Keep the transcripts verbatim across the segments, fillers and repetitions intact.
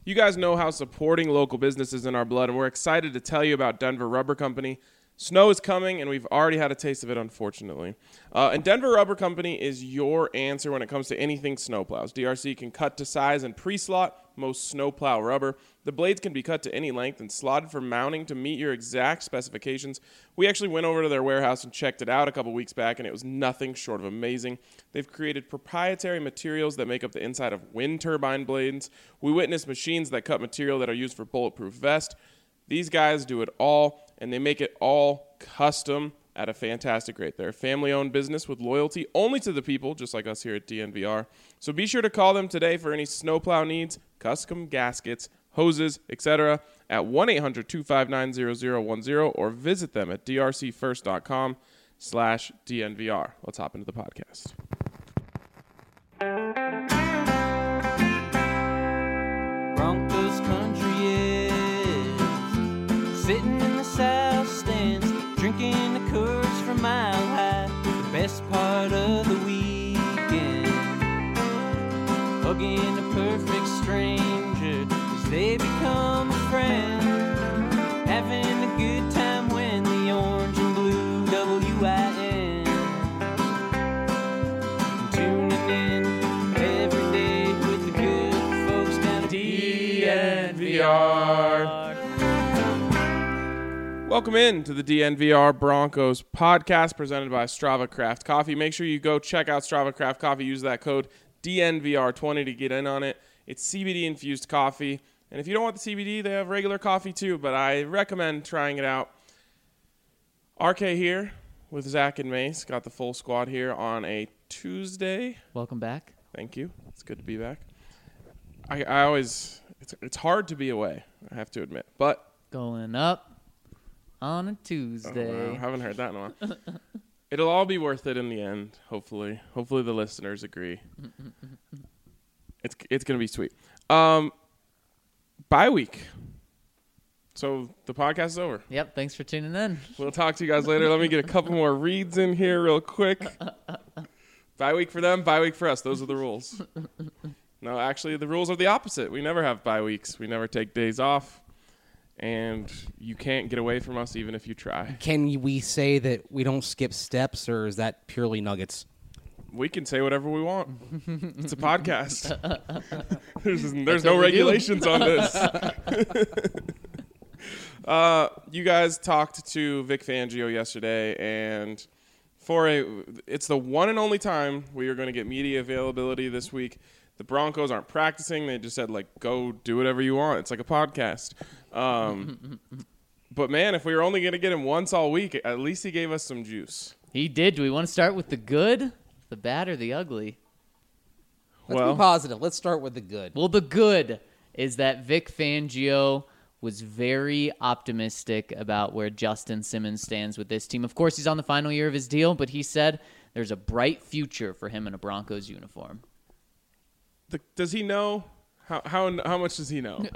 You guys know how supporting local business is in our blood, and we're excited to tell you about Denver Rubber Company. Snow is coming, and we've already had a taste of it, unfortunately. Uh, and Denver Rubber Company is your answer when it comes to anything snowplows. D R C can cut to size and pre-slot most snowplow rubber. The blades can be cut to any length and slotted for mounting to meet your exact specifications. We actually went over to their warehouse and checked it out a couple weeks back, and it was nothing short of amazing. They've created proprietary materials that make up the inside of wind turbine blades. We witnessed machines that cut material that are used for bulletproof vests. These guys do it all, and they make it all custom at a fantastic rate. They're a family-owned business with loyalty only to the people, just like us here at D N V R. So be sure to call them today for any snowplow needs, custom gaskets, hoses, et cetera at one eight hundred two five nine zero zero one zero or visit them at d r c first dot com slash D N V R. Let's hop into the podcast. Broncos country is sitting in the south stands, drinking the Coors from Mile High. The best part of the weekend, hugging a perfect stranger as they become a friend, having a good time when the orange and blue W I N, tuning in every day with the good folks down at D N V R. Welcome in to the D N V R Broncos podcast presented by Strava Craft Coffee. Make sure you go check out Strava Craft Coffee. Use that code D N V R twenty to get in on it. It's C B D-infused coffee. And if you don't want the C B D, they have regular coffee too, but I recommend trying it out. R K here with Zach and Mace. Got the full squad here on a Tuesday. Welcome back. Thank you. It's good to be back. I, I always, it's, it's hard to be away, I have to admit. But Going up on a oh, Tuesday. wow, I haven't heard that in a while. It'll all be worth it in the end, hopefully. Hopefully the listeners agree. it's it's going to be sweet. Um, bye week. So the podcast is over. Yep, thanks for tuning in. We'll talk to you guys later. Let me get a couple more reads in here real quick. Bye week for them, bye week for us. Those are the rules. No, actually, the rules are the opposite. We never have bye weeks. We never take days off. And you can't get away from us even if you try. Can we say that we don't skip steps, or is that purely nuggets? We can say whatever we want. It's a podcast. there's there's what no we regulations on this. uh, you guys talked to Vic Fangio yesterday, and for a, it's the one and only time we are going to get media availability this week. The Broncos aren't practicing. They just said, like, go do whatever you want. It's like a podcast. Um, but, man, if we were only going to get him once all week, at least he gave us some juice. He did. Do we want to start with the good, the bad, or the ugly? Let's well, be positive. Let's start with the good. Well, the good is that Vic Fangio was very optimistic about where Justin Simmons stands with this team. Of course, he's on the final year of his deal, but he said there's a bright future for him in a Broncos uniform. The, does he know? How how how much does he know?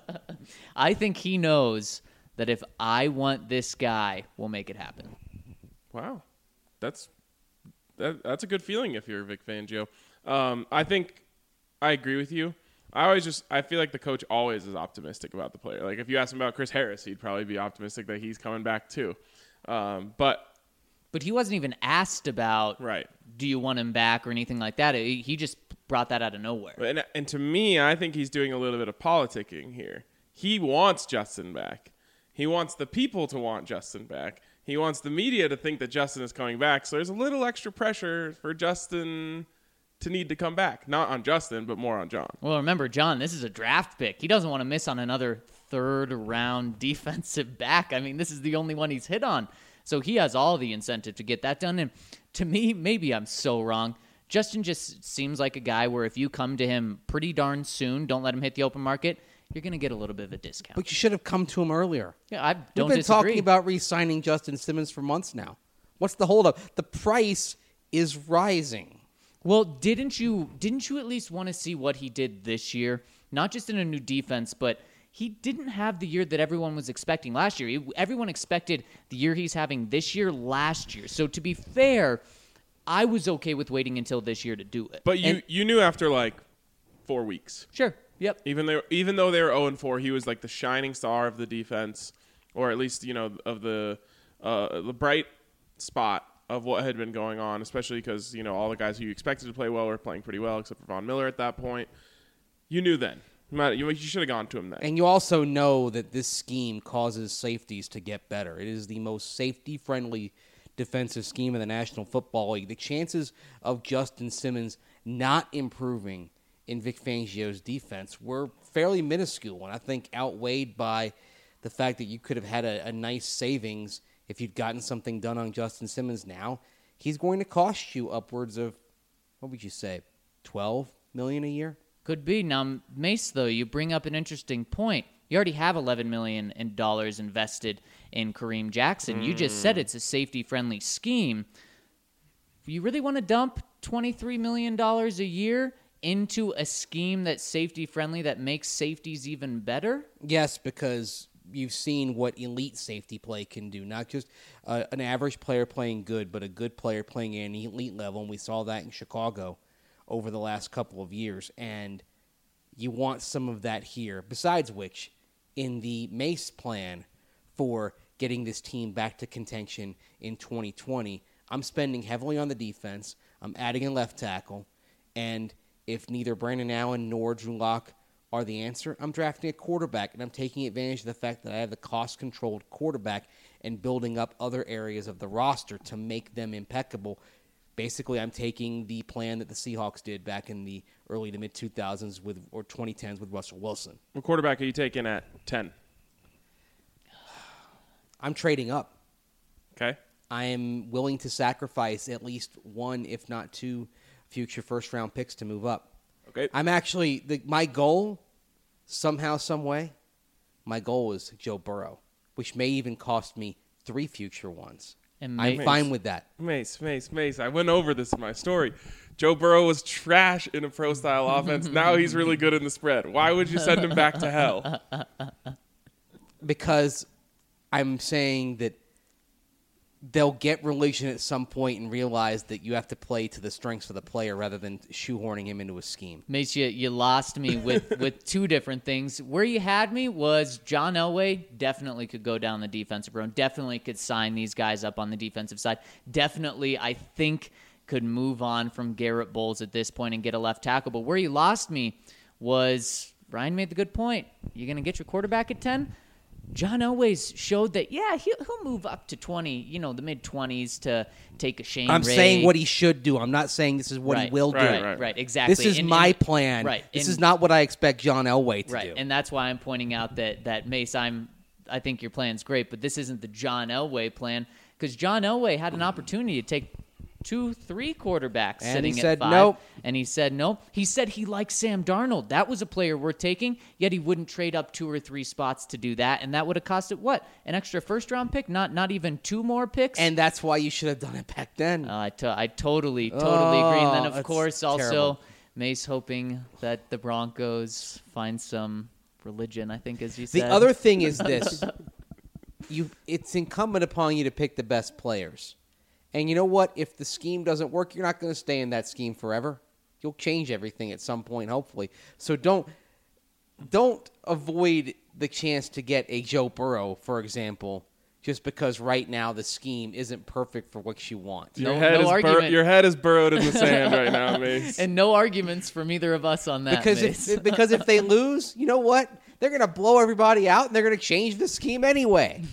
I think he knows that if I want this guy, we'll make it happen. Wow, that's that, that's a good feeling if you're Vic Fangio. Um, I think I agree with you. I always just I feel like the coach always is optimistic about the player. Like if you ask him about Chris Harris, he'd probably be optimistic that he's coming back too. Um, but But he wasn't even asked about, right, do you want him back or anything like that. He just brought that out of nowhere. And, and to me, I think he's doing a little bit of politicking here. He wants Justin back. He wants the people to want Justin back. He wants the media to think that Justin is coming back. So there's a little extra pressure for Justin to need to come back. Not on Justin, but more on John. Well, remember, John, this is a draft pick. He doesn't want to miss on another third-round defensive back. I mean, this is the only one he's hit on. So he has all the incentive to get that done. And to me, maybe I'm so wrong, Justin just seems like a guy where if you come to him pretty darn soon, don't let him hit the open market, you're going to get a little bit of a discount. But you should have come to him earlier. Yeah, I don't We've been disagree. talking about re-signing Justin Simmons for months now. What's the holdup? The price is rising. Well, didn't you didn't you at least want to see what he did this year? Not just in a new defense, but he didn't have the year that everyone was expecting last year. He, everyone expected the year he's having this year last year. So to be fair, I was okay with waiting until this year to do it. But you, And, you knew after like four weeks. sure. Yep. Even though even though they were oh and four, he was like the shining star of the defense, or at least you know of the uh, the bright spot of what had been going on. Especially because you know all the guys who you expected to play well were playing pretty well, except for Von Miller at that point. You knew then. You you should have gone to him then. And you also know that this scheme causes safeties to get better. It is the most safety-friendly defensive scheme in the National Football League. The chances of Justin Simmons not improving in Vic Fangio's defense were fairly minuscule, and I think outweighed by the fact that you could have had a, a nice savings if you'd gotten something done on Justin Simmons now. He's going to cost you upwards of, what would you say, twelve million dollars a year? Could be. Now, Mace, though, you bring up an interesting point. You already have eleven million dollars invested in Kareem Jackson. Mm. You just said it's a safety-friendly scheme. You really want to dump twenty-three million dollars a year into a scheme that's safety-friendly that makes safeties even better? Yes, because you've seen what elite safety play can do. Not just uh, an average player playing good, but a good player playing at an elite level, and we saw that in Chicago over the last couple of years, and you want some of that here. Besides which, in the Mace plan for getting this team back to contention in twenty twenty, I'm spending heavily on the defense. I'm adding a left tackle, and if neither Brandon Allen nor Drew Lock are the answer, I'm drafting a quarterback, and I'm taking advantage of the fact that I have the cost-controlled quarterback and building up other areas of the roster to make them impeccable. Basically, I'm taking the plan that the Seahawks did back in the early to mid two thousands with or twenty tens with Russell Wilson. What quarterback are you taking at ten? I'm trading up. Okay. I am willing to sacrifice at least one, if not two, future first-round picks to move up. Okay. I'm actually the, my goal, somehow, some way, my goal is Joe Burrow, which may even cost me three future ones. And I'm Mace, fine with that. Mace, Mace, Mace. I went over this in my story. Joe Burrow was trash in a pro-style offense. Now he's really good in the spread. Why would you send him back to hell? Because I'm saying that they'll get religion at some point and realize that you have to play to the strengths of the player rather than shoehorning him into a scheme. Mace, you, you lost me with, with two different things. Where you had me was John Elway definitely could go down the defensive road, definitely could sign these guys up on the defensive side. Definitely, I think, could move on from Garrett Bowles at this point and get a left tackle. But where you lost me was, Ryan made the good point. You're going to get your quarterback at ten? John Elway's showed that, yeah, he'll, he'll move up to twenty, you know, the mid-twenties to take a Shane I'm Ray. saying what he should do. I'm not saying this is what right, he will right, do. Right, right. right, exactly. This is And- my and- plan. Right. This and- is not what I expect John Elway to Right, do. and that's why I'm pointing out that, that Mace, I'm, I think your plan's great, but this isn't the John Elway plan, because John Elway had an opportunity to take two, three quarterbacks And sitting he at said five. nope. And he said nope. He said he likes Sam Darnold. That was a player worth taking, yet he wouldn't trade up two or three spots to do that, and that would have costed, what, an extra first-round pick? Not not even two more picks? And that's why you should have done it back then. Uh, I, to- I totally, totally agree. And then, Oh, of that's course, also terrible. Mace hoping that the Broncos find some religion, I think, as you The said. other thing is this. you, It's incumbent upon you to pick the best players. And you know what? If the scheme doesn't work, you're not going to stay in that scheme forever. You'll change everything at some point, hopefully. So don't don't avoid the chance to get a Joe Burrow, for example, just because right now the scheme isn't perfect for what you want. Your, No- head no is bur- argument. your head is burrowed in the sand right now, Mace. And no arguments from either of us on that. Because Mace. if because if they lose, you know what? They're going to blow everybody out, and they're going to change the scheme anyway.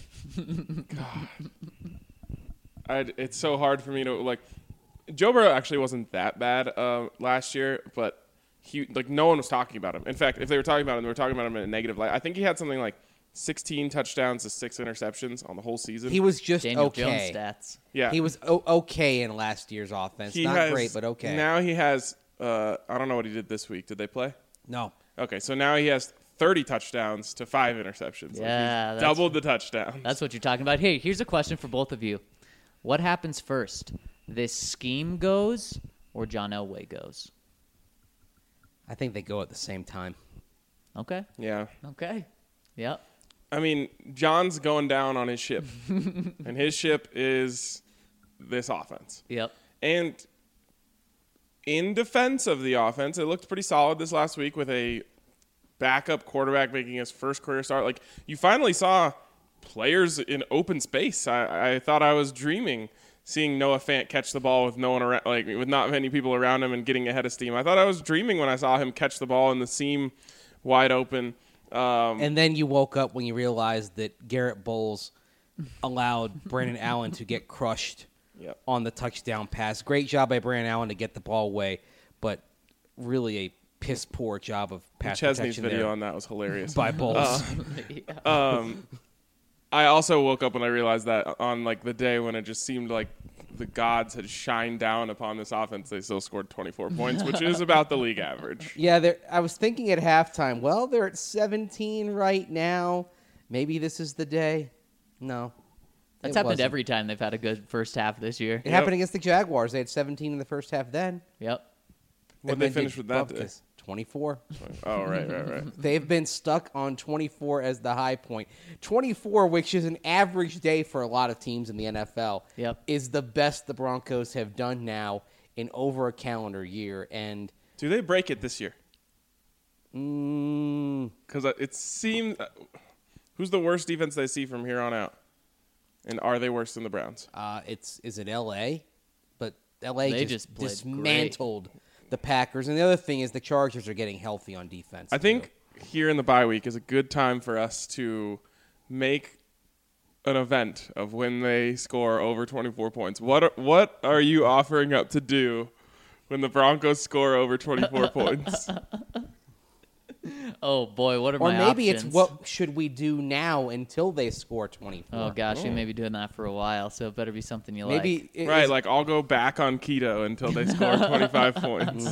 I'd, it's so hard for me to like. Joe Burrow actually wasn't that bad uh, last year, but he like no one was talking about him. In fact, if they were talking about him, they were talking about him in a negative light. I think he had something like sixteen touchdowns to six interceptions on the whole season. He was just Daniel okay. Jones stats. yeah, He was o- okay in last year's offense. He Not has- great, but okay. Now he has. Uh, I don't know what he did this week. Did they play? no. Okay, so now he has thirty touchdowns to five interceptions. Like, Yeah, he's that's- doubled the touchdowns. That's what you're talking about. Hey, here's a question for both of you. What happens first? This scheme goes or John Elway goes? I think they go at the same time. Okay. yeah. Okay. Yep. I mean, John's going down on his ship, and his ship is this offense. Yep. And in defense of the offense, it looked pretty solid this last week with a backup quarterback making his first career start. Like, you finally saw players in open space. I, I thought I was dreaming seeing Noah Fant catch the ball with no one around, like with not many people around him and getting ahead of steam. I thought I was dreaming when I saw him catch the ball in the seam wide open. Um, And then you woke up when you realized that Garrett Bowles allowed Brandon Allen to get crushed Yep. on the touchdown pass. Great job by Brandon Allen to get the ball away, but really a piss poor job of pass Chesney's protection video there on that was hilarious. by Bowles. Um, I also woke up when I realized that on like the day when it just seemed like the gods had shined down upon this offense, they still scored twenty-four points, which is about the league average. Yeah, they're- I was thinking at halftime, well, they're at seventeen right now. Maybe this is the day. No. That's it happened wasn't. every time they've had a good first half this year. It happened against the Jaguars. They had seventeen in the first half then. Yep. What And they then finish did with that day? Bupkis. twenty-four. Oh, right, right, right. They've been stuck on twenty-four as the high point. twenty-four, which is an average day for a lot of teams in the N F L, Yep. is the best the Broncos have done now in over a calendar year. And Do they break it this year? mm, Because it seems who's the worst defense they see from here on out, and are they worse than the Browns? uh, it's is it L A? But L A They just, just played dismantled the Packers. And the other thing is the Chargers are getting healthy on defense. I think here in the bye week is a good time for us to make an event of when they score over twenty-four points. What are, what are you offering up to do when the Broncos score over twenty-four points? Oh boy, what are Or my maybe options? it's what should we do now until they score twenty-four? Oh gosh, you may be doing that for a while, so it better be something you Maybe like. it Right, is- like I'll go back on keto until they score twenty-five points.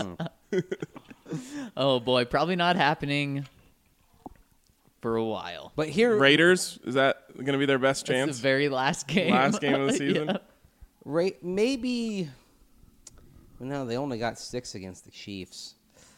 Oh boy, probably not happening for a while. But here, Raiders, is that going to be their best It's chance? the very last game. Last game of the season? Yeah. Ra- maybe. No, they only got six against the Chiefs.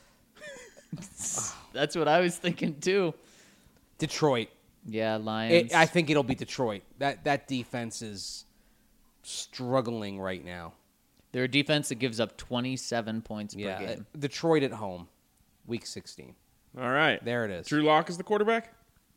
That's what I was thinking too. Detroit. Yeah, Lions. It, I think it'll be Detroit. That that defense is struggling right now. They're a defense that gives up twenty-seven points Yeah, per game. uh, Detroit at home, week sixteen. All right. There it is. Drew Lock is the quarterback?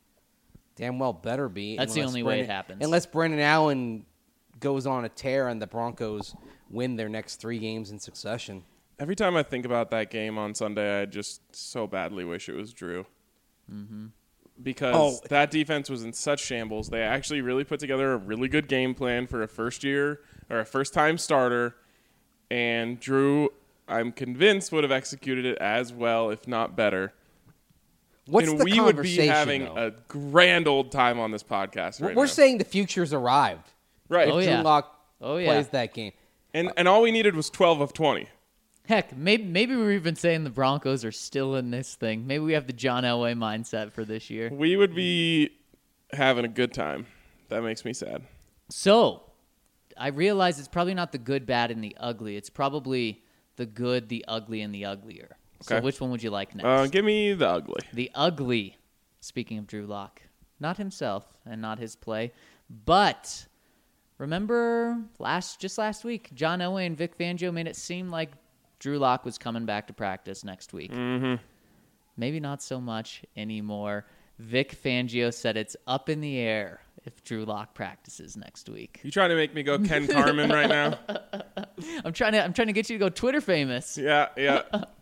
Damn well better be. That's the unless only way it Brendan- happens. Unless Brendan Allen goes on a tear and the Broncos win their next three games in succession. Every time I think about that game on Sunday, I just so badly wish it was Drew. Mm-hmm. Because Oh. that defense was in such shambles. They actually really put together a really good game plan for a first year or a first time starter. And Drew, I'm convinced, would have executed it as well, if not better. What's and the we would be conversation, having though? a grand old time on this podcast right We're now. saying the future's arrived. right. Oh, Drew yeah. Lock Oh, yeah. plays that game. And and all we needed was twelve of twenty. Heck, maybe maybe we're even saying the Broncos are still in this thing. Maybe we have the John Elway mindset for this year. We would be having a good time. That makes me sad. So, I realize it's probably not the good, bad, and the ugly. It's probably the good, the ugly, and the uglier. So, Okay. which one would you like next? Uh, give me the ugly. The ugly, speaking of Drew Lock, not himself and not his play, but remember last just last week, John Elway and Vic Fangio made it seem like Drew Lock was coming back to practice next week. Mm-hmm. Maybe not so much anymore. Vic Fangio said it's up in the air if Drew Lock practices next week. You trying to make me go Ken Carmen right now? I'm trying to I'm trying to get you to go Twitter famous. Yeah, yeah.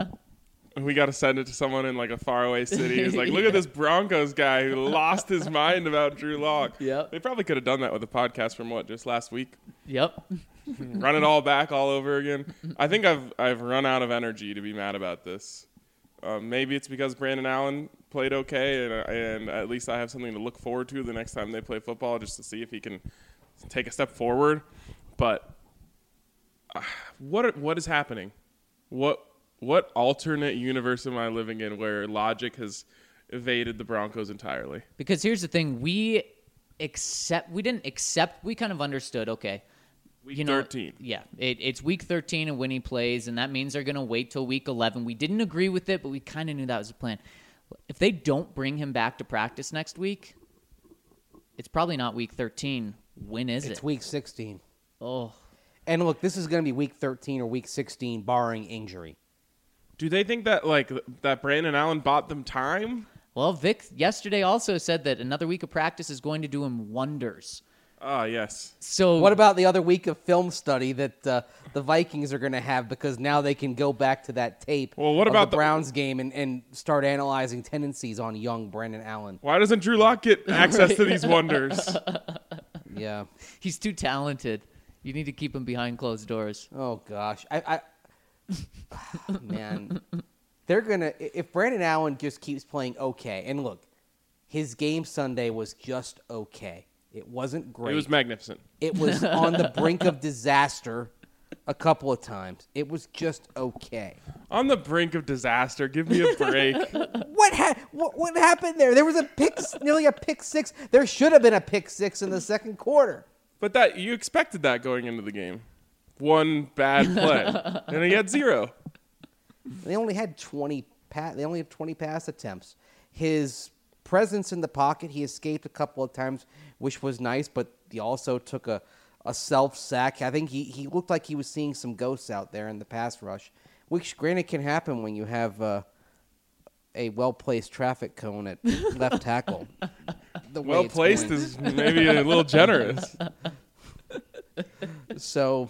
We got to send it to someone in like a faraway city. It's like, look at this Broncos guy who lost his mind about Drew Lock. Yep. They probably could have done that with a podcast from what, just last week? Yep. Run it all back all over again. I think I've I've run out of energy to be mad about this. Um, maybe it's because Brandon Allen played okay, and, and at least I have something to look forward to the next time they play football, just to see if he can take a step forward. But uh, what what is happening? What what alternate universe am I living in where logic has evaded the Broncos entirely? Because here's the thing, we accept we didn't accept we kind of understood, okay. Week you know, thirteen. Yeah, it, it's week thirteen and when he plays, and that means they're going to wait till week eleven. We didn't agree with it, but we kind of knew that was the plan. If they don't bring him back to practice next week, it's probably not week thirteen. When is It's it? week sixteen. Oh, And look, this is going to be week thirteen or week sixteen, barring injury. Do they think that like that Brandon Allen bought them time? Well, Vic yesterday also said that another week of practice is going to do him wonders. Ah, yes. So What about the other week of film study that uh, the Vikings are going to have because now they can go back to that tape Well, what of about the the- Browns game and, and start analyzing tendencies on young Brandon Allen? Why doesn't Drew Lock get access to these wonders? Yeah. he's too talented. You need to keep him behind closed doors. Oh, gosh. I, I Man, they're going to – if Brandon Allen just keeps playing okay – and look, his game Sunday was just okay. It wasn't great. It was magnificent. It was on the brink of disaster a couple of times. It was just okay. On the brink of disaster. Give me a break. What, ha- what what happened there? There was a pick, nearly a pick six. There should have been a pick six in the second quarter. But that you expected that going into the game. One bad play, and he had zero. They only had twenty. Pa- they only had twenty pass attempts. His presence in the pocket, he escaped a couple of times, which was nice. But he also took a, a self sack. I think he, he looked like he was seeing some ghosts out there in the pass rush, which granted can happen when you have uh, a well placed traffic cone at left tackle. The way Well it's placed going. is maybe a little generous. So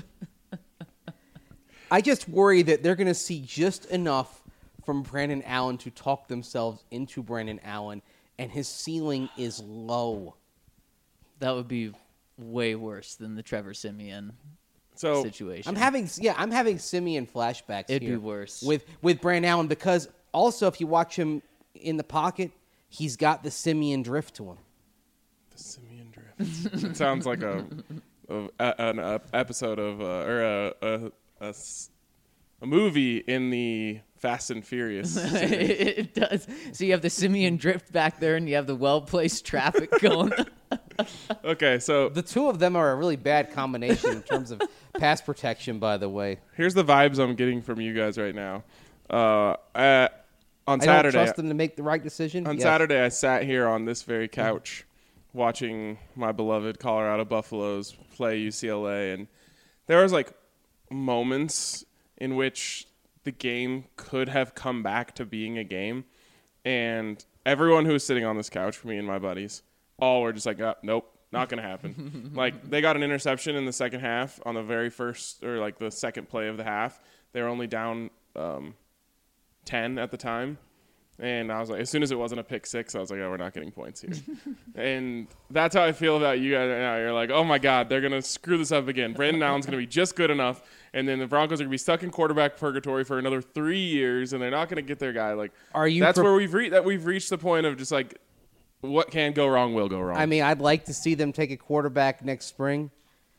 I just worry that they're going to see just enough from Brandon Allen to talk themselves into Brandon Allen, and his ceiling is low. That would be way worse than the Trevor Siemian So situation. I'm having yeah, I'm having Simeon flashbacks It'd here be worse. with with Brandon Allen because also if you watch him in the pocket, he's got the Simeon drift to him. the Simeon Drift. It sounds like a, a, a an uh, episode of uh, or a, a, a s- a movie in the Fast and Furious series. It does. So you have the Simeon drift back there, and you have the well-placed traffic going. Okay, so The two of them are a really bad combination in terms of pass protection, by the way. here's the vibes I'm getting from you guys right now. Uh, uh, on I Saturday, don't trust them to make the right decision. on Yes. Saturday, I sat here on this very couch watching my beloved Colorado Buffaloes play U C L A, and there was like moments in which the game could have come back to being a game, and everyone who was sitting on this couch, me and my buddies, all were just like, oh, nope, not gonna happen. Like, they got an interception in the second half on the very first, or like the second play of the half. They were only down um, ten at the time. And I was like, as soon as it wasn't a pick six, I was like, oh, we're not getting points here. And that's how I feel about you guys right now. You're like, oh, my God, they're going to screw this up again. Brandon Allen's going to be just good enough. And then the Broncos are going to be stuck in quarterback purgatory for another three years, and they're not going to get their guy. Like, Are you that's pre- where we've, re- that we've reached the point of just like, what can go wrong will go wrong. I mean, I'd like to see them take a quarterback next spring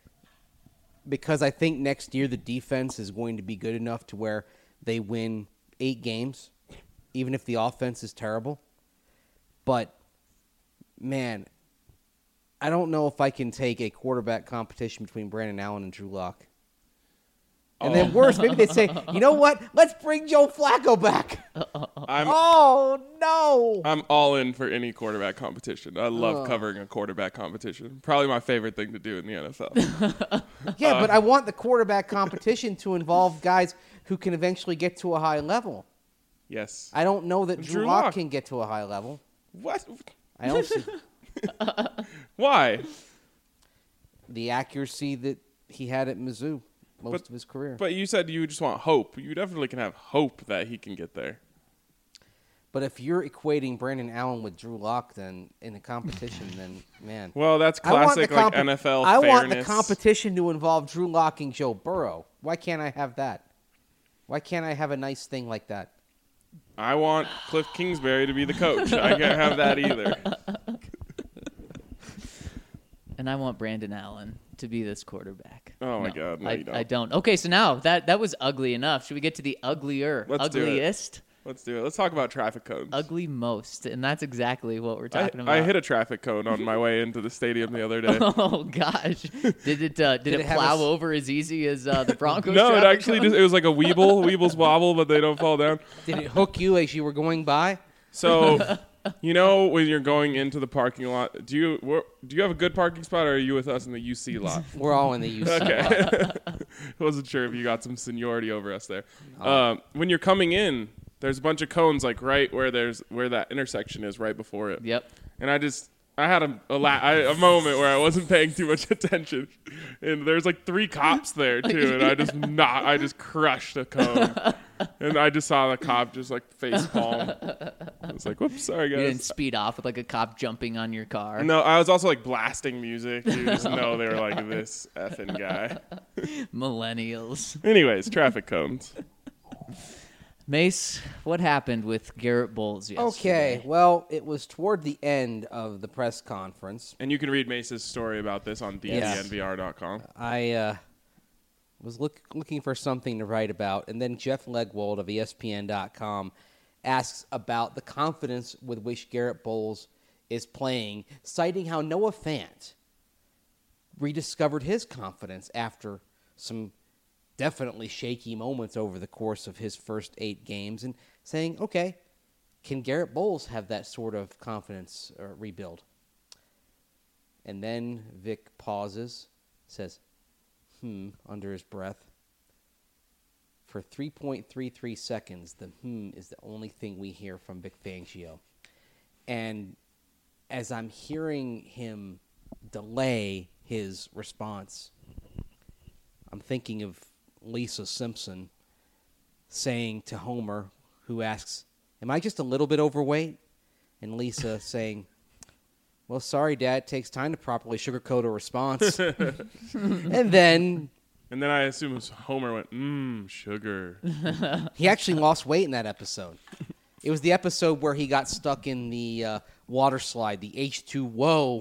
because I think next year the defense is going to be good enough to where they win eight games, even if the offense is terrible. But, man, I don't know if I can take a quarterback competition between Brandon Allen and Drew Lock. And then worse, maybe they say, you know what? Let's bring Joe Flacco back. I'm, Oh, no. I'm all in for any quarterback competition. I love covering a quarterback competition. Probably my favorite thing to do in the N F L. Yeah, but I want the quarterback competition to involve guys who can eventually get to a high level. Yes. I don't know that Drew, Drew Lock Lock. can get to a high level. What? I don't see Why? the accuracy that he had at Mizzou most But- of his career. But you said you just want hope. You definitely can have hope that he can get there. But if you're equating Brandon Allen with Drew Lock, then in a competition, then man, Well, that's I want classic the like compe- N F L I fairness. want the competition to involve Drew Lock and Joe Burrow. Why can't I have that? Why can't I have a nice thing like that? I want Cliff Kingsbury to be the coach. I can't have that either. And I want Brandon Allen to be this quarterback. Oh, my God. No, I, you don't. I don't. Okay, so now that that was ugly enough. Should we get to the uglier, Let's do it. ugliest, Let's do it. Let's talk about traffic cones. ugly most? And that's exactly what we're I, talking about. I hit a traffic cone on my way into the stadium the other day. Oh gosh! Did it? Uh, did, Did it, it have plow a s- over as easy as uh, the Broncos? No, it traffic actually cone? just it was like a weeble, weebles wobble, but they don't fall down. Did it hook you as you were going by? So, you know, when you're going into the parking lot, do you where, do you have a good parking spot, or are you with us in the U C lot? We're all in the U C. Okay. Wasn't sure if you got some seniority over us there. Um, when you're coming in, there's a bunch of cones like right where there's where that intersection is right before it. Yep. And I just I had a a, la- I, a moment where I wasn't paying too much attention, and there's like three cops there too, and I just not I just crushed a cone, and I just saw the cop just like face palm. I was like, "Whoops, sorry You didn't guys." speed off with like a cop jumping on your car. No, I was also like blasting music. You just know they were like this effing guy. Millennials. Anyways, traffic cones. Mace, what happened with Garrett Bowles yesterday? Okay, well, it was toward the end of the press conference. And you can read Mace's story about this on D D N V R dot com. I uh, was look, looking for something to write about, and then Jeff Legwold of E S P N dot com asks about the confidence with which Garrett Bowles is playing, citing how Noah Fant rediscovered his confidence after some definitely shaky moments over the course of his first eight games, and saying, okay, can Garrett Bowles have that sort of confidence uh, rebuild? And then Vic pauses, says, hmm, under his breath. For three point three three seconds, the hmm is the only thing we hear from Vic Fangio. And as I'm hearing him delay his response, I'm thinking of Lisa Simpson saying to Homer, who asks, am I just a little bit overweight? And Lisa saying, well, sorry, Dad, it takes time to properly sugarcoat a response. And then And then I assume it was Homer went, mmm, sugar. he actually lost weight in that episode. It was the episode where he got stuck in the uh, water slide, the H two O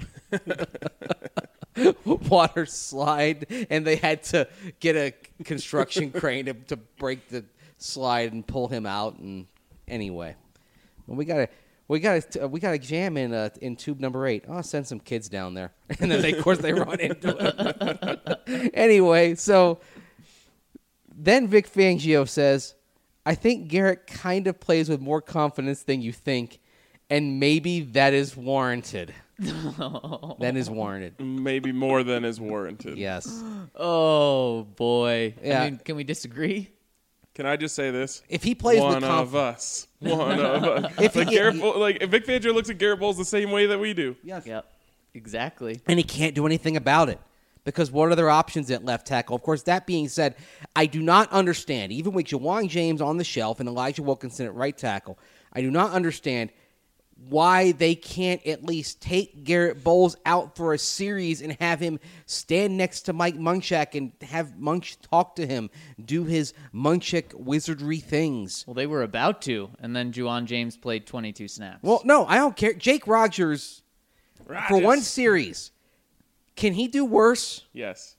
water slide, and they had to get a construction crane to, to break the slide and pull him out. And anyway, well, we got to we got to we got to jam in uh, in tube number eight. Oh, send some kids down there, and then they, of course they run into it. Anyway, so then Vic Fangio says, I think Garrett kind of plays with more confidence than you think, and maybe that is warranted. That is warranted. Maybe more than is warranted. Yes. Oh, boy. Yeah. I mean, can we disagree? Can I just say this? If he plays One with of confidence. us. One of us. If like, he- Garrett Bull, like if Vic Fangio looks at Garrett Bowles the same way that we do. Yes. Yep. Exactly. And he can't do anything about it. Because what are their options at left tackle? Of course, that being said, I do not understand, even with Jawan James on the shelf and Elijah Wilkinson at right tackle, I do not understand why they can't at least take Garrett Bowles out for a series and have him stand next to Mike Munchak and have Munch talk to him, do his Munchak wizardry things. Well, they were about to, and then Juwan James played twenty-two snaps. Well, no, I don't care. Jake Rogers, for Rodgers. one series, can he do worse? Yes.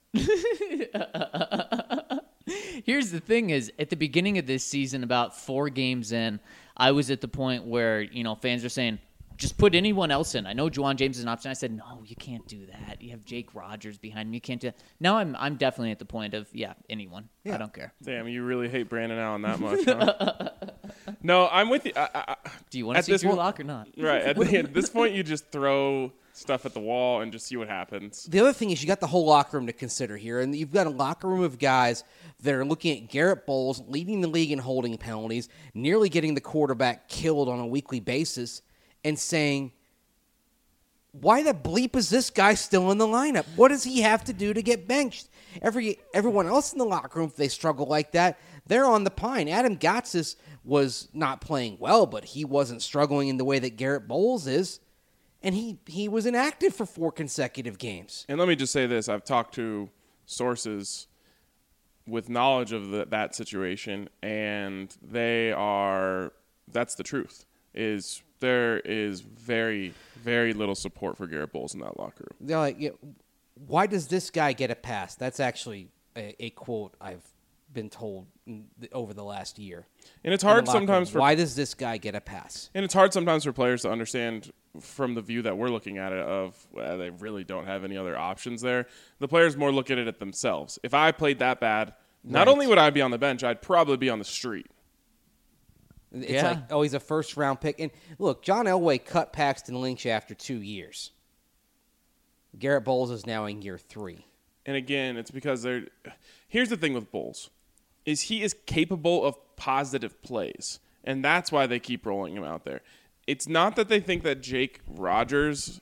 Here's the thing is, at the beginning of this season, about four games in, I was at the point where, you know, fans are saying, just put anyone else in. I know Juwan James is an option. I said, no, you can't do that. You have Jake Rogers behind him. You can't do that. Now I'm I'm definitely at the point of, yeah, anyone. Yeah. I don't care. Damn, you really hate Brandon Allen that much, huh? No, I'm with you. I, I, I- Do you want to At see this Drew mo- Lock or not? right. At, the, at this point, you just throw stuff at the wall and just see what happens. The other thing is you got the whole locker room to consider here, and you've got a locker room of guys that are looking at Garrett Bowles leading the league in holding penalties, nearly getting the quarterback killed on a weekly basis, and saying, why the bleep is this guy still in the lineup? What does he have to do to get benched? Every everyone else in the locker room, if they struggle like that, they're on the pine. Adam Gotsis was not playing well, but he wasn't struggling in the way that Garrett Bowles is. And he, he was inactive for four consecutive games. And let me just say this. I've talked to sources with knowledge of the, that situation, and they are – that's the truth, is there is very, very little support for Garrett Bowles in that locker room. They're like, yeah, why does this guy get a pass? That's actually a, a quote I've been told in the, over the last year. And it's in the hard locker sometimes room. for Why does this guy get a pass? And it's hard sometimes for players to understand from the view that we're looking at it of well, they really don't have any other options there. The players more look at it at themselves. If I played that bad, not Right. only would I be on the bench, I'd probably be on the street. It's Yeah. like, oh, he's a first-round pick. And look, John Elway cut Paxton Lynch after two years. Garrett Bowles is now in year three. And again, it's because they're – here's the thing with Bowles is he is capable of positive plays. And that's why they keep rolling him out there. It's not that they think that Jake Rogers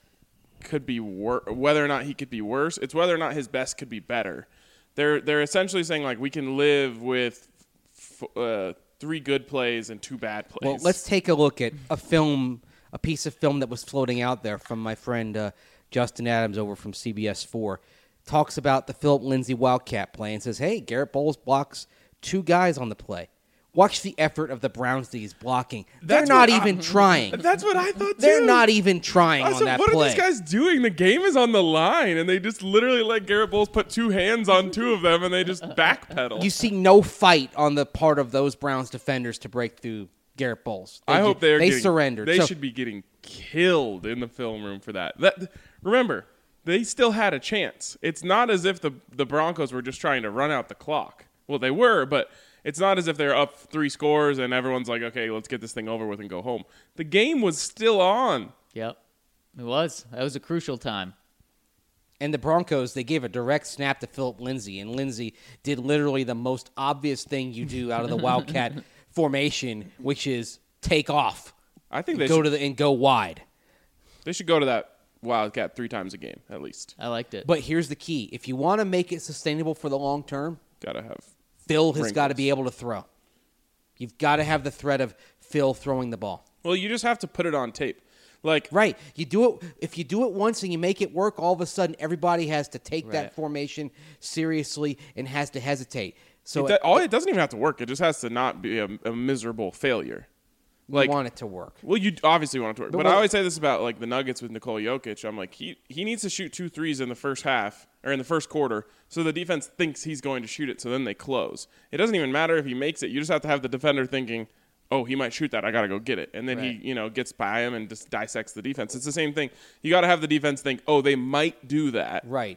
could be wor- whether or not he could be worse. It's whether or not his best could be better. They're they're essentially saying, like, we can live with f- uh, three good plays and two bad plays. Well, let's take a look at a film, a piece of film that was floating out there from my friend uh, Justin Adams over from C B S four. Talks about the Philip Lindsay Wildcat play and says, hey, Garrett Bowles blocks two guys on the play. Watch the effort of the Browns that he's blocking. They're That's not what even I- trying. That's what I thought, too. They're not even trying I on said, that what play. are these guys doing? The game is on the line, and they just literally let Garrett Bowles put two hands on two of them, and they just backpedal. You see no fight on the part of those Browns defenders to break through Garrett Bowles. They I ju- hope they're they getting, surrendered. They So- should be getting killed in the film room for that. That remember, they still had a chance. It's not as if the the Broncos were just trying to run out the clock. Well, they were, but it's not as if they're up three scores and everyone's like, okay, let's get this thing over with and go home. The game was still on. Yep. It was. That was a crucial time. And the Broncos, they gave a direct snap to Philip Lindsay, and Lindsay did literally the most obvious thing you do out of the Wildcat formation, which is take off, I think they go should, to the and go wide. they should go to that Wildcat three times a game at least. I liked it. But here's the key: if you want to make it sustainable for the long term, Gotta have. Phil has got to Wrinkles. be able to throw. You've got to have the threat of Phil throwing the ball. Well, you just have to put it on tape. Like, Right. You do it if you do it once and you make it work, all of a sudden everybody has to take Right. that formation seriously and has to hesitate. So it, do- all it doesn't even have to work. It just has to not be a, a miserable failure. you Like, want it to work. well, you obviously want it to work, but, But I what- always say this about like the Nuggets with Nikola Jokic. I'm like, he he needs to shoot two threes in the first half or in the first quarter, so the defense thinks he's going to shoot it, so then they close. It doesn't even matter if he makes it. You just have to have the defender thinking, oh, he might shoot that. I got to go get it. And then Right. he, you know, gets by him and just dissects the defense. It's the same thing. You got to have the defense think, oh, they might do that. Right.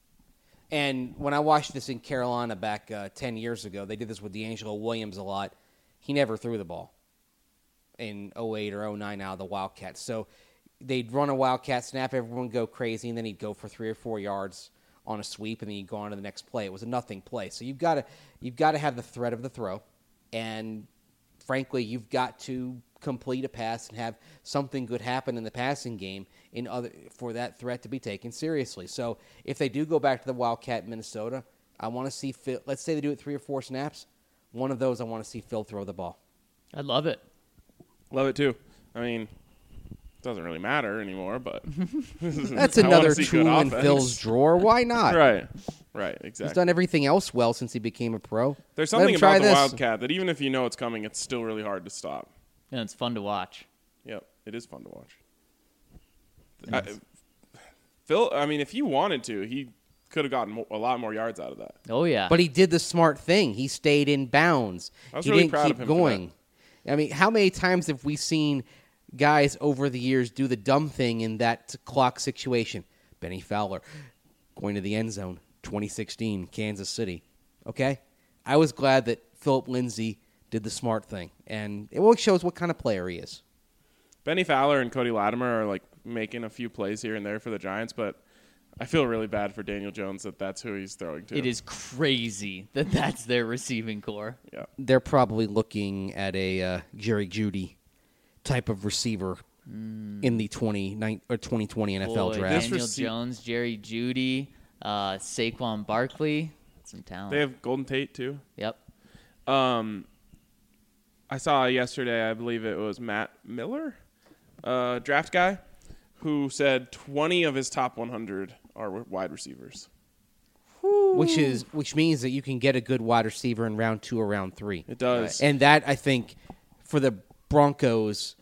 And when I watched this in Carolina back uh, ten years ago, they did this with D'Angelo Williams a lot. He never threw the ball in oh eight or oh nine out of the Wildcats. So they'd run a Wildcat snap, everyone would go crazy, and then he'd go for three or four yards on a sweep, and then he'd go on to the next play. It was a nothing play. So you've got to you've got to have the threat of the throw, and frankly, you've got to complete a pass and have something good happen in the passing game in other for that threat to be taken seriously. So if they do go back to the Wildcat in Minnesota, I want to see Phil. Let's say they do it three or four snaps. One of those, I want to see Phil throw the ball. I love it. Love it too. I mean, it doesn't really matter anymore, but That's I wanna another see good tool in offense. Phil's drawer. Why not? Right. Right, He's exactly. done everything else well since he became a pro. There's Let something him try about the this. Wildcat that even if you know it's coming, it's still really hard to stop. And it's fun to watch. Yep, it is fun to watch. I, Phil, I mean, if he wanted to, he could have gotten mo- a lot more yards out of that. Oh, yeah. But he did the smart thing. He stayed in bounds. I was he really didn't proud keep of him for going. I mean, how many times have we seen guys over the years do the dumb thing in that clock situation? Benny Fowler going to the end zone, twenty sixteen, Kansas City. Okay? I was glad that Philip Lindsay did the smart thing. And it really shows what kind of player he is. Benny Fowler and Cody Latimer are like making a few plays here and there for the Giants, but I feel really bad for Daniel Jones that that's who he's throwing to. It is crazy that that's their receiving core. Yeah. They're probably looking at a uh, Jerry Jeudy type of receiver in the twenty or twenty twenty N F L Boy, draft. Daniel rece- Jones, Jerry Judy, uh, Saquon Barkley. Some talent. They have Golden Tate too. Yep. Um, I saw yesterday, I believe it was Matt Miller, uh, draft guy, who said twenty of his top one hundred are wide receivers. Which is which means that you can get a good wide receiver in round two or round three. It does. And that, I think, for the Broncos,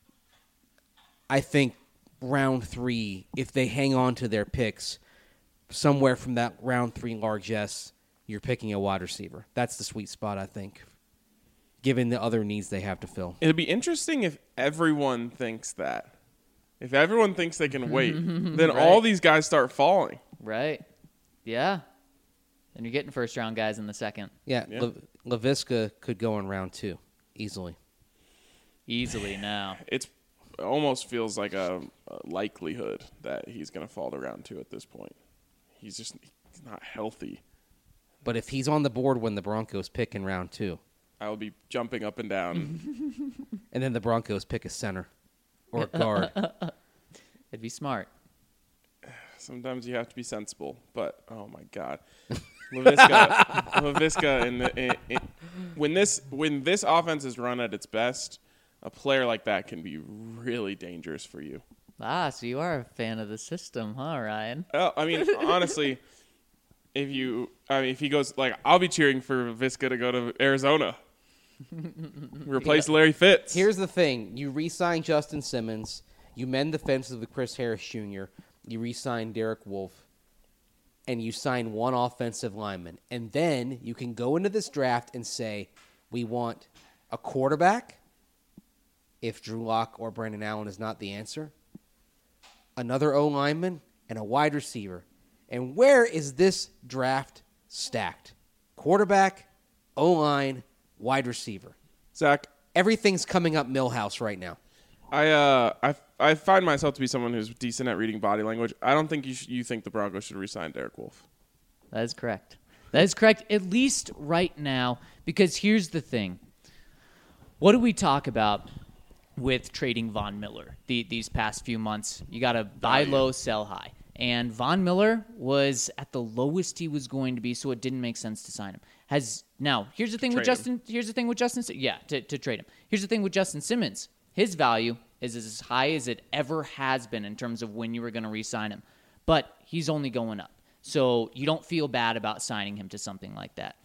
I think round three, if they hang on to their picks, somewhere from that round three largesse, you're picking a wide receiver. That's the sweet spot, I think, given the other needs they have to fill. It'd be interesting if everyone thinks that. If everyone thinks they can wait, then all these guys start falling. Right. Yeah. And you're getting first round guys in the second. Yeah, Yeah. La- LaVisca could go in round two easily. Easily now. It's it almost feels like a, a likelihood that he's going to fall to round two at this point. He's just he's not healthy. But if he's on the board when the Broncos pick in round two, I will be jumping up and down. And then the Broncos pick a center or a guard. It'd be smart. Sometimes you have to be sensible, but oh my God, Laviska, Laviska, in the, in, in, when this when this offense is run at its best, a player like that can be really dangerous for you. Ah, so you are a fan of the system, huh, Ryan? Oh, I mean, honestly, if you, I mean, if he goes like, I'll be cheering for Laviska to go to Arizona, replace yeah. Larry Fitz. Here's the thing: you re-sign Justin Simmons, you mend the fences with Chris Harris Junior You re-sign Derek Wolfe, and you sign one offensive lineman. And then you can go into this draft and say, we want a quarterback, if Drew Lock or Brandon Allen is not the answer, another O-lineman, and a wide receiver. And where is this draft stacked? Quarterback, O-line, wide receiver. Zach. Everything's coming up Millhouse right now. I uh I I find myself to be someone who's decent at reading body language. I don't think you sh- you think the Broncos should re-sign Derek Wolfe. That is correct. That is correct, at least right now, because here's the thing. What do we talk about with trading Von Miller the, these past few months? You got to buy low, sell high. And Von Miller was at the lowest he was going to be, so it didn't make sense to sign him. Has now here's the thing with Justin. Him. Here's the thing with Justin. Yeah, to, to trade him. Here's the thing with Justin Simmons. His value is as high as it ever has been in terms of when you were going to re-sign him. But he's only going up. So you don't feel bad about signing him to something like that.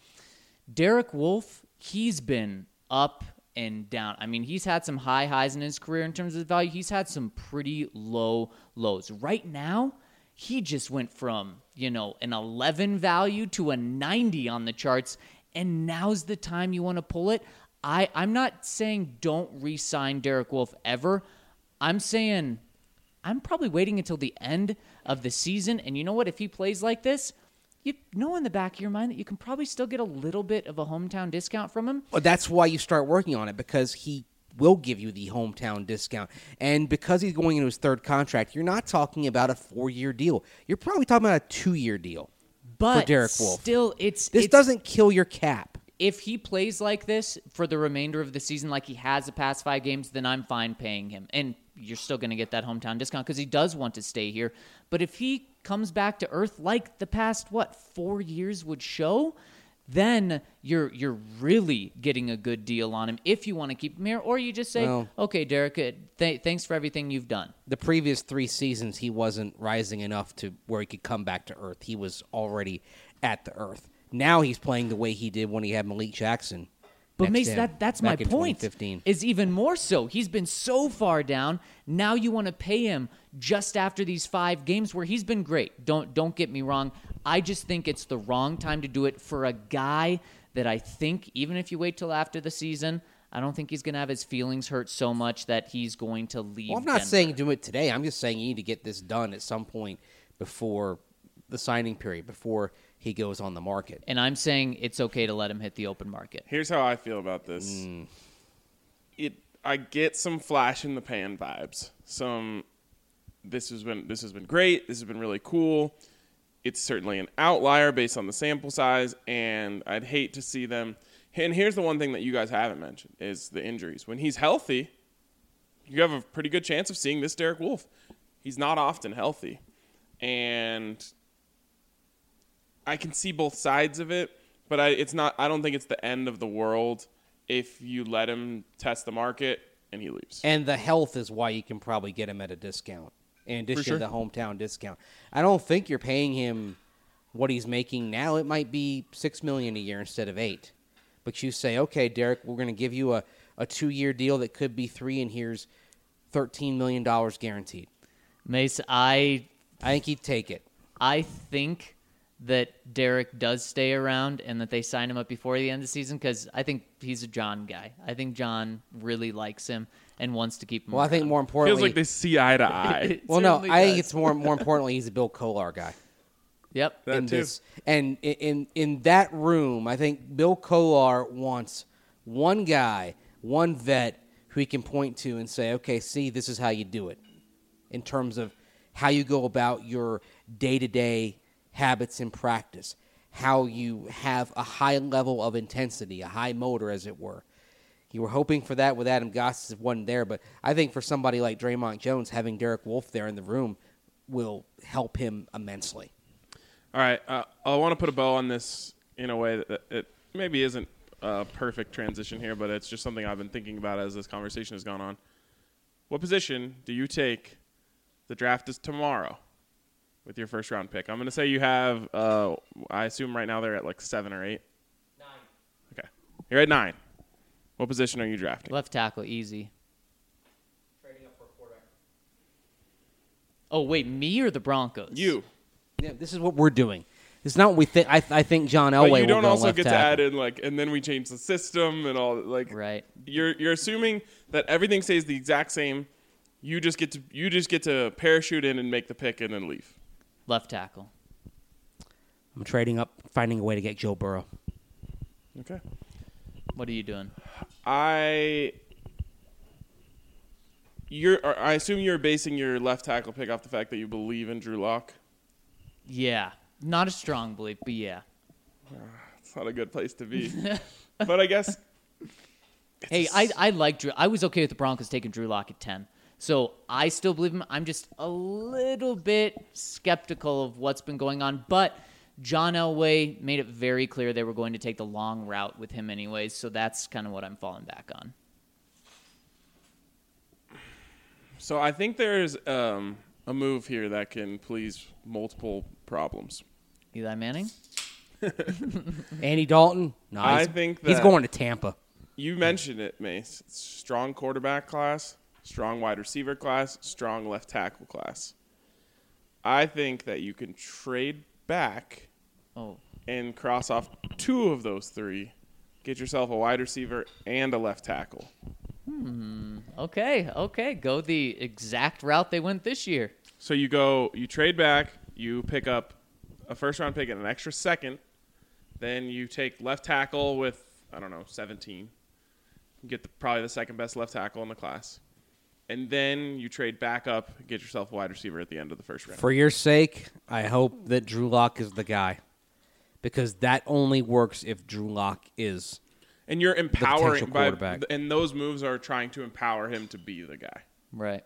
Derek Wolfe, he's been up and down. I mean, he's had some high highs in his career in terms of value. He's had some pretty low lows. Right now, he just went from, you know, an eleven value to a ninety on the charts, and now's the time you want to pull it. I, I'm not saying don't re-sign Derek Wolfe ever. I'm saying I'm probably waiting until the end of the season. And you know what? If he plays like this, you know in the back of your mind that you can probably still get a little bit of a hometown discount from him. Well, that's why you start working on it, because he will give you the hometown discount. And because he's going into his third contract, you're not talking about a four-year deal. You're probably talking about a two-year deal but for Derek Wolfe. Still, it's This it's, doesn't kill your cap. If he plays like this for the remainder of the season like he has the past five games, then I'm fine paying him. And you're still going to get that hometown discount because he does want to stay here. But if he comes back to earth like the past, what, four years would show, then you're you're really getting a good deal on him if you want to keep him here. Or you just say, well, okay, Derek, th- thanks for everything you've done. The previous three seasons, he wasn't rising enough to where he could come back to earth. He was already at the earth. Now he's playing the way he did when he had Malik Jackson. But Mace, that, that's my point, is even more so. He's been so far down. Now you want to pay him just after these five games where he's been great. Don't don't get me wrong. I just think it's the wrong time to do it for a guy that I think, even if you wait till after the season, I don't think he's going to have his feelings hurt so much that he's going to leave Well, I'm not Denver. saying do it today. I'm just saying you need to get this done at some point before the signing period, before he goes on the market. And I'm saying it's okay to let him hit the open market. Here's how I feel about this. Mm. It I get some flash in the pan vibes. Some this has been this has been great. This has been really cool. It's certainly an outlier based on the sample size, and I'd hate to see them. And here's the one thing that you guys haven't mentioned is the injuries. When he's healthy, you have a pretty good chance of seeing this Derek Wolfe. He's not often healthy. And I can see both sides of it, but I, it's not. I don't think it's the end of the world if you let him test the market and he leaves. And the health is why you can probably get him at a discount, in addition sure. to the hometown discount. I don't think you're paying him what he's making now. It might be six million dollars a year instead of eight. But you say, okay, Derek, we're going to give you a, a two-year deal that could be three, and here's thirteen million dollars guaranteed. Mace, I I think he'd take it. I think that Derek does stay around and that they sign him up before the end of the season because I think he's a John guy. I think John really likes him and wants to keep him Well, around. I think more importantly... Feels like they see eye to eye. well, no, does. I think it's more more importantly he's a Bill Kolar guy. Yep. That in too. This, and in, in in that room, I think Bill Kolar wants one guy, one vet who he can point to and say, okay, see, this is how you do it in terms of how you go about your day-to-day habits in practice, how you have a high level of intensity, a high motor, as it were. You were hoping for that with Adam Gotsis, it wasn't there, but I think for somebody like Draymond Jones, having Derek Wolfe there in the room will help him immensely. All right, uh, I want to put a bow on this in a way that that it maybe isn't a perfect transition here, but it's just something I've been thinking about as this conversation has gone on. What position do you take? The draft is tomorrow with your first round pick. I'm going to say you have, uh, I assume right now they're at like seven or eight. Nine. Okay. You're at nine. What position are you drafting? Left tackle, easy. Trading up for a quarterback. Oh, wait, me or the Broncos? You. Yeah, this is what we're doing. It's not what we think. I, I think John But Elway you don't will go also left get tackle. to add in like, and then we change the system and all. Like, Right. You're you're assuming that everything stays the exact same. You just get to you just get to parachute in and make the pick and then leave. Left tackle. I'm trading up, finding a way to get Joe Burrow. Okay. What are you doing? I you're or I assume you're basing your left tackle pick off the fact that you believe in Drew Lock. Yeah. Not a strong belief, but yeah. It's not a good place to be. But I guess Hey, I I like Drew. I was okay with the Broncos taking Drew Lock at ten. So I still believe him. I'm just a little bit skeptical of what's been going on. But John Elway made it very clear they were going to take the long route with him anyways. So that's kind of what I'm falling back on. so I think there's um, a move here that can please multiple problems. Eli Manning? Andy Dalton? No, I he's, think he's that- going to Tampa. You mentioned it, Mace. Strong quarterback class, strong wide receiver class, strong left tackle class. I think that you can trade back Oh, and cross off two of those three, get yourself a wide receiver and a left tackle. okay, okay. Go the exact route they went this year. So you go, you trade back, you pick up a first round pick and an extra second, then you take left tackle with, I don't know, seventeen. You get the, probably the second best left tackle in the class. And then you trade back up, get yourself a wide receiver at the end of the first round. For your sake, I hope that Drew Lock is the guy. Because that only works if Drew Lock is. And you're empowering potential by, quarterback. and those moves are trying to empower him to be the guy. Right.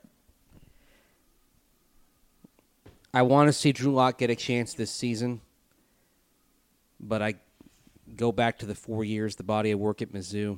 I want to see Drew Lock get a chance this season. But I go back to the four years, the body of work at Mizzou.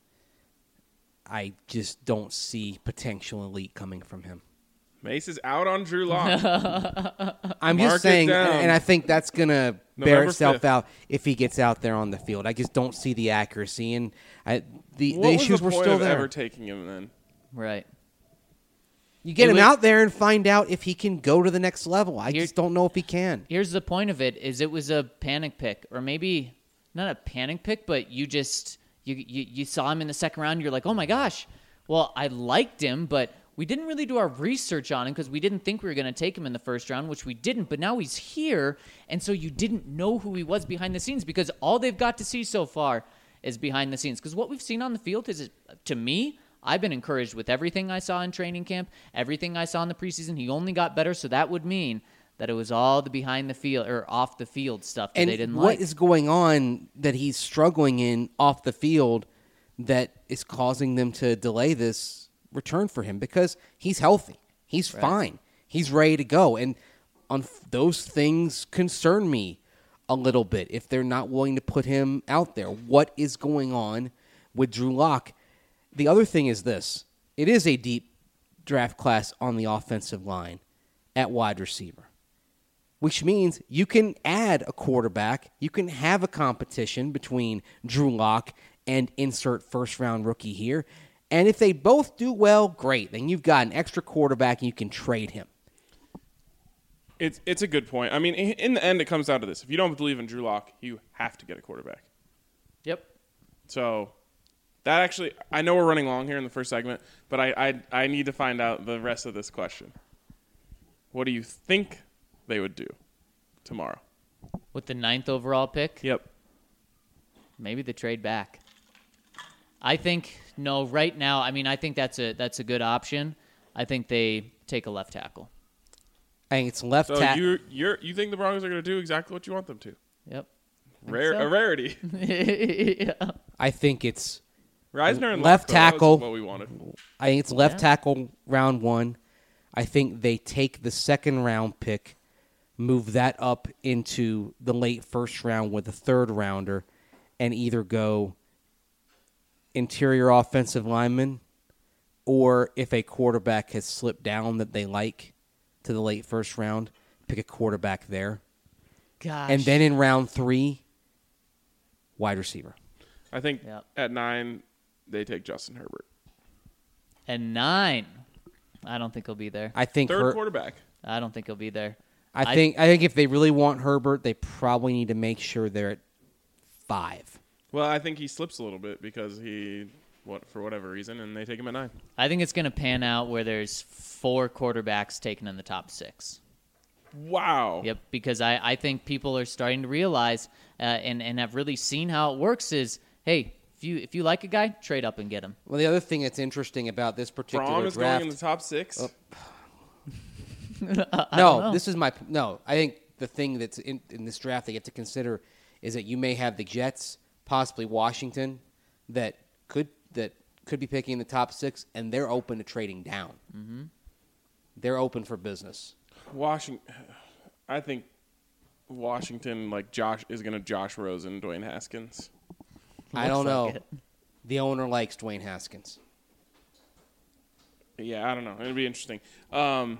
I just don't see potential elite coming from him. Mace is out on Drew Lock. I'm Mark it just saying, down. and I think that's going to bear November itself fifth. out if he gets out there on the field. I just don't see the accuracy, and I, the, what the was issues the were point still of there. ever taking him then? Right. You get It him was- out there and find out if he can go to the next level. I Here- just don't know if he can. Here's the point of it: is it was a panic pick, or maybe not a panic pick, but you just you you, you saw him in the second round. You're like, oh my gosh. Well, I liked him, but we didn't really do our research on him because we didn't think we were going to take him in the first round, which we didn't. But now he's here, and so you didn't know who he was behind the scenes because all they've got to see so far is behind the scenes. Because what we've seen on the field is, to me, I've been encouraged with everything I saw in training camp, everything I saw in the preseason. He only got better, so that would mean that it was all the behind the field or off the field stuff that And they didn't what like. is going on that he's struggling in off the field that is causing them to delay this return for him? Because he's healthy. He's Right. fine. He's ready to go. And on f- those things concern me a little bit if they're not willing to put him out there. What is going on with Drew Lock? The other thing is this. It is a deep draft class on the offensive line at wide receiver, which means you can add a quarterback. You can have a competition between Drew Lock and insert first-round rookie here. And if they both do well, great. Then you've got an extra quarterback and you can trade him. It's it's a good point. I mean, in in the end, it comes down to this: if you don't believe in Drew Lock, you have to get a quarterback. Yep. So that actually, I know we're running long here in the first segment, but I I, I need to find out the rest of this question. What do you think they would do tomorrow? With the ninth overall pick, Yep. maybe the trade back. I think no. Right now, I mean, I think that's a that's a good option. I think they take a left tackle. I think it's left So tackle. you you're you think the Broncos are going to do exactly what you want them to? Yep. Rare, so. a rarity. yeah. I think it's Reisner and Left Luck, though, that was tackle. what we wanted. I think it's left Yeah. tackle round one. I think they take the second round pick, move that up into the late first round with a third rounder, and either go interior offensive lineman, or if a quarterback has slipped down that they like to the late first round, pick a quarterback there. Gosh. And then in round three, wide receiver. I think Yep. at nine, they take Justin Herbert. and nine. I don't think he'll be there. I think Third Her- quarterback. I don't think he'll be there. I I- think I think if they really want Herbert, they probably need to make sure they're at five. Well, I think he slips a little bit because he, what for whatever reason, and they take him at nine. I think it's going to pan out where there's four quarterbacks taken in the top six. Wow. Yep, because I, I think people are starting to realize uh, and, and have really seen how it works is, hey, if you if you like a guy, trade up and get him. Well, the other thing that's interesting about this particular Braum is draft, going in the top six. no, this is my no. I think the thing that's in, in this draft they get to consider is that you may have the Jets, possibly Washington, that could that could be picking in the top six, and they're open to trading down. Mm-hmm. They're open for business. Washington. I think Washington, like Josh, is going to Josh Rosen, Dwayne Haskins. I don't Looks know. like it. The owner likes Dwayne Haskins. Yeah, I don't know. It'll be interesting. Um,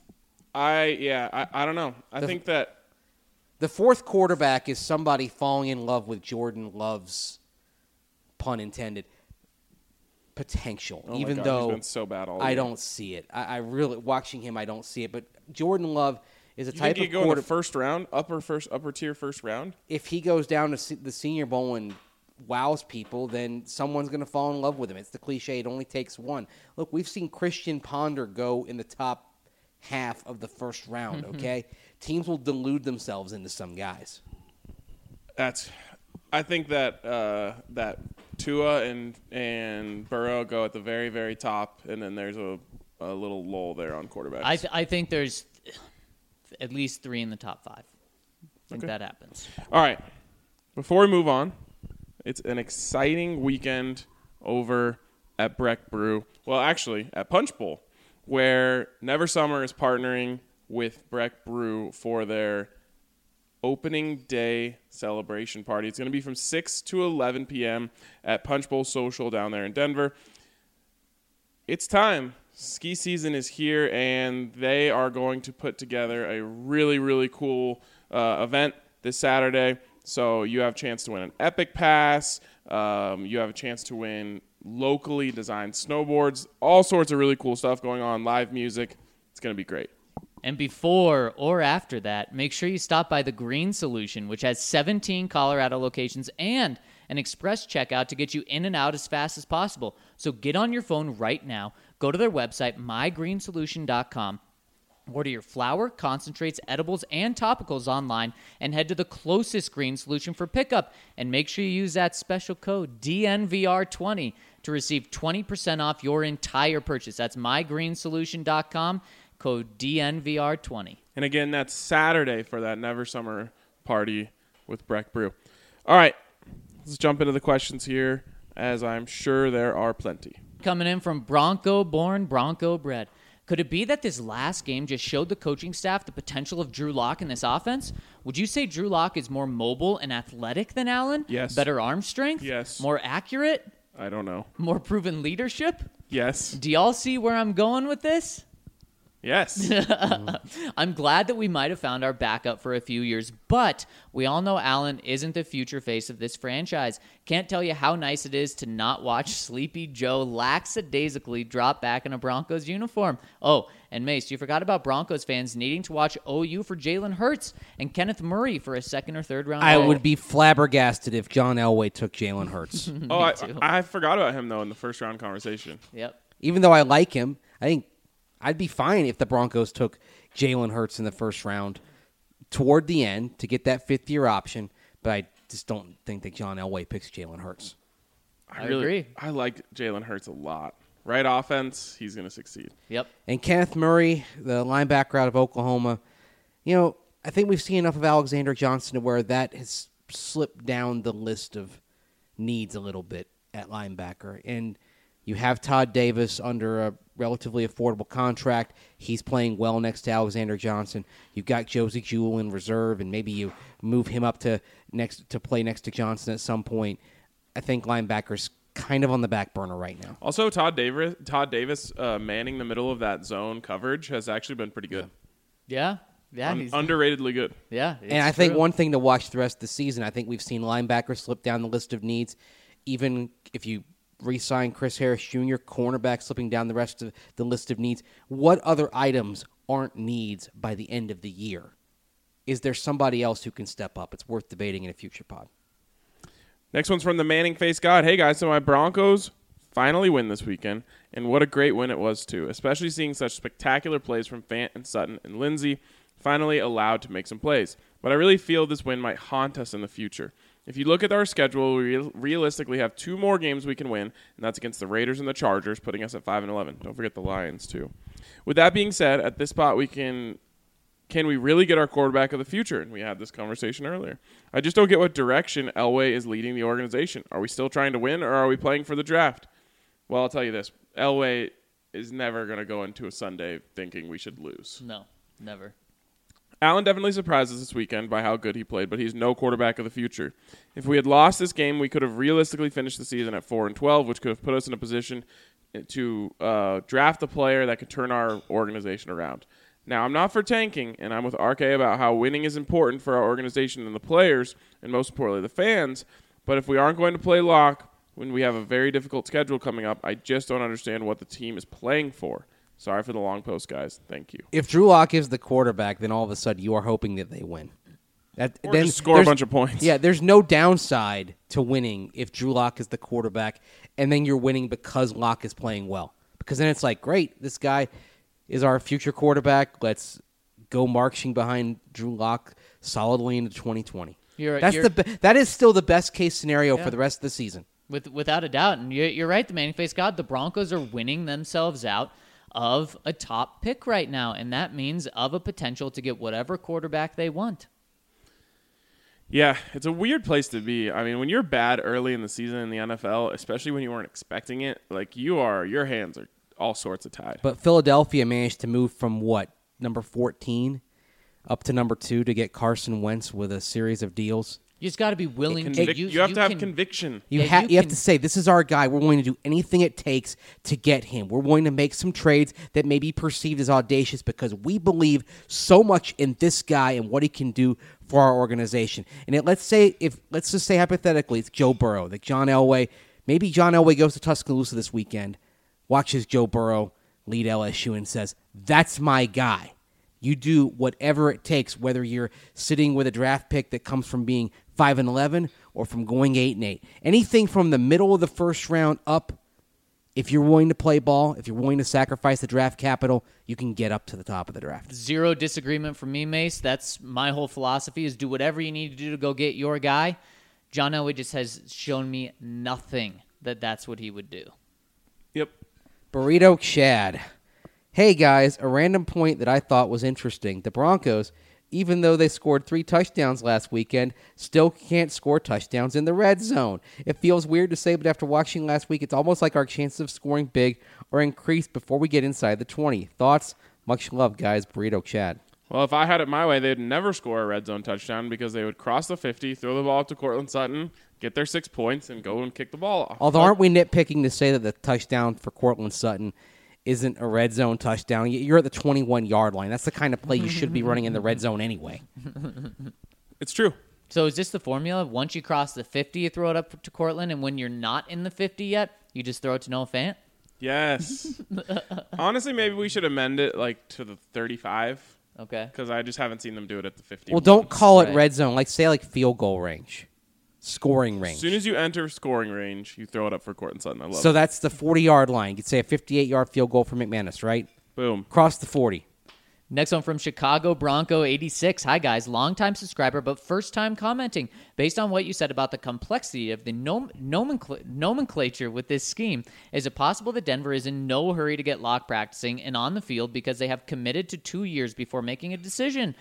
I yeah, I, I don't know. I The- think that The fourth quarterback is somebody falling in love with Jordan Love's, pun intended, potential. oh my even God, though he's been so bad all I year. don't see it. I, I really watching him, I don't see it. But Jordan Love is a You type think of he go in quarter. the first round, upper first, upper tier first round? If he goes down to se- the Senior Bowl and wows people, then someone's going to fall in love with him. It's the cliche. It only takes one. Look, we've seen Christian Ponder go in the top half of the first round. Okay, teams will delude themselves into some guys. That's. I think that uh, that Tua and and Burrow go at the very very top, and then there's a, a little lull there on quarterbacks. I th- I think there's at least three in the top five. I think Okay. that happens. All right. Before we move on, it's an exciting weekend over at Breck Brew. Well, actually, at Punch Bowl, where Never Summer is partnering with Breck Brew for their opening day celebration party. It's going to be from six to eleven p.m. at Punch Bowl Social down there in Denver. It's time. Ski season is here, and they are going to put together a really, really cool uh, event this Saturday. So you have a chance to win an Epic Pass. Um, you have a chance to win locally designed snowboards. All sorts of really cool stuff going on, live music. It's going to be great. And before or after that, make sure you stop by the Green Solution, which has seventeen Colorado locations and an express checkout to get you in and out as fast as possible. So get on your phone right now, go to their website, my green solution dot com, order your flour, concentrates, edibles, and topicals online, and head to the closest Green Solution for pickup. And make sure you use that special code D N V R twenty to receive twenty percent off your entire purchase. That's my green solution dot com. Code D N V R twenty. And again, that's Saturday for that Never Summer party with Breck Brew. All right, let's jump into the questions here, as I'm sure there are plenty. Coming in from Bronco born, Bronco bred. Could it be that this last game just showed the coaching staff the potential of Drew Lock in this offense? Would you say Drew Lock is more mobile and athletic than Allen? Yes. Better arm strength? Yes. More accurate? I don't know. More proven leadership? Yes. Do y'all see where I'm going with this? Yes. I'm glad that we might have found our backup for a few years, but we all know Allen isn't the future face of this franchise. Can't tell you how nice it is to not watch Sleepy Joe lackadaisically drop back in a Broncos uniform. Oh, and Mace, you forgot about Broncos fans needing to watch O U for Jalen Hurts and Kenneth Murray for a second or third round. I pick. would be flabbergasted if John Elway took Jalen Hurts. oh, I, too. I forgot about him, though, in the first round conversation. Yep. Even though I like him, I think I'd be fine if the Broncos took Jalen Hurts in the first round toward the end to get that fifth-year option, but I just don't think that John Elway picks Jalen Hurts. I agree. I like Jalen Hurts a lot. Right offense, he's going to succeed. Yep. And Kenneth Murray, the linebacker out of Oklahoma, you know, I think we've seen enough of Alexander Johnson to where that has slipped down the list of needs a little bit at linebacker. And you have Todd Davis under a relatively affordable contract. He's playing well next to Alexander Johnson. You've got Josie Jewell in reserve, and maybe you move him up to next to play next to Johnson at some point. I think linebacker's kind of on the back burner right now. Also, Todd Davis, Todd Davis uh, manning the middle of that zone coverage has actually been pretty good. Yeah, yeah, Un- he's, underratedly good. yeah. And I it's think true. one thing to watch the rest of the season, I think we've seen linebackers slip down the list of needs. Even if you re-sign Chris Harris Junior, cornerback slipping down the rest of the list of needs. What other items aren't needs by the end of the year? Is there somebody else who can step up? It's worth debating in a future pod. Next one's from the Manning Face God. Hey, guys, so my Broncos finally win this weekend, and what a great win it was, too, especially seeing such spectacular plays from Fant and Sutton and Lindsey finally allowed to make some plays. But I really feel this win might haunt us in the future. If you look at our schedule, we re- realistically have two more games we can win, and that's against the Raiders and the Chargers, putting us at five and eleven. Don't forget the Lions, too. With that being said, at this spot, we can... Can we really get our quarterback of the future? And we had this conversation earlier. I just don't get what direction Elway is leading the organization. Are we still trying to win, or are we playing for the draft? Well, I'll tell you this. Elway is never going to go into a Sunday thinking we should lose. No, never. Allen definitely surprised us this weekend by how good he played, but he's no quarterback of the future. If we had lost this game, we could have realistically finished the season at four and twelve, which could have put us in a position to uh, draft a player that could turn our organization around. Now, I'm not for tanking, and I'm with R K about how winning is important for our organization and the players, and most importantly, the fans. But if we aren't going to play lock when we have a very difficult schedule coming up, I just don't understand what the team is playing for. Sorry for the long post, guys. Thank you. If Drew Lock is the quarterback, then all of a sudden you are hoping that they win. That, Or then just score a there's- bunch of points. Yeah, there's no downside to winning if Drew Lock is the quarterback, and then you're winning because Lock is playing well. Because then it's like, great, this guy is our future quarterback. Let's go marching behind Drew Lock solidly into twenty twenty. You're, That's you're, the be- that is still the best case scenario Yeah. for the rest of the season. With, without a doubt. And you're, you're right, the Manning Face God. The Broncos are winning themselves out of a top pick right now, and that means of a potential to get whatever quarterback they want. Yeah, it's a weird place to be. I mean, when you're bad early in the season in the N F L, especially when you weren't expecting it, like you are, your hands are all sorts of tied. But Philadelphia managed to move from what, number fourteen up to number two to get Carson Wentz with a series of deals. You just got to be willing to Convic- use. you have to have can- conviction. You, Yeah, ha- you you have can- to say, this is our guy. We're going to do anything it takes to get him. We're going to make some trades that may be perceived as audacious because we believe so much in this guy and what he can do for our organization. And it, let's say, if let's just say hypothetically, it's Joe Burrow, like John Elway. Maybe John Elway goes to Tuscaloosa this weekend, watches Joe Burrow lead L S U and says, that's my guy. You do whatever it takes, whether you're sitting with a draft pick that comes from being five and eleven or from going eight and eight. Anything from the middle of the first round up, if you're willing to play ball, if you're willing to sacrifice the draft capital, you can get up to the top of the draft. Zero disagreement from me, Mace. That's my whole philosophy: is do whatever you need to do to go get your guy. John Elway just has shown me nothing that that's what he would do. Yep. Burrito Chad. Hey, guys, a random point that I thought was interesting. The Broncos, even though they scored three touchdowns last weekend, still can't score touchdowns in the red zone. It feels weird to say, but after watching last week, it's almost like our chances of scoring big are increased before we get inside the twenty. Thoughts? Much love, guys. Burrito Chad. Well, if I had it my way, they'd never score a red zone touchdown because they would cross the fifty, throw the ball up to Cortland Sutton, get their six points, and go and kick the ball off. Although, aren't we nitpicking to say that the touchdown for Cortland Sutton isn't a red zone touchdown? You're at the twenty-one-yard line. That's the kind of play you should be running in the red zone anyway. It's true. So is this the formula? Once you cross the fifty, you throw it up to Cortland, and when you're not in the fifty yet, you just throw it to Noah Fant? Yes. Honestly, maybe we should amend it like to the thirty-five Okay. because I just haven't seen them do it at the fifty. Well, don't call it Right. red zone. Like, say, like field goal range, scoring range. As soon as you enter scoring range, you throw it up for Cortland Sutton. I love So it. that's the forty-yard line. You'd say a fifty-eight-yard field goal for McManus, right? Boom. Cross the forty. Next one from Chicago Bronco eighty-six. Hi, guys. Longtime subscriber, but first time commenting. Based on what you said about the complexity of the nom- nomencl- nomenclature with this scheme, is it possible that Denver is in no hurry to get lock practicing and on the field because they have committed to two years before making a decision?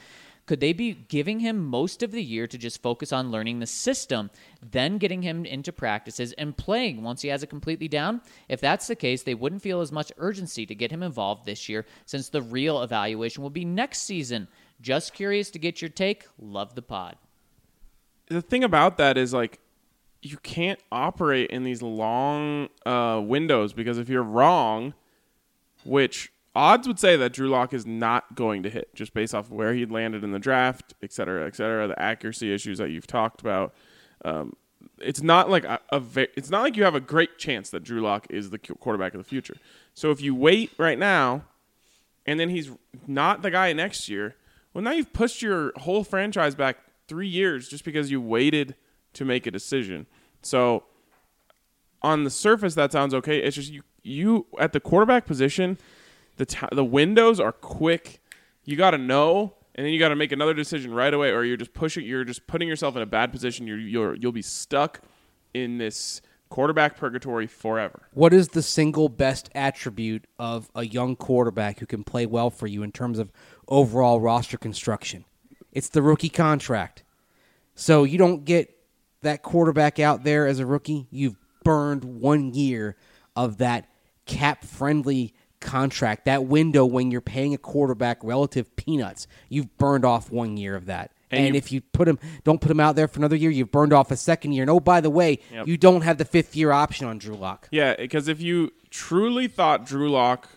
Could they be giving him most of the year to just focus on learning the system, then getting him into practices and playing once he has it completely down? If that's the case, they wouldn't feel as much urgency to get him involved this year, since the real evaluation will be next season. Just curious to get your take. Love the pod. The thing about that is, like, you can't operate in these long uh, windows, because if you're wrong, which odds would say that Drew Lock is not going to hit just based off of where he landed in the draft, et cetera, et cetera, the accuracy issues that you've talked about. Um, it's not like a, a ve- it's not like you have a great chance that Drew Lock is the quarterback of the future. So if you wait right now, and then he's not the guy next year, well, now you've pushed your whole franchise back three years just because you waited to make a decision. So on the surface, that sounds okay. It's just you, you at the quarterback position, the t- the windows are quick. You got to know, and then you got to make another decision right away, or you're just pushing. You're just putting yourself in a bad position. You're you're you'll be stuck in this quarterback purgatory forever. What is the single best attribute of a young quarterback who can play well for you in terms of overall roster construction? It's the rookie contract. So you don't get that quarterback out there as a rookie. You've burned one year of that cap-friendly contract, that window when you're paying a quarterback relative peanuts. You've burned off one year of that. And, and you, if you put him, don't put him out there for another year, you've burned off a second year. And oh, by the way, yep. you don't have the fifth year option on Drew Lock. Yeah, because if you truly thought Drew Lock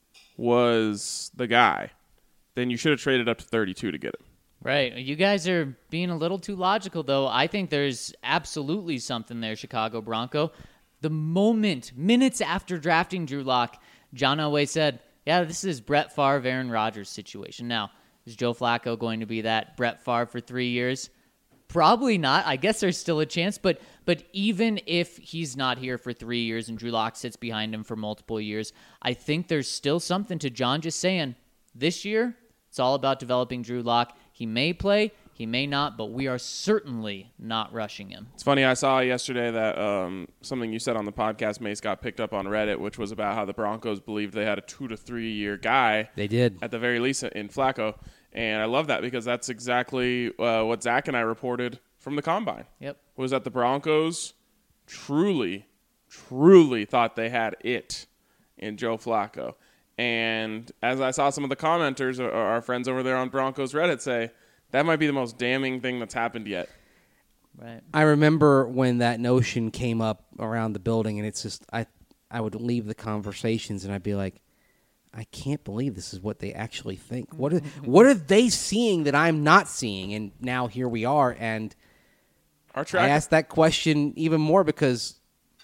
was the guy, then you should have traded up to thirty-two to get him. Right. You guys are being a little too logical, though. I think there's absolutely something there, Chicago Bronco. The moment, minutes after drafting Drew Lock, John Elway said, yeah, this is Brett Favre, Aaron Rodgers situation. Now, is Joe Flacco going to be that Brett Favre for three years? Probably not. I guess there's still a chance, but but even if he's not here for three years and Drew Lock sits behind him for multiple years, I think there's still something to John just saying, this year, it's all about developing Drew Lock. He may play, he may not, but we are certainly not rushing him. It's funny, I saw yesterday that um, something you said on the podcast, Mace, got picked up on Reddit, which was about how the Broncos believed they had a two to three year guy. They did. At the very least in Flacco. And I love that because that's exactly uh, what Zach and I reported from the Combine. Yep. Was that the Broncos truly, truly thought they had it in Joe Flacco. And as I saw some of the commenters, or our friends over there on Broncos Reddit, say, that might be the most damning thing that's happened yet. Right. I remember when that notion came up around the building, and it's just, I, I would leave the conversations, and I'd be like, I can't believe this is what they actually think. What are, what are they seeing that I'm not seeing? And now here we are, and Our track- I asked that question even more because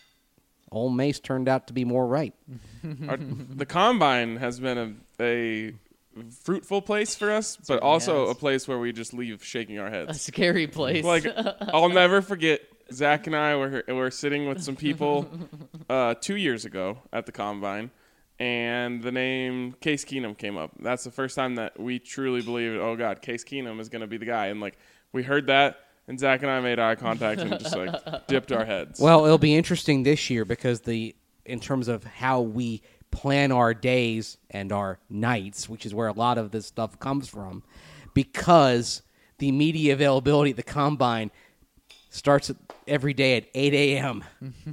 Ole Mace turned out to be more right. Our, the Combine has been a, a fruitful place for us, but also has. a place where we just leave shaking our A heads. scary place. Like, I'll never forget, Zach and I were, were sitting with some people uh, two years ago at the Combine, and the name Case Keenum came up. That's the first time that we truly believed, oh, God, Case Keenum is going to be the guy. And, like, we heard that, and Zach and I made eye contact and just, like, dipped our heads. Well, it'll be interesting this year because the in terms of how we plan our days and our nights, which is where a lot of this stuff comes from, because the media availability at the Combine starts every day at eight a.m.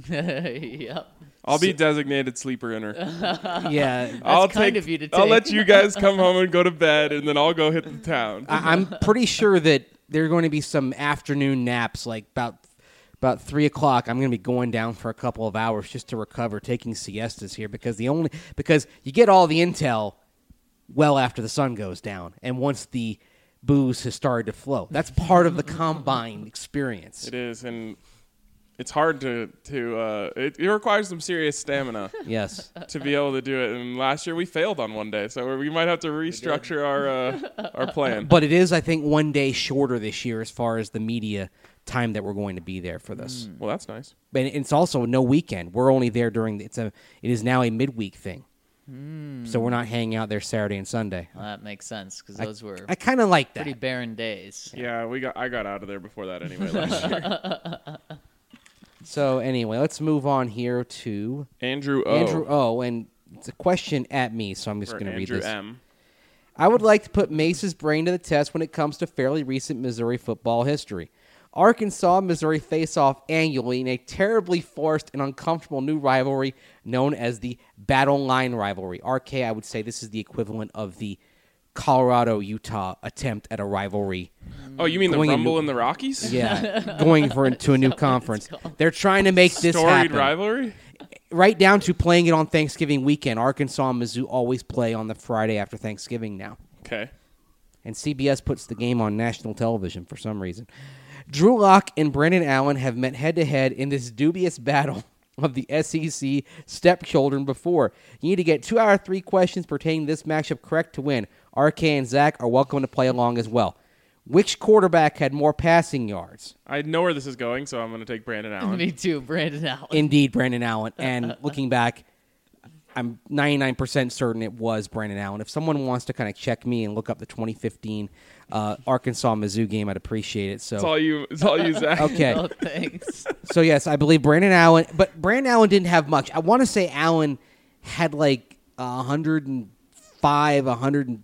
Yep. I'll be designated sleeper inner. Yeah. That's I'll kind take, of you to I'll take. let you guys come home and go to bed, and then I'll go hit the town. I, I'm pretty sure that there are going to be some afternoon naps, like about about three o'clock. I'm going to be going down for a couple of hours just to recover, taking siestas here because the only because you get all the intel well after the sun goes down, and once the booze has started to flow. That's part of the Combine experience. It is, and it's hard to to uh, it, it requires some serious stamina. Yes. To be able to do it. And last year we failed on one day, so we might have to restructure our uh, our plan. But it is, I think, one day shorter this year as far as the media time that we're going to be there for this. Well, that's nice. But it's also no weekend. We're only there during it's a it is now a midweek thing. So we're not hanging out there Saturday and Sunday. Well, that makes sense because those were I kind of like that. pretty barren days. Yeah, we got I got out of there before that anyway last year. So anyway, let's move on here to Andrew O. Andrew O. And it's a question at me, so I'm just or going to read Andrew this. M. I would like to put Mace's brain to the test when it comes to fairly recent Missouri football history. Arkansas and Missouri face off annually in a terribly forced and uncomfortable new rivalry known as the Battle Line Rivalry. R K, I would say this is the equivalent of the Colorado-Utah attempt at a rivalry. Oh, you mean the Going Rumble into- in the Rockies? Yeah, going for into a new conference. They're trying to make this Storied happen. rivalry? Right down to playing it on Thanksgiving weekend. Arkansas and Mizzou always play on the Friday after Thanksgiving now. Okay. And C B S puts the game on national television for some reason. Drew Lock and Brandon Allen have met head-to-head in this dubious battle of the S E C stepchildren before. You need to get two out of three questions pertaining to this matchup correct to win. R K and Zach are welcome to play along as well. Which quarterback had more passing yards? I know where this is going, so I'm going to take Brandon Allen. Me too, Brandon Allen. Indeed, Brandon Allen. And looking back, I'm ninety-nine percent certain it was Brandon Allen. If someone wants to kind of check me and look up the twenty fifteen uh, Arkansas-Mizzou game, I'd appreciate it. It's So, all you. It's all you, Zach. okay. Oh, thanks. So, yes, I believe Brandon Allen. But Brandon Allen didn't have much. I want to say Allen had like one hundred five, one hundred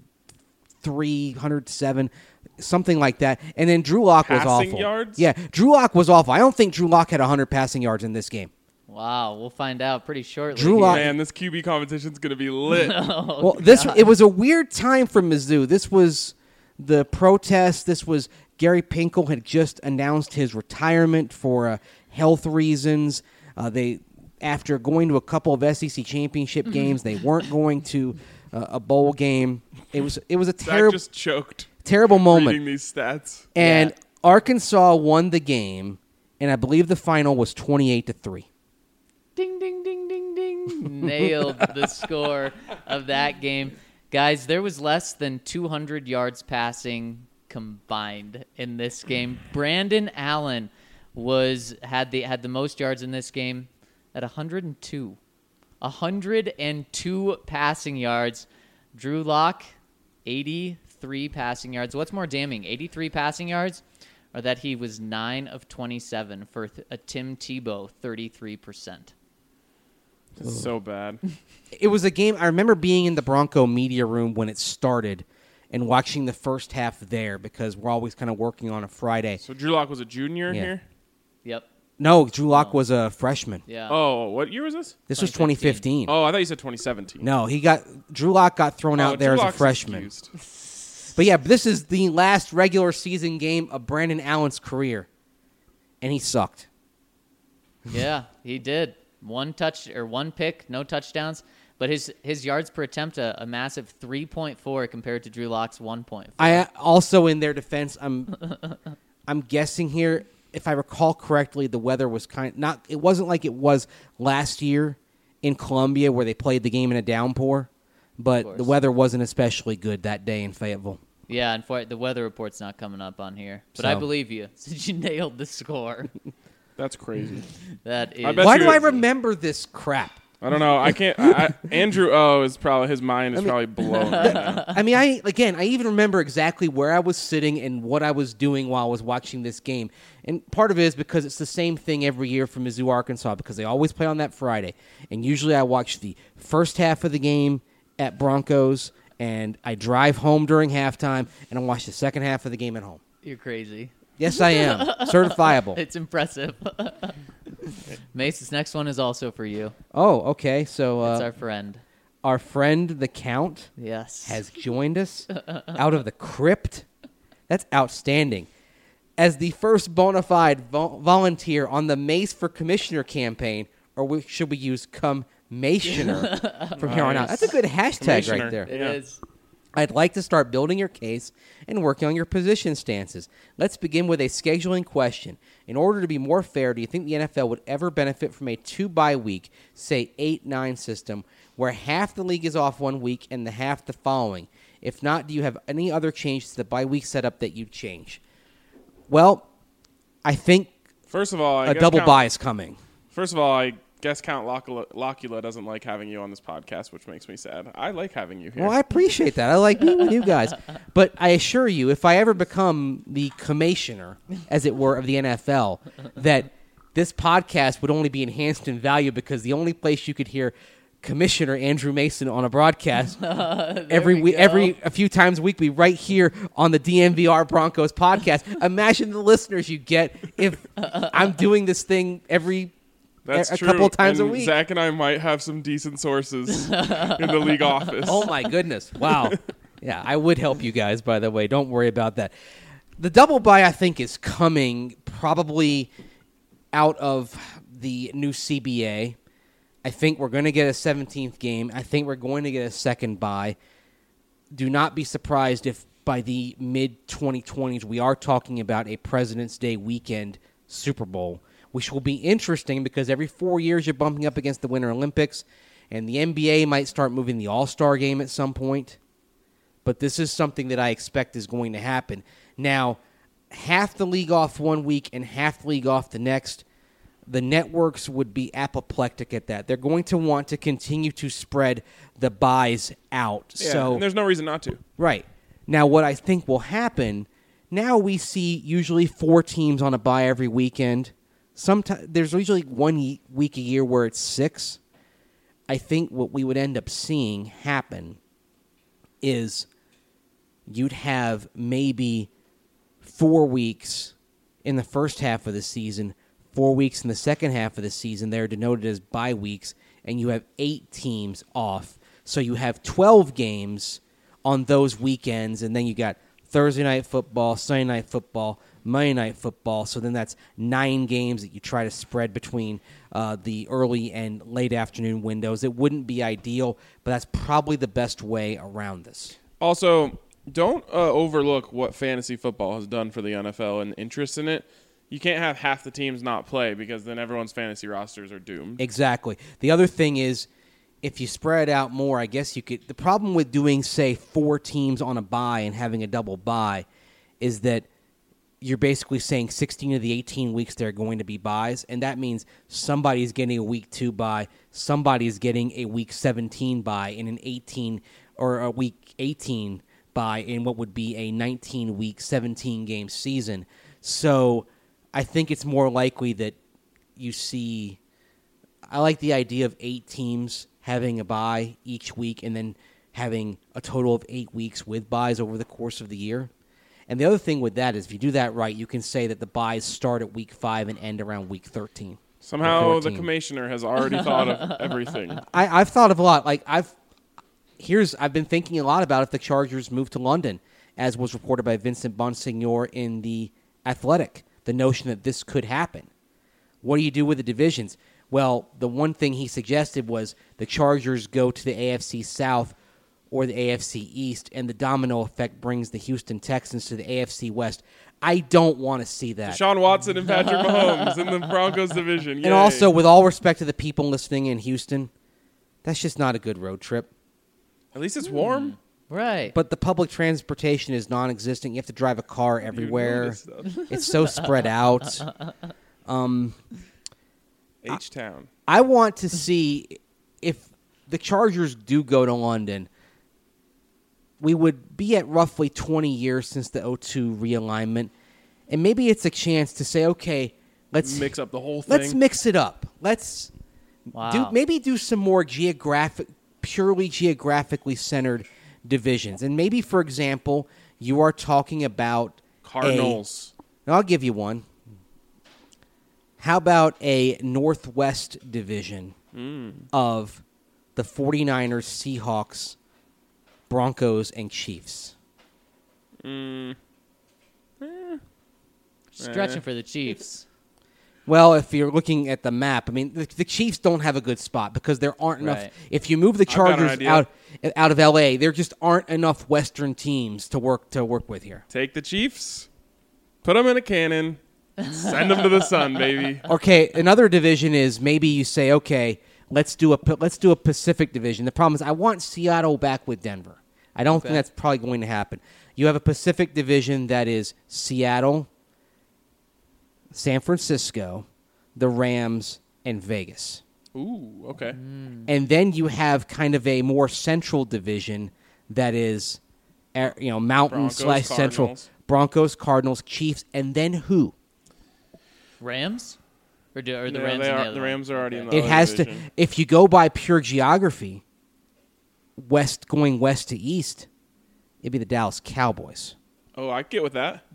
three, one hundred seven, something like that. And then Drew Lock was Passing awful. yards? Yeah, Drew Lock was awful. I don't think Drew Lock had one hundred passing yards in this game. Wow, we'll find out pretty shortly. Drew here. Lock- Man, this Q B competition's going to be lit. Oh, Well, this God. it was a weird time for Mizzou. This was the protest. This was Gary Pinkel had just announced his retirement for uh, health reasons. Uh, they, after going to a couple of S E C championship games, they weren't going to uh, a bowl game. It was it was a Zach terrible just choked terrible moment. reading these stats. And Yeah. Arkansas won the game, and I believe the final was twenty-eight to three. Ding, ding, ding, ding, ding. Nailed the score of that game. Guys, there was less than two hundred yards passing combined in this game. Brandon Allen was had the had the most yards in this game at one hundred two. one hundred two passing yards. Drew Lock, eighty-three passing yards. What's more damning, eighty-three passing yards, or that he was nine of twenty-seven for th- a Tim Tebow, thirty-three percent? It's so bad. It was a game. I remember being in the Bronco media room when it started and watching the first half there because we're always kind of working on a Friday. So Drew Lock was a junior Yeah. here? Yep. No, Drew Lock No. was a freshman. Yeah. Oh, what year was this? This was twenty twenty fifteen. Oh, I thought you said twenty seventeen. No, he got Drew Lock got thrown Oh, out there Drew as a Lock's freshman. excused. But yeah, this is the last regular season game of Brandon Allen's career, and he sucked. Yeah, he did. One touch or one pick, no touchdowns, but his his yards per attempt a, a massive three point four compared to Drew Lock's one point four. I also, in their defense, I'm I'm guessing here. If I recall correctly, the weather was kind not. It wasn't like it was last year in Columbia where they played the game in a downpour, but course. the weather wasn't especially good that day in Fayetteville. Yeah, and for, the weather report's not coming up on here, but I So. believe you since you nailed the score. That's crazy. That is. I bet Why you do I it's- remember this crap? I don't know. I can't. I, I, Andrew O is probably his mind is probably blown right now. I mean, I again, I even remember exactly where I was sitting and what I was doing while I was watching this game. And part of it is because it's the same thing every year for Mizzou, Arkansas, because they always play on that Friday. And usually I watch the first half of the game at Broncos, and I drive home during halftime, and I watch the second half of the game at home. You're crazy. Yes, I am. Certifiable. It's impressive. Mace, this next one is also for you. Oh, okay. So It's uh, our friend. our friend, the Count, Yes. has joined us out of the crypt. That's outstanding. As the first bona fide vo- volunteer on the Mace for Commissioner campaign, or we, should we use Commissioner from here on out? Nice. That's a good hashtag Commissioner. right there. It Yeah. is. I'd like to start building your case and working on your position stances. Let's begin with a scheduling question. In order to be more fair, do you think the N F L would ever benefit from a two-bye week, say eight nine system, where half the league is off one week and the half the following? If not, do you have any other changes to the bye week setup that you'd change? Well, I think First of all, I a guess double Count, bye is coming. First of all, I guess Count Locula, Locula doesn't like having you on this podcast, which makes me sad. I like having you here. Well, I appreciate that. I like being with you guys. But I assure you, if I ever become the commissioner, as it were, of the N F L, that this podcast would only be enhanced in value because the only place you could hear Commissioner Andrew Mason on a broadcast There every we week, go. every a few times weekly, right here on the D M V R Broncos podcast. Imagine the listeners you get if I'm doing this thing every That's a true. couple times a And week. Zach and I might have some decent sources in the league office. Oh my goodness! Wow. Yeah, I would help you guys. By the way, don't worry about that. The double bye, I think, is coming probably out of the new C B A. I think we're going to get a seventeenth game. I think we're going to get a second bye. Do not be surprised if by the mid twenty twenties we are talking about a President's Day weekend Super Bowl, which will be interesting because every four years you're bumping up against the Winter Olympics, and the N B A might start moving the All-Star game at some point. But this is something that I expect is going to happen. Now, half the league off one week and half the league off the next, the networks would be apoplectic at that. They're going to want to continue to spread the buys out. Yeah, so and there's no reason not to. Right. Now, what I think will happen, now we see usually four teams on a bye every weekend. Sometimes there's usually one ye- week a year where it's six. I think what we would end up seeing happen is you'd have maybe four weeks in the first half of the season, four weeks in the second half of the season. They're denoted as bye weeks, and you have eight teams off. So you have twelve games on those weekends, and then you got Thursday night football, Sunday night football, Monday night football. So then that's nine games that you try to spread between uh, the early and late afternoon windows. It wouldn't be ideal, but that's probably the best way around this. Also, don't uh, overlook what fantasy football has done for the N F L and interest in it. You can't have half the teams not play because then everyone's fantasy rosters are doomed. Exactly. The other thing is, if you spread out more, I guess you could. The problem with doing, say, four teams on a bye and having a double bye is that you're basically saying sixteen of the eighteen weeks there are going to be buys, and that means somebody's getting a week two bye, somebody's getting a week seventeen bye in an eighteen or a week eighteen bye in what would be a nineteen-week, seventeen-game season. So I think it's more likely that you see. I like the idea of eight teams having a bye each week and then having a total of eight weeks with buys over the course of the year. And the other thing with that is if you do that right, you can say that the buys start at week five and end around week thirteen. Somehow the commissioner has already thought of everything. I, I've thought of a lot. Like I've here's I've been thinking a lot about if the Chargers move to London, as was reported by Vincent Bonsignor in The Athletic, the notion that this could happen. What do you do with the divisions? Well, the one thing he suggested was the Chargers go to the A F C South or the A F C East, and the domino effect brings the Houston Texans to the A F C West. I don't want to see that. Deshaun Watson and Patrick Mahomes in the Broncos division. Yay. And also, with all respect to the people listening in Houston, that's just not a good road trip. At least it's warm. Right. But the public transportation is non-existent. You have to drive a car You know everywhere. this stuff. It's so spread out. Um, H-Town. I want to see if the Chargers do go to London. We would be at roughly twenty years since the oh two realignment, and maybe it's a chance to say, okay, let's Mix up the whole thing. let's mix it up. Let's Wow. do maybe do some more geographic, purely geographically centered divisions, and maybe, for example, you are talking about Cardinals. A, I'll give you one. How about a Northwest division Mm. of the 49ers, Seahawks, Broncos, and Chiefs? Mm. Stretching Eh. for the Chiefs. Well, if you're looking at the map, I mean, the, the Chiefs don't have a good spot because there aren't enough. Right. If you move the I've got an Chargers idea. out out of L A, there just aren't enough Western teams to work to work with here. Take the Chiefs, put them in a cannon, send them to the sun, baby. Okay, another division is maybe you say, okay, let's do a let's do a Pacific division. The problem is I want Seattle back with Denver. I don't think Okay. that's probably going to happen. You have a Pacific division that is Seattle, San Francisco, the Rams, and Vegas. Ooh, okay. And then you have kind of a more central division that is, uh, you know, Mountain Broncos, slash Central. Cardinals. Broncos, Cardinals, Chiefs, and then who? Rams? Or, do, or the Yeah, Rams they in the are- other the one? Rams are already in Okay. the It other has to. division. If you go by pure geography, west going west to east, it'd be the Dallas Cowboys. Oh, I get with that.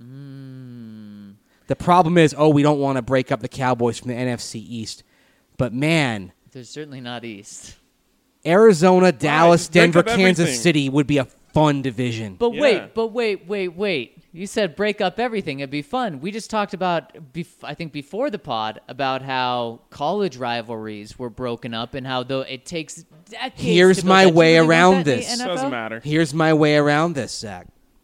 The problem is, oh, we don't want to break up the Cowboys from the N F C East. But man, They're certainly not East. Arizona, Dallas, just break Denver, up Kansas everything. City would be a fun division. But Yeah. wait, but wait, wait, wait. You said break up everything. It'd be fun. We just talked about, bef- I think before the pod, about how college rivalries were broken up and how though it takes decades Here's to build my that. Do you way really want around that in the this. N F L? Doesn't matter. Here's my way around this, Zach.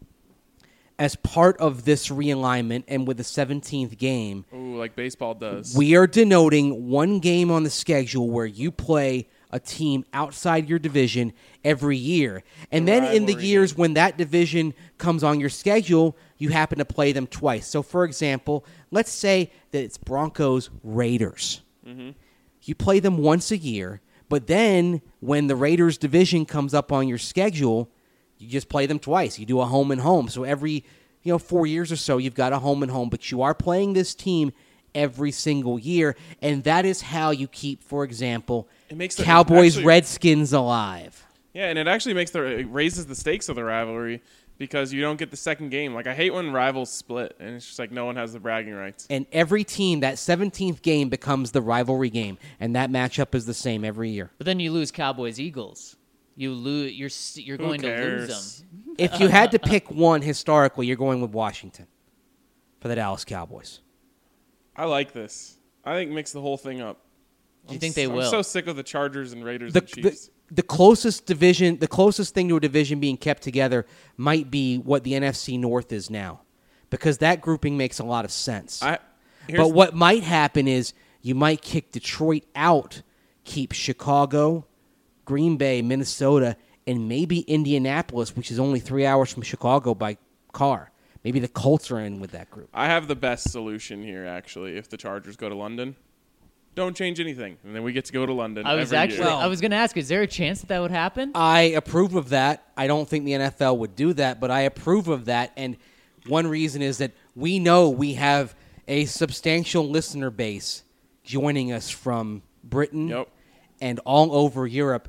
As part of this realignment and with the seventeenth game, Ooh, like baseball does. we are denoting one game on the schedule where you play a team outside your division every year. And The then in the rivalry years when that division comes on your schedule, you happen to play them twice. So, for example, let's say that it's Broncos Raiders. Mm-hmm. You play them once a year, but then when the Raiders division comes up on your schedule, you just play them twice. You do a home and home. So every, you know, four years or so, you've got a home and home, but you are playing this team every single year, and that is how you keep, for example, It makes the- Cowboys actually- Redskins alive. Yeah, and it actually makes the it raises the stakes of the rivalry because you don't get the second game. Like I hate when rivals split and it's just like no one has the bragging rights. And every team, that seventeenth game becomes the rivalry game, and that matchup is the same every year. But then you lose Cowboys Eagles. You lose. You're s- you're Who going to cares? lose them. If you had to pick one historically, you're going with Washington for the Dallas Cowboys. I like this. I think mix the whole thing up. Do you I'm think they s- will? I'm so sick of the Chargers and Raiders The, and Chiefs. the, the closest division, the closest thing to a division being kept together might be what the N F C North is now, because that grouping makes a lot of sense. I, here's But what might happen is you might kick Detroit out, keep Chicago, Green Bay, Minnesota, and maybe Indianapolis, which is only three hours from Chicago by car. Maybe the Colts are in with that group. I have the best solution here actually. If the Chargers go to London, don't change anything, and then we get to go to London. I was every actually. year. I was going to ask. Is there a chance that that would happen? I approve of that. I don't think the N F L would do that, but I approve of that. And one reason is that we know we have a substantial listener base joining us from Britain Yep. and all over Europe.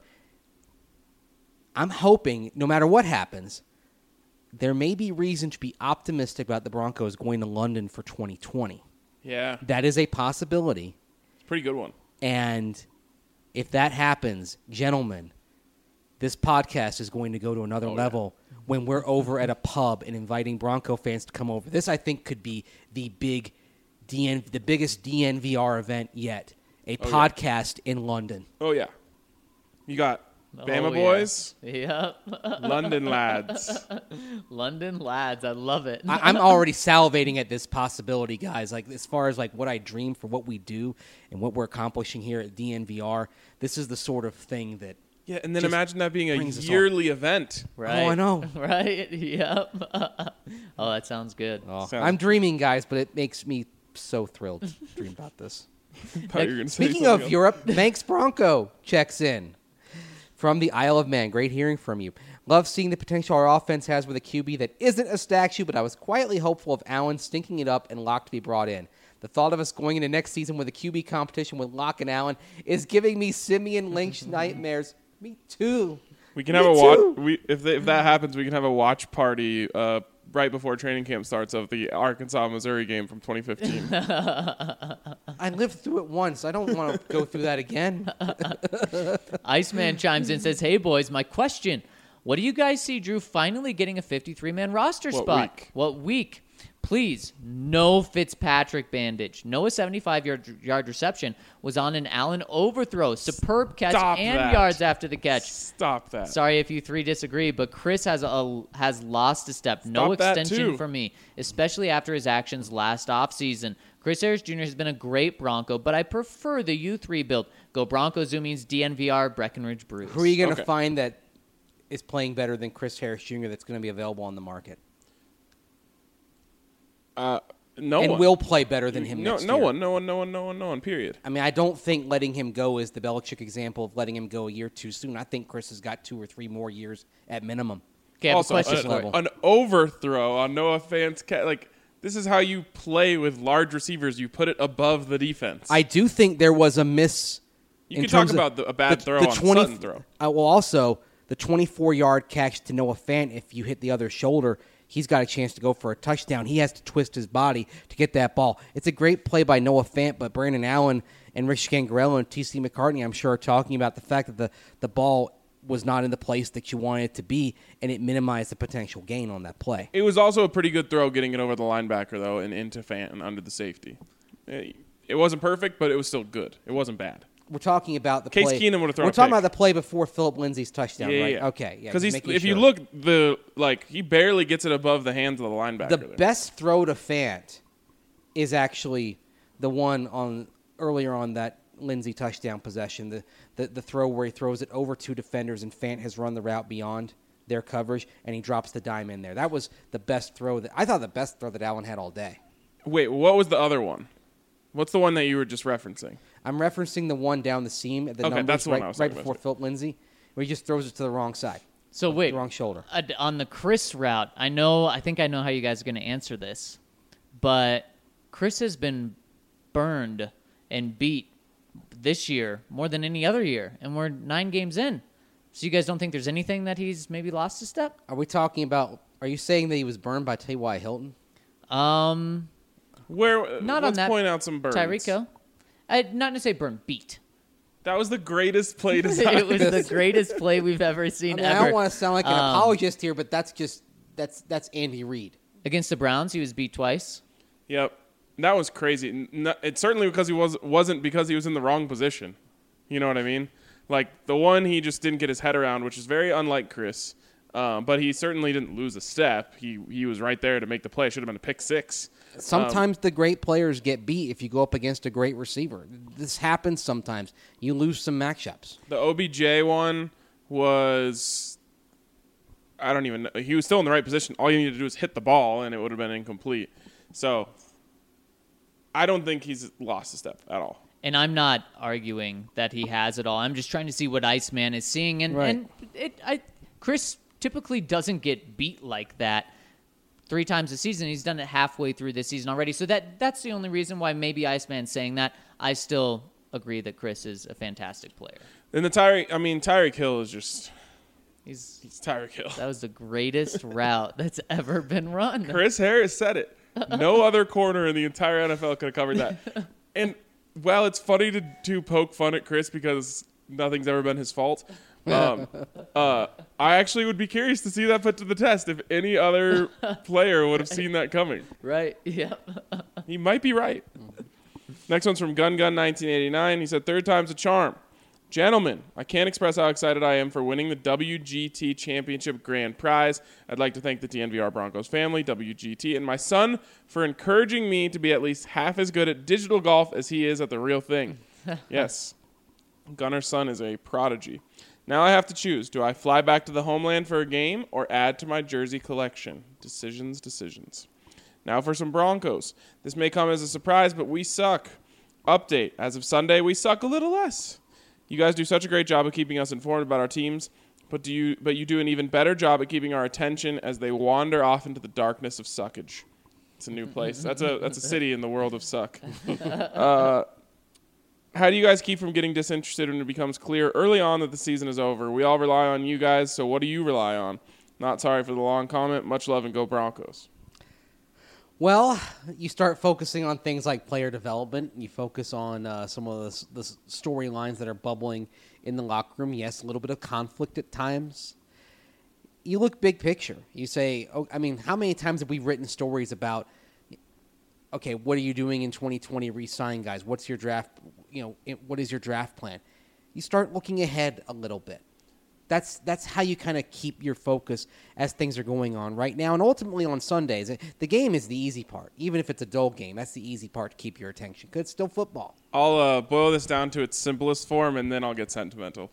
I'm hoping, no matter what happens, there may be reason to be optimistic about the Broncos going to London for twenty twenty. Yeah, That is a possibility. it's a pretty good one. And if that happens, gentlemen, this podcast is going to go to another Oh, yeah. level when we're over at a pub and inviting Bronco fans to come over. This, I think, could be the big D N, the biggest D N V R event yet. A Oh, yeah. podcast in London. Oh yeah, you got Bama Oh, yeah. boys, Yep. London lads. London lads. I love it. I, I'm already salivating at this possibility, guys. Like as far as like what I dream for what we do and what we're accomplishing here at D N V R, this is the sort of thing that. Yeah, and then Just imagine that being a brings us all. yearly event. right. Oh, I know. Right. Yep. Oh, that sounds good. Oh, Sounds- I'm dreaming, guys, but it makes me so thrilled to dream about this. Thought you were gonna say Speaking something of else. Europe, Manx Bronco checks in from the Isle of Man. Great hearing from you. Love seeing the potential our offense has with a Q B that isn't a statue, but I was quietly hopeful of Allen stinking it up and Locke to be brought in. The thought of us going into next season with a Q B competition with Locke and Allen is giving me Simeon Lynch nightmares. Me too. We can Me have a too. watch. We if they, if that happens, we can have a watch party uh, right before training camp starts of the Arkansas Missouri game from twenty fifteen. I lived through it once. I don't want to go through that again. Iceman chimes in and says, "Hey boys, my question: what do you guys see Drew finally getting a fifty-three man roster What spot? week? What week? Please, no Fitzpatrick bandage. No a seventy-five yard, yard reception was on an Allen overthrow. Superb catch Stop and that. yards after the catch. Stop that. Sorry if you three disagree, but Chris has a has lost a step. No Stop that, extension too. for me, especially after his actions last offseason. Chris Harris Junior has been a great Bronco, but I prefer the U three build. Go Broncos, Zoomies, D N V R, Breckenridge Brews. Who are you going to Okay. find that is playing better than Chris Harris Junior that's going to be available on the market? Uh, no and one will play better than him No, next no year. one, no one, no one, no one, no one. Period. I mean, I don't think letting him go is the Belichick example of letting him go a year too soon. I think Chris has got two or three more years at minimum. Okay, I have also, a question a- for you. level. an overthrow on Noah Fant's cat. Like This is how you play with large receivers. You put it above the defense. I do think there was a miss. you in can talk terms of about the, a bad the- throw the on twenty Sutton throw. Uh, well, also the twenty-four-yard catch to Noah Fant. If you hit the other shoulder, he's got a chance to go for a touchdown. He has to twist his body to get that ball. It's a great play by Noah Fant, but Brandon Allen and Rich Scangarello and T C McCartney, I'm sure, are talking about the fact that the, the ball was not in the place that you wanted it to be, and it minimized the potential gain on that play. It was also a pretty good throw getting it over the linebacker, though, and into Fant and under the safety. It, it wasn't perfect, but it was still good. It wasn't bad. We're talking about the Case play. Keenum would've thrown We're a talking pick. about the play before Philip Lindsay's touchdown, Yeah, right? yeah. Okay, yeah. Because just if making you sure. look, the like he barely gets it above the hands of the linebacker. the there. best throw to Fant is actually the one on earlier on that Lindsay touchdown possession, the, the the throw where he throws it over two defenders and Fant has run the route beyond their coverage and he drops the dime in there. That was the best throw that I thought the best throw that Allen had all day. Wait, what was the other one? What's the one that you were just referencing? I'm referencing the one down the seam at the Okay, numbers that's the one I right, was right talking before about. Philip Lindsay, where he just throws it to the wrong side. So wait, the wrong shoulder. uh, on the Chris route, I know. I think I know how you guys are going to answer this, but Chris has been burned and beat this year more than any other year, and we're nine games in. So you guys don't think there's anything that he's maybe lost a step? Are we talking about? Are you saying that he was burned by T Y. Hilton? Um, Where? Not let's on that. point out some burns. Tyreek, I not to say burn, beat. That was the greatest play design. It was the greatest play we've ever seen I, mean, I ever. don't want to sound like an Um, apologist here, but that's just that's that's Andy Reid. Against the Browns, he was beat twice. Yep, that was crazy. N- n- It's certainly because he was wasn't because he was in the wrong position. You know what I mean? Like the one he just didn't get his head around, which is very unlike Chris. Um, but he certainly didn't lose a step. He he was right there to make the play. Should have been a pick six. Sometimes the great players get beat if you go up against a great receiver. This happens sometimes. You lose some matchups. The O B J one was, I don't even know. He was still in the right position. All you needed to do was hit the ball, and it would have been incomplete. So I don't think he's lost a step at all. And I'm not arguing that he has it all. I'm just trying to see what Iceman is seeing. And, Right. and it, I, Chris typically doesn't get beat like that three times a season. He's done it halfway through this season already. So that that's the only reason why maybe Iceman's saying that. I still agree that Chris is a fantastic player. And the Tyreek, I mean, Tyreek Hill is just, He's he's Tyreek Hill. That was the greatest route that's ever been run. Chris Harris said it. No other corner in the entire N F L could have covered that. And while it's funny to, to poke fun at Chris because nothing's ever been his fault, um, uh, I actually would be curious to see that put to the test if any other player would have seen that coming. Right, yep. He might be right. Next one's from Gun Gun nineteen eighty-nine. He said, third time's a charm. Gentlemen, I can't express how excited I am for winning the W G T Championship Grand Prize. I'd like to thank the T N V R Broncos family, W G T, and my son for encouraging me to be at least half as good at digital golf as he is at the real thing. Yes, Gunner's son is a prodigy. Now I have to choose. Do I fly back to the homeland for a game or add to my jersey collection? Decisions, decisions. Now for some Broncos. This may come as a surprise, but we suck. Update. As of Sunday, we suck a little less. You guys do such a great job of keeping us informed about our teams, but do you but you do an even better job at keeping our attention as they wander off into the darkness of suckage. It's a new place. That's a that's a city in the world of suck. Uh, how do you guys keep from getting disinterested when it becomes clear early on that the season is over? We all rely on you guys, so what do you rely on? Not sorry for the long comment. Much love and go Broncos. Well, you start focusing on things like player development. You focus on uh, some of the, the storylines that are bubbling in the locker room. Yes, a little bit of conflict at times. You look big picture. You say, oh, I mean, how many times have we written stories about, okay, what are you doing in twenty twenty re-sign guys? What's your draft, you know, it, what is your draft plan? You start looking ahead a little bit. That's that's how you kind of keep your focus as things are going on right now. And ultimately on Sundays, the game is the easy part. Even if it's a dull game, that's the easy part to keep your attention because it's still football. I'll uh, boil this down to its simplest form, and then I'll get sentimental.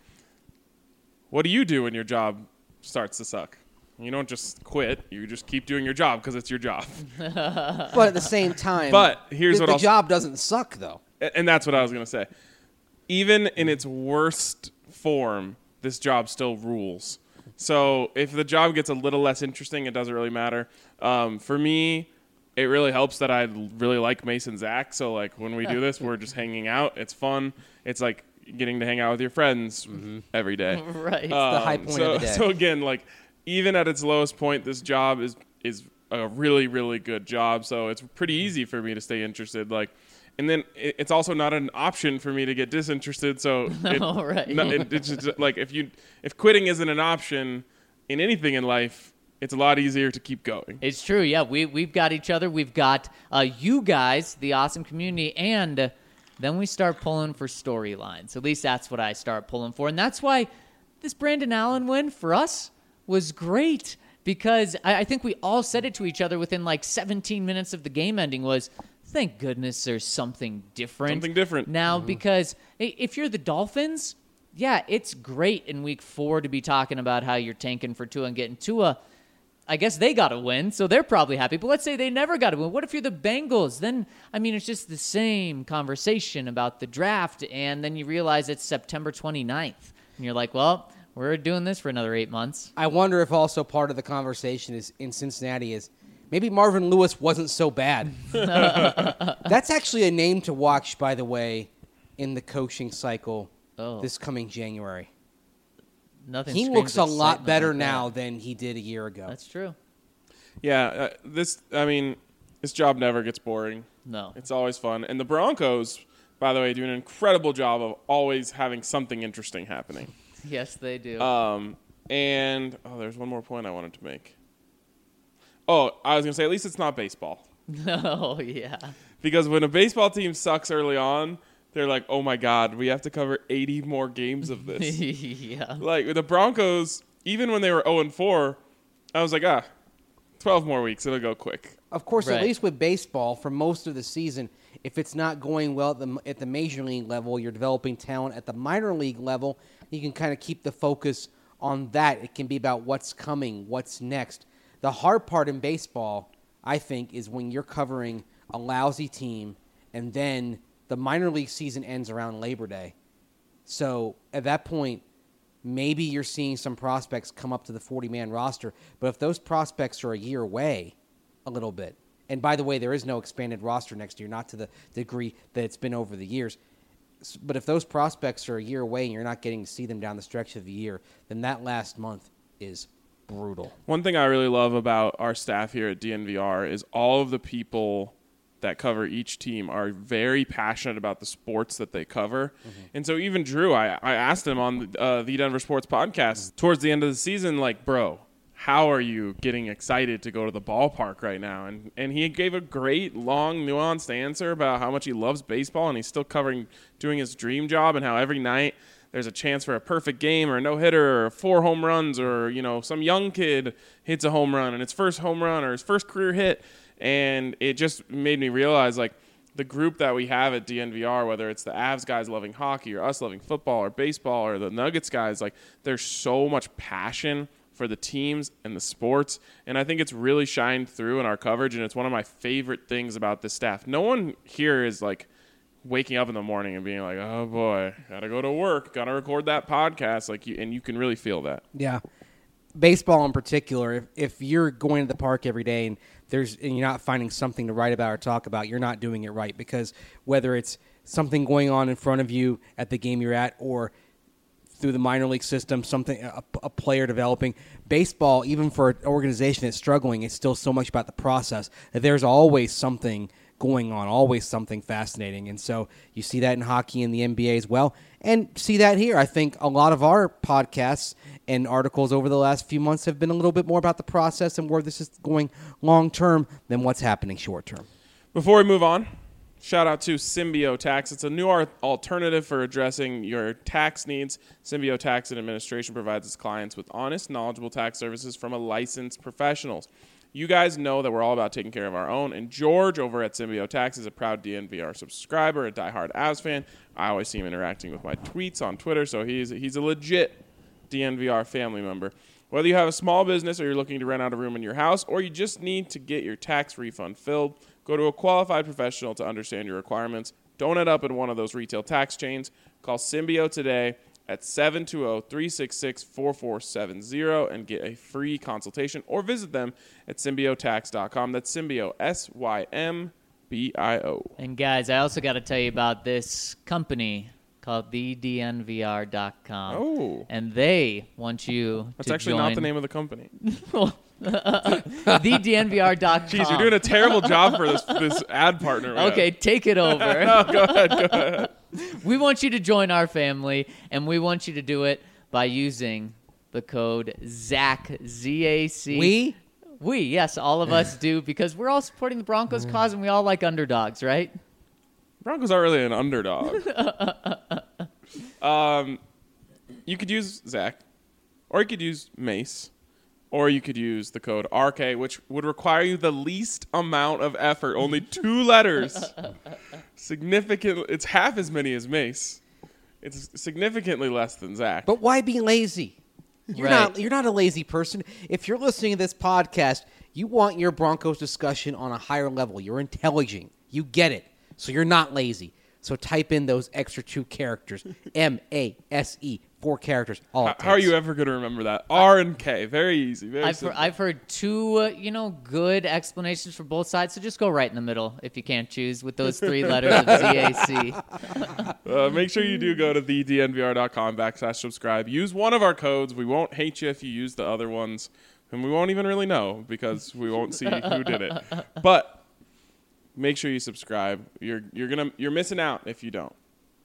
What do you do when your job starts to suck? You don't just quit. You just keep doing your job because it's your job. But at the same time, But here's the, what the I'll- job doesn't suck, though. A- And that's what I was going to say. Even in its worst form, this job still rules. So if the job gets a little less interesting, it doesn't really matter. Um, for me, it really helps that I really like Mason Zach. So like when we do this, we're just hanging out. It's fun. It's like getting to hang out with your friends Mm-hmm. every day. Right. Um, the high point so, of the day. So again, like even at its lowest point, this job is is a really really good job. So it's pretty easy for me to stay interested. Like, and then it, it's also not an option for me to get disinterested. So it, No, right. no, it, it's just like if you if quitting isn't an option in anything in life, it's a lot easier to keep going. It's true. Yeah, we we've got each other. We've got uh, you guys, the awesome community, and uh, then we start pulling for storylines. At least that's what I start pulling for, and that's why this Brandon Allen win for us was great because I, I think we all said it to each other within like seventeen minutes of the game ending. Was thank goodness there's something different. Something different. now because i- if you're the Dolphins, yeah, it's great in week four to be talking about how you're tanking for Tua and getting Tua. I guess they got to win, so they're probably happy. But let's say they never got to win. What if you're the Bengals? Then, I mean, it's just the same conversation about the draft, and then you realize it's September twenty-ninth. And you're like, well, we're doing this for another eight months. I wonder if also part of the conversation is in Cincinnati is maybe Marvin Lewis wasn't so bad. That's actually a name to watch, by the way, in the coaching cycle Oh. this coming January. Nothing. He screams looks a lot excitement better like that. now than he did a year ago. That's true. Yeah, uh, this I mean, this job never gets boring. No. It's always fun. And the Broncos, by the way, do an incredible job of always having something interesting happening. Yes, they do. Um, and oh, there's one more point I wanted to make. Oh, I was gonna say at least it's not baseball, oh, yeah. because when a baseball team sucks early on, they're like, oh my god, we have to cover eighty more games of this. yeah. Like with the Broncos, even when they were oh and four, I was like, ah, twelve more weeks, it'll go quick. Of course, Right. at least with baseball, for most of the season, if it's not going well at the, at the major league level, you're developing talent at the minor league level. You can kind of keep the focus on that. It can be about what's coming, what's next. The hard part in baseball, I think, is when you're covering a lousy team and then the minor league season ends around Labor Day. So at that point, maybe you're seeing some prospects come up to the forty-man roster. But if those prospects are a year away a little bit, and by the way, there is no expanded roster next year, not to the degree that it's been over the years. S- But if those prospects are a year away and you're not getting to see them down the stretch of the year, then that last month is brutal. One thing I really love about our staff here at D N V R is all of the people that cover each team are very passionate about the sports that they cover. Mm-hmm. And so even Drew, I, I asked him on the, uh, the Denver Sports Podcast towards the end of the season, like, bro, how are you getting excited to go to the ballpark right now? And and he gave a great, long, nuanced answer about how much he loves baseball, and he's still covering, doing his dream job, and how every night there's a chance for a perfect game or a no-hitter or four home runs, or, you know, some young kid hits a home run and his first home run or his first career hit. And it just made me realize, like, the group that we have at D N V R, whether it's the Avs guys loving hockey or us loving football or baseball or the Nuggets guys, like, there's so much passion for the teams and the sports. And I think it's really shined through in our coverage, and it's one of my favorite things about this staff. No one here is, like, waking up in the morning and being like, oh, boy, got to go to work, got to record that podcast. Like, you, and you can really feel that. Yeah. Baseball in particular, if, if you're going to the park every day and there's and you're not finding something to write about or talk about, you're not doing it right, because whether it's something going on in front of you at the game you're at or through the minor league system, something a, a player developing, baseball, even for an organization that's struggling, it's still so much about the process that there's always something going on, always something fascinating. And so you see that in hockey and the N B A as well, and see that here. I think a lot of our podcasts and articles over the last few months have been a little bit more about the process and where this is going long term than what's happening short term. Before we move on, shout out to Symbio Tax. It's a new ar- alternative for addressing your tax needs. Symbio Tax and Administration provides its clients with honest, knowledgeable tax services from a licensed professionals. You guys know that we're all about taking care of our own, and George over at Symbio Tax is a proud D N V R subscriber, a diehard Avs fan. I always see him interacting with my tweets on Twitter, so he's he's a legit D N V R family member. Whether you have a small business or you're looking to rent out a room in your house, or you just need to get your tax refund filled, go to a qualified professional to understand your requirements. Don't end up in one of those retail tax chains. Call Symbio today at seven two zero, three six six, four four seven zero and get a free consultation, or visit them at symbio tax dot com. That's Symbio, S Y M B I O. And guys, I also got to tell you about this company called the D N V R dot com. Oh. And they want you That's to actually join. not the name of the company. the D N V R dot com. Jeez, you're doing a terrible job for this this ad partner. we have. Okay, take it over. No, go ahead, go ahead. We want you to join our family, and we want you to do it by using the code ZAC, Z A C. We? We, yes, all of us do, because we're all supporting the Broncos cause, and we all like underdogs, right? Broncos aren't really an underdog. um, you could use Zach, or you could use Mace, or you could use the code R K, which would require you the least amount of effort, only two letters. Significant. It's half as many as Mace. It's significantly less than Zach. But why be lazy? You're Right. not you're not a lazy person. If you're listening to this podcast, you want your Broncos discussion on a higher level. You're intelligent. You get it. So you're not lazy. So type in those extra two characters. M A S E. Four characters. All it How are takes. you ever going to remember that? R and K. Very easy. Very I've, heard, simple. I've heard two, uh, you know, good explanations for both sides, so just go right in the middle if you can't choose with those three letters of Z A C. Uh, make sure you do go to the D N V R dot com backslash subscribe. Use one of our codes. We won't hate you if you use the other ones, and we won't even really know because we won't see who did it. But make sure you subscribe. You're you're gonna you're missing out if you don't.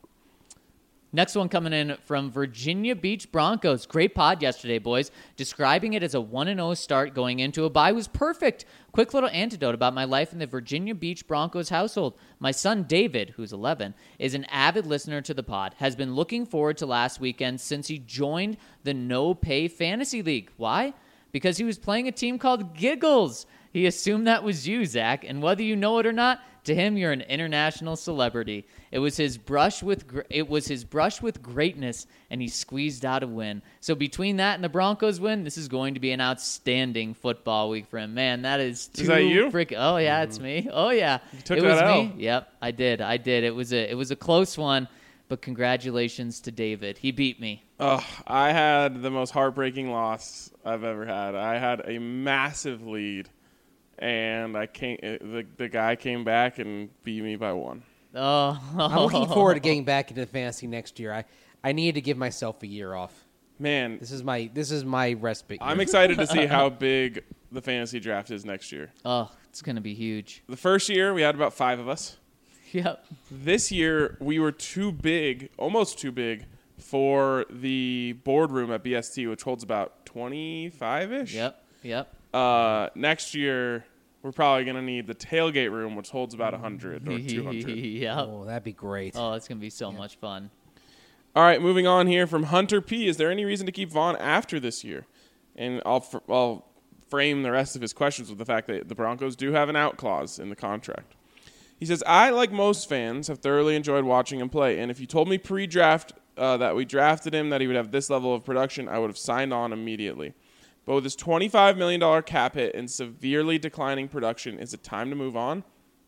Next one coming in from Virginia Beach Broncos. Great pod yesterday, boys. Describing it as a one and oh start going into a bye was perfect. Quick little anecdote about my life in the Virginia Beach Broncos household. My son David, who's eleven, is an avid listener to the pod, has been looking forward to last weekend since he joined the No Pay Fantasy League. Why? Because he was playing a team called Giggles. He assumed that was you, Zach, and whether you know it or not, to him you're an international celebrity. It was his brush with gr- it was his brush with greatness, and he squeezed out a win. So between that and the Broncos win, this is going to be an outstanding football week for him. Man, that is too Is that you? frick- Oh yeah, it's me. Oh yeah, You took it that was L. me. Yep, I did. I did. It was a it was a close one, but congratulations to David. He beat me. Oh, I had the most heartbreaking loss I've ever had. I had a massive lead, and I came. The the guy came back and beat me by one. Oh, I'm looking forward to getting back into fantasy next year. I, I need to give myself a year off. Man, This is my this is my respite. I'm year. excited to see how big the fantasy draft is next year. Oh, it's gonna be huge. The first year we had about five of us. Yep. This year we were too big, almost too big, for the boardroom at B S T, which holds about twenty-five ish. Yep. Yep. Uh, next year we're probably gonna need the tailgate room, which holds about one hundred or two hundred. Yep. Oh, that'd be great. Oh, it's gonna be so much fun. All right, moving on here from Hunter P. Is there any reason to keep Vaughn after this year? And I'll fr- I'll frame the rest of his questions with the fact that the Broncos do have an out clause in the contract. He says, I, like most fans, have thoroughly enjoyed watching him play, and if you told me pre-draft uh, that we drafted him, that he would have this level of production, I would have signed on immediately. But with his twenty-five million dollars cap hit and severely declining production, is it time to move on?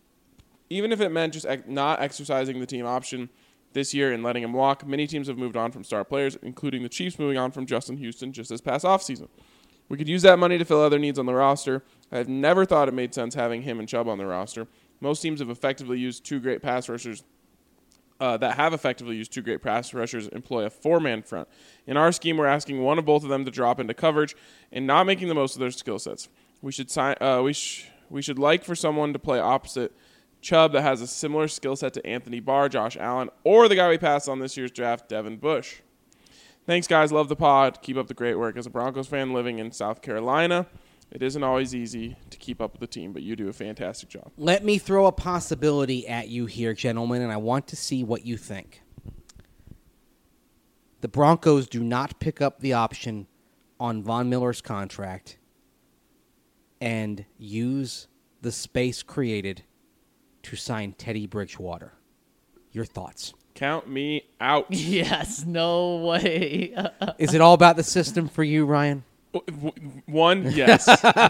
Even if it meant just ex- not exercising the team option this year and letting him walk, many teams have moved on from star players, including the Chiefs moving on from Justin Houston just this past offseason. We could use that money to fill other needs on the roster. I've never thought it made sense having him and Chubb on the roster. Most teams have effectively used two great pass rushers uh, that have effectively used two great pass rushers employ a four-man front. In our scheme, we're asking one of both of them to drop into coverage and not making the most of their skill sets. We should sign. Uh, we sh- we should like for someone to play opposite Chubb that has a similar skill set to Anthony Barr, Josh Allen, or the guy we passed on this year's draft, Devin Bush. Thanks, guys. Love the pod. Keep up the great work. As a Broncos fan living in South Carolina, it isn't always easy to keep up with the team, but you do a fantastic job. Let me throw a possibility at you here, gentlemen, and I want to see what you think. The Broncos do not pick up the option on Von Miller's contract and use the space created to sign Teddy Bridgewater. Your thoughts? Count me out. Yes. No way. Is it all about the system for you, Ryan? W- w- One, yes.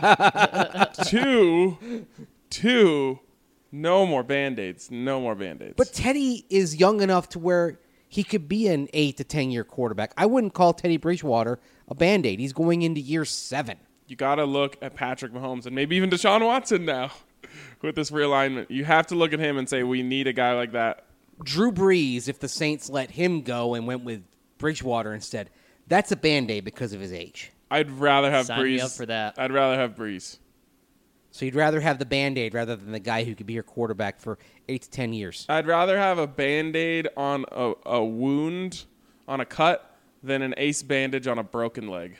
two, two, no more Band-Aids. No more Band-Aids. But Teddy is young enough to where he could be an eight to ten year quarterback. I wouldn't call Teddy Bridgewater a Band-Aid. He's going into year seven. You got to look at Patrick Mahomes and maybe even Deshaun Watson now with this realignment. You have to look at him and say, we need a guy like that. Drew Brees, if the Saints let him go and went with Bridgewater instead, that's a Band-Aid because of his age. I'd rather have Sign Brees. me up for that. I'd rather have Brees. So you'd rather have the Band-Aid rather than the guy who could be your quarterback for eight to ten years. I'd rather have a Band-Aid on a, a wound, on a cut, than an ace bandage on a broken leg.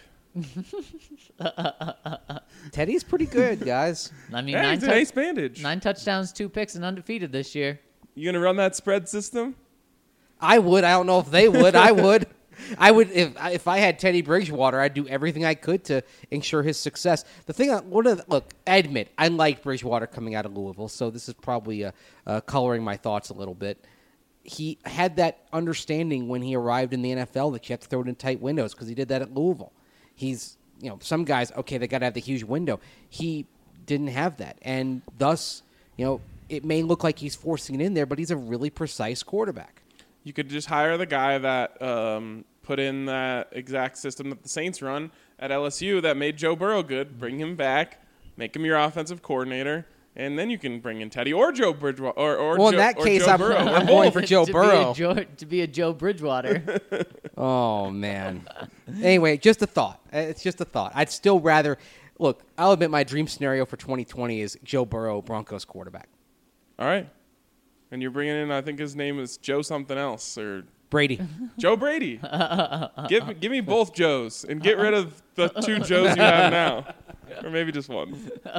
Teddy's pretty good, guys. I mean, Hey, nine, it's an tou- ace bandage. nine touchdowns, two picks, and undefeated this year. You going to run that spread system? I would. I don't know if they would. I would. I would if if I had Teddy Bridgewater, I'd do everything I could to ensure his success. The thing, I, one of the, look, I admit I like Bridgewater coming out of Louisville, so this is probably uh, uh, coloring my thoughts a little bit. He had that understanding when he arrived in the N F L that you have to throw it in tight windows because he did that at Louisville. He's, you know, some guys, okay, they got to have the huge window. He didn't have that, and thus, you know, it may look like he's forcing it in there, but he's a really precise quarterback. You could just hire the guy that um, put in that exact system that the Saints run at L S U that made Joe Burrow good. Bring him back, make him your offensive coordinator, and then you can bring in Teddy or Joe Bridgewater. Or, or Well, in Joe, that or case, Joe I'm- Burrow. I'm Or going both. for Joe to Burrow. Be a Joe, to be a Joe Bridgewater. Oh, man. Anyway, just a thought. Uh, It's just a thought. I'd still rather – look, I'll admit my dream scenario for twenty twenty is Joe Burrow, Broncos quarterback. All right. And you're bringing in, I think his name is Joe something else, or Brady. Joe Brady. give, me- give me both Joes and get rid of the two Joes you have now. Or maybe just one.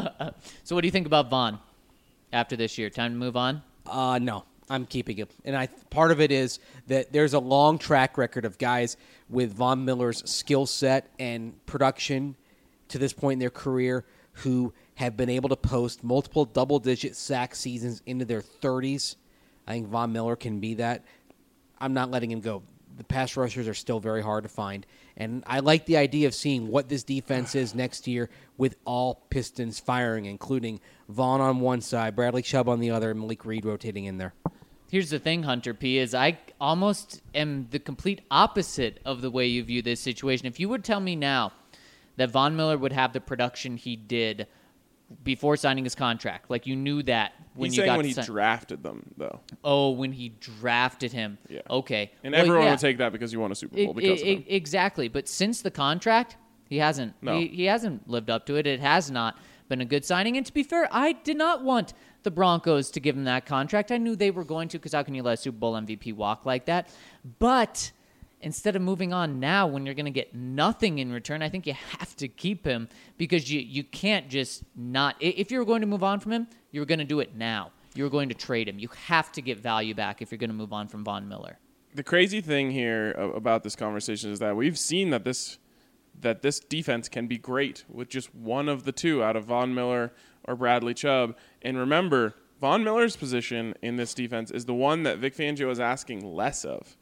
So what do you think about Vaughn after this year? Time to move on? Uh, no, I'm keeping him. And I part of it is that there's a long track record of guys with Von Miller's skill set and production to this point in their career who have been able to post multiple double-digit sack seasons into their thirties. I think Von Miller can be that. I'm not letting him go. The pass rushers are still very hard to find. And I like the idea of seeing what this defense is next year with all pistons firing, including Vaughn on one side, Bradley Chubb on the other, and Malik Reed rotating in there. Here's the thing, Hunter P, is I almost am the complete opposite of the way you view this situation. If you would tell me now that Von Miller would have the production he did before signing his contract, like you knew that when He's you saying got when he si- drafted them, though. oh, when he drafted him. Yeah. Okay. And Well, everyone yeah. would take that because you won a Super Bowl I- because I- of him. I- exactly. But since the contract, he hasn't. No. He, he hasn't lived up to it. It has not been a good signing. And to be fair, I did not want the Broncos to give him that contract. I knew they were going to, because how can you let a Super Bowl M V P walk like that? But instead of moving on now when you're going to get nothing in return, I think you have to keep him because you, you can't just not. i- If you're going to move on from him, you're going to do it now. You're going to trade him. You have to get value back if you're going to move on from Von Miller. The crazy thing here a- about this conversation is that we've seen that this that this defense can be great with just one of the two out of Von Miller or Bradley Chubb. And remember, Von Miller's position in this defense is the one that Vic Fangio is asking less of.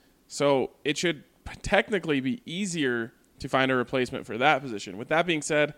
So it should technically be easier to find a replacement for that position. With that being said,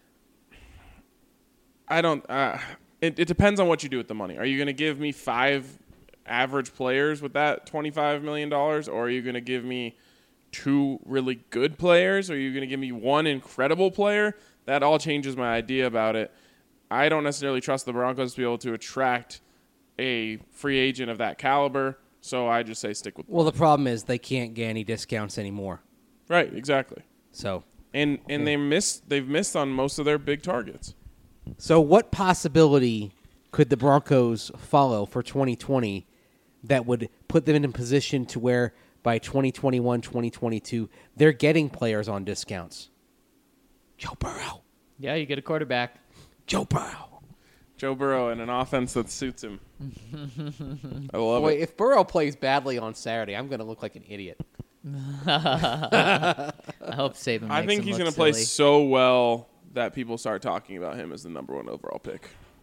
I don't. Uh, it, it depends on what you do with the money. Are you going to give me five average players with that twenty-five million dollars, or are you going to give me two really good players, or are you going to give me one incredible player? That all changes my idea about it. I don't necessarily trust the Broncos to be able to attract a free agent of that caliber, so I just say stick with Well, the problem is they can't get any discounts anymore. right, exactly. So, And and they missed they've missed on most of their big targets. so what possibility could the Broncos follow for twenty twenty that would put them in a position to where by twenty twenty-one, twenty twenty-two, they're getting players on discounts? Joe Burrow. Yeah, you get a quarterback. Joe Burrow. Joe Burrow and an offense that suits him. I love Boy, it. if Burrow plays badly on Saturday, I'm going to look like an idiot. I hope Saban. I makes think him he's look going to play silly. so well that people start talking about him as the number one overall pick.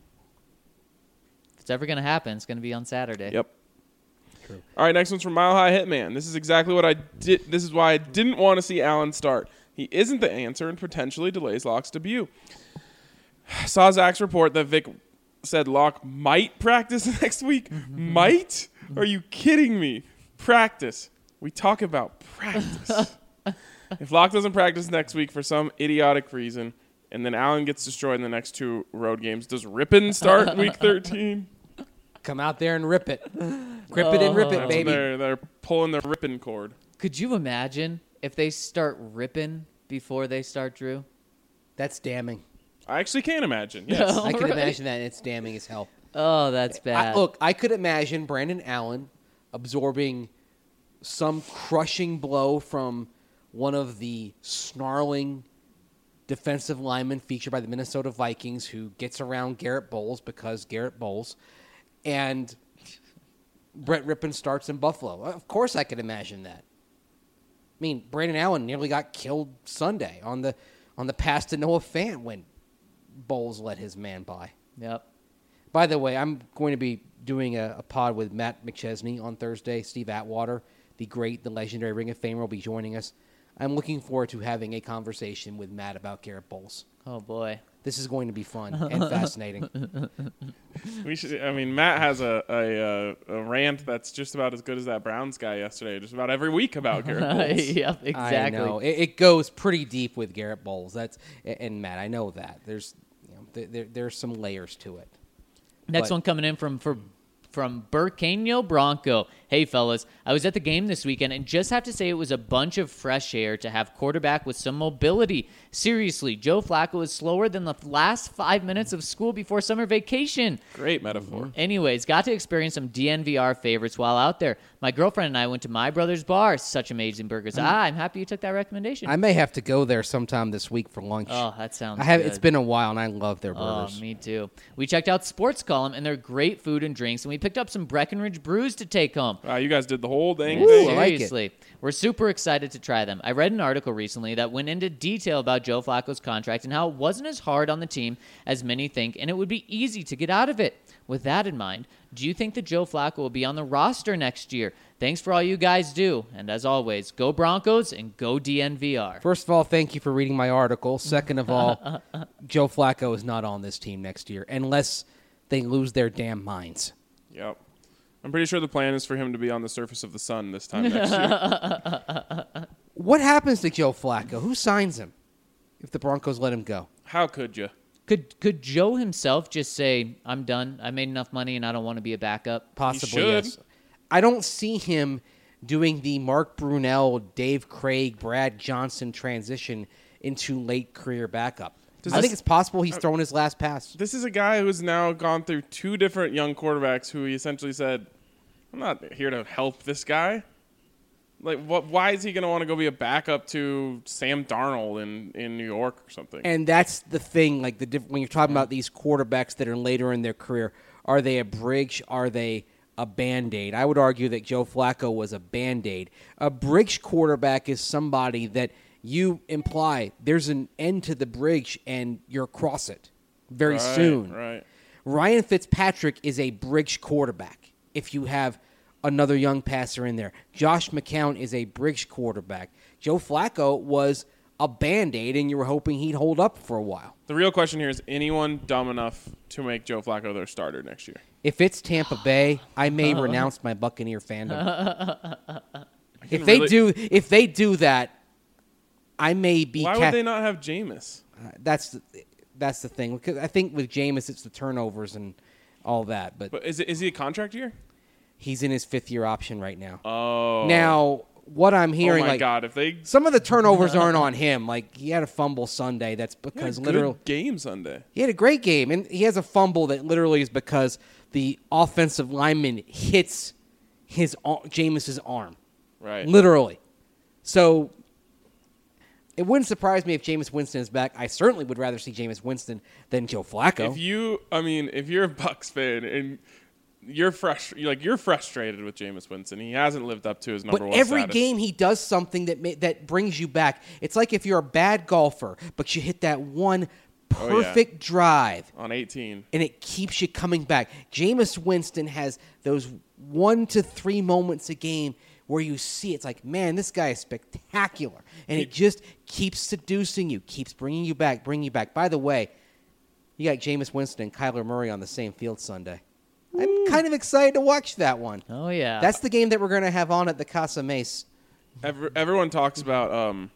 If it's ever going to happen, it's going to be on Saturday. Yep. All right, next one's from Mile High Hitman. This is exactly what I did. This is why I didn't want to see Allen start. He isn't the answer and potentially delays Locke's debut. Saw Zach's report that Vic said Locke might practice next week. Might? Are you kidding me? practice. We talk about practice. If Locke doesn't practice next week for some idiotic reason, and then Allen gets destroyed in the next two road games, does Rippon start week thirteen? Come out there and rip it. Rip it and rip it, That's baby. when They're, they're pulling the Rippon cord. Could you imagine if they start ripping before they start Drew? That's damning. I actually can imagine, yes. I can Right. imagine that, and it's damning as hell. Oh, that's I, bad. look, I could imagine Brandon Allen absorbing some crushing blow from one of the snarling defensive linemen featured by the Minnesota Vikings who gets around Garrett Bowles because Garrett Bowles, and Brett Rippon starts in Buffalo. Of course I could imagine that. I mean, Brandon Allen nearly got killed Sunday on the on the pass to Noah Fant when Bowles let his man by. Yep. By the way, I'm going to be doing a, a pod with Matt McChesney on Thursday. Steve Atwater, the great, the legendary Ring of Famer, will be joining us. I'm looking forward to having a conversation with Matt about Garrett Bowles. Oh, boy. This is going to be fun and fascinating. We should. I mean, Matt has a, a a rant that's just about as good as that Browns guy yesterday. Just about every week about Garrett Bowles. Yep, exactly. I know. It, it goes pretty deep with Garrett Bowles. That's and Matt, I know that. There's you know, there, there there's some layers to it. Next But- one coming in from for, from Burkano Bronco. Hey, fellas, I was at the game this weekend and just have to say it was a bunch of fresh air to have quarterback with some mobility. Seriously, Joe Flacco is slower than the last five minutes of school before summer vacation. Great metaphor. Anyways, got to experience some D N V R favorites while out there. My girlfriend and I went to My Brother's Bar. Such amazing burgers. Ah, I'm happy you took that recommendation. I may have to go there sometime this week for lunch. oh, that sounds I have. good. It's been a while, and I love their Oh, burgers. me too. We checked out Sports Column and their great food and drinks, and we picked up some Breckenridge brews to take home. Wow, you guys did the whole dang Ooh, thing. I like it. Seriously, we're super excited to try them. I read an article recently that went into detail about Joe Flacco's contract and how it wasn't as hard on the team as many think, and it would be easy to get out of it. With that in mind, do you think that Joe Flacco will be on the roster next year? Thanks for all you guys do, and as always, go Broncos and go D N V R. First of all, thank you for reading my article. Second of all, Joe Flacco is not on this team next year unless they lose their damn minds. Yep. I'm pretty sure the plan is for him to be on the surface of the sun this time next year. What happens to Joe Flacco? Who signs him if the Broncos let him go? How could you? Could could Joe himself just say, "I'm done. I made enough money, and I don't want to be a backup"? Possibly, should. yes. I don't see him doing the Mark Brunell, Dave Craig, Brad Johnson transition into late career backup. Does I this- think it's possible he's throwing his last pass. This is a guy who's now gone through two different young quarterbacks who he essentially said, I'm not here to help this guy. Like, what? Why is he going to want to go be a backup to Sam Darnold in, in New York or something? And that's the thing, like the diff- when you're talking about these quarterbacks that are later in their career, are they a bridge? Are they a Band-Aid? I would argue that Joe Flacco was a Band-Aid. A bridge quarterback is somebody that you imply there's an end to the bridge and you're across it very Right, soon. Right. Ryan Fitzpatrick is a bridge quarterback if you have another young passer in there. Josh McCown is a bridge quarterback. Joe Flacco was a Band-Aid, and you were hoping he'd hold up for a while. The real question here is anyone dumb enough to make Joe Flacco their starter next year? If it's Tampa Bay, I may renounce my Buccaneer fandom. If can they really- do, if they do that, I may be. Why ca- would they not have Jameis? Uh, that's the, that's the thing. Because I think with Jameis, it's the turnovers and all that. But, But is it is he a contract year? he's in his fifth year option right now. Oh. Now, what I'm oh hearing, my like God! If they some of the turnovers aren't on him. Like he had a fumble Sunday. That's he had a because good literally game Sunday. he had a great game, and he has a fumble that literally is because the offensive lineman hits his ar- Jameis's arm, Right. literally. So it wouldn't surprise me if Jameis Winston is back. I certainly would rather see Jameis Winston than Joe Flacco. If you, I mean, if you're a Bucs fan and you're frust- you're like you're frustrated with Jameis Winston, he hasn't lived up to his number But one every status. game he does something that ma- that brings you back. It's like if you're a bad golfer, but you hit that one Oh, yeah. perfect drive, on eighteen. and it keeps you coming back. Jameis Winston has those one to three moments a game where you see it's like, man, this guy is spectacular, and it just keeps seducing you, keeps bringing you back, bringing you back. By the way, you got Jameis Winston and Kyler Murray on the same field Sunday. I'm kind of excited to watch that one. Oh yeah. That's the game that we're going to have on at the Casa Mace. Every, everyone talks about um,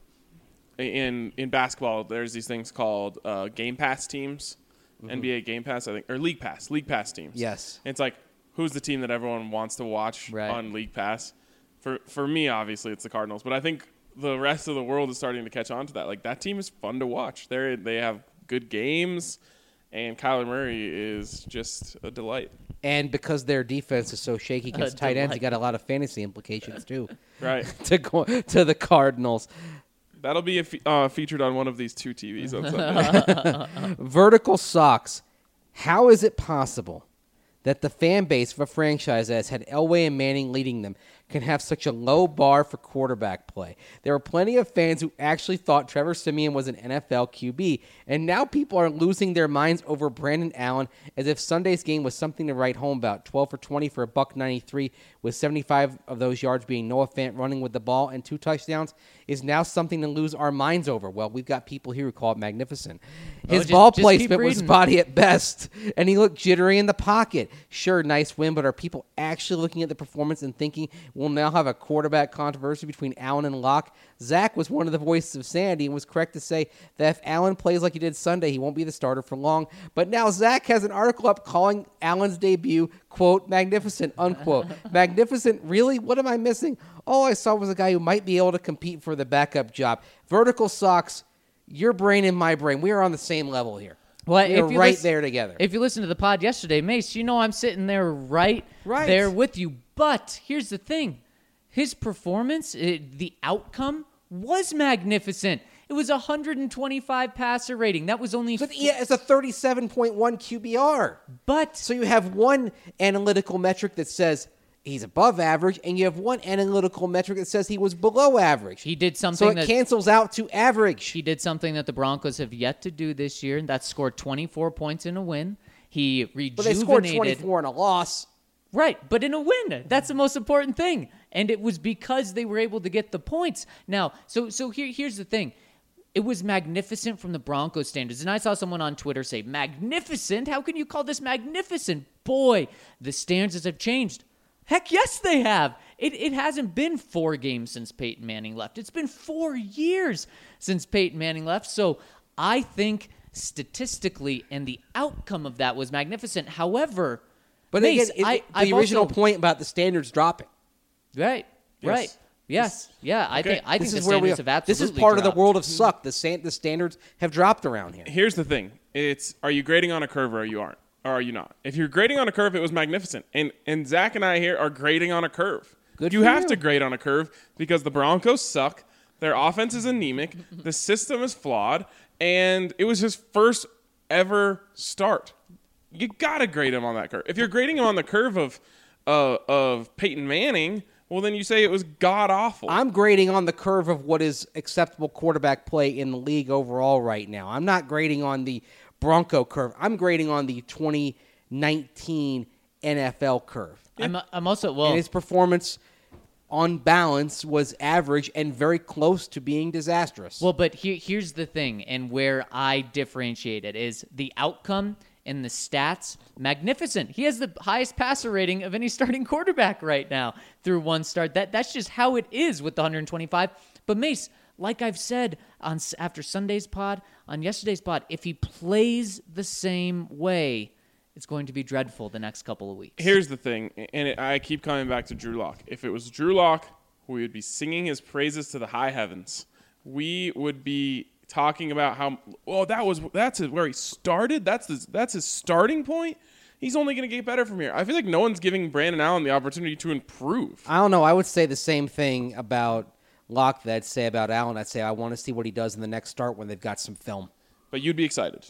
in in basketball. There's these things called uh, Game Pass teams, mm-hmm. N B A Game Pass, I think, or League Pass, League Pass teams. Yes, and it's like who's the team that everyone wants to watch right. on League Pass. For for me, obviously, it's the Cardinals, but I think the rest of the world is starting to catch on to that. Like that team is fun to watch. They they have good games, and Kyler Murray is just a delight. And because their defense is so shaky against tight ends, you got a lot of fantasy implications too. Right. to go to the Cardinals. That'll be a fe- uh, featured on one of these two T Vs on Sunday. Vertical Sox. How is it possible that the fan base of a franchise that has had Elway and Manning leading them can have such a low bar for quarterback play? There were plenty of fans who actually thought Trevor Siemian was an N F L Q B, and now people are losing their minds over Brandon Allen as if Sunday's game was something to write home about. twelve for twenty for a buck ninety-three, with seventy-five of those yards being Noah Fant running with the ball and two touchdowns, is now something to lose our minds over. Well, we've got people here who call it magnificent. His just- ball just keep placement was reading. spotty at best, and he looked jittery in the pocket. Sure, nice win, but are people actually looking at the performance and thinking we'll now have a quarterback controversy between Allen and Locke? Zach was one of the voices of sanity and was correct to say that if Allen plays like he did Sunday, he won't be the starter for long. But now Zach has an article up calling Allen's debut, quote, magnificent, unquote. Magnificent? Really? What am I missing? All I saw was a guy who might be able to compete for the backup job. Vertical Sox, your brain and my brain, we are on the same level here. Well, we if are you right lis- there together. If you listen to the pod yesterday, Mace, you know I'm sitting there right, Right. there with you. But here's the thing. His performance, it, the outcome, was magnificent. It was one hundred twenty-five passer rating. That was only... But yeah, it's a thirty-seven point one Q B R. But... So you have one analytical metric that says he's above average, and you have one analytical metric that says he was below average. He did something So it that... cancels out to average. He did something that the Broncos have yet to do this year, and that's scored twenty-four points in a win. He rejuvenated... But they scored twenty-four in a loss. Right, but in a win. That's the most important thing. And it was because they were able to get the points. Now, so so here here's the thing. It was magnificent from the Broncos standards. And I saw someone on Twitter say, magnificent? How can you call this magnificent? Boy, the standards have changed. Heck yes, they have. It it hasn't been four games since Peyton Manning left. It's been four years since Peyton Manning left. So I think statistically and the outcome of that was magnificent. However... But Mace, again, it, I, the I've original also, point about the standards dropping. right, Yes. right, yes, yeah. I Okay. think I think This the is where we standards are. have This absolutely is part of dropped. the world of suck. The, stand, the standards have dropped around here. Here's the thing. It's are you grading on a curve or you aren't? Or are you not? If you're grading on a curve, it was magnificent. And and Zach and I here are grading on a curve. Good you for have you. to grade on a curve because the Broncos suck. Their offense is anemic. The system is flawed. And it was his first ever start. You got to grade him on that curve. If you're grading him on the curve of uh, of Peyton Manning, well, then you say it was god-awful. I'm grading on the curve of what is acceptable quarterback play in the league overall right now. I'm not grading on the Bronco curve. I'm grading on the twenty nineteen N F L curve. I'm, I'm also well. And his performance on balance was average and very close to being disastrous. Well, but here, here's the thing, and where I differentiate it is the outcome and the stats. Magnificent. He has the highest passer rating of any starting quarterback right now through one start. That that's just how it is with the one hundred twenty-five. But Mace, like I've said on after Sunday's pod, on yesterday's pod, if he plays the same way, it's going to be dreadful the next couple of weeks. Here's the thing, and it, I keep coming back to Drew Lock. If it was Drew Lock, we would be singing his praises to the high heavens. We would be talking about how, well, that was that's where he started. That's his, that's his starting point. He's only going to get better from here. I feel like no one's giving Brandon Allen the opportunity to improve. I don't know. I would say the same thing about Locke that I'd say about Allen. I'd say I want to see what he does in the next start when they've got some film. But you'd be excited.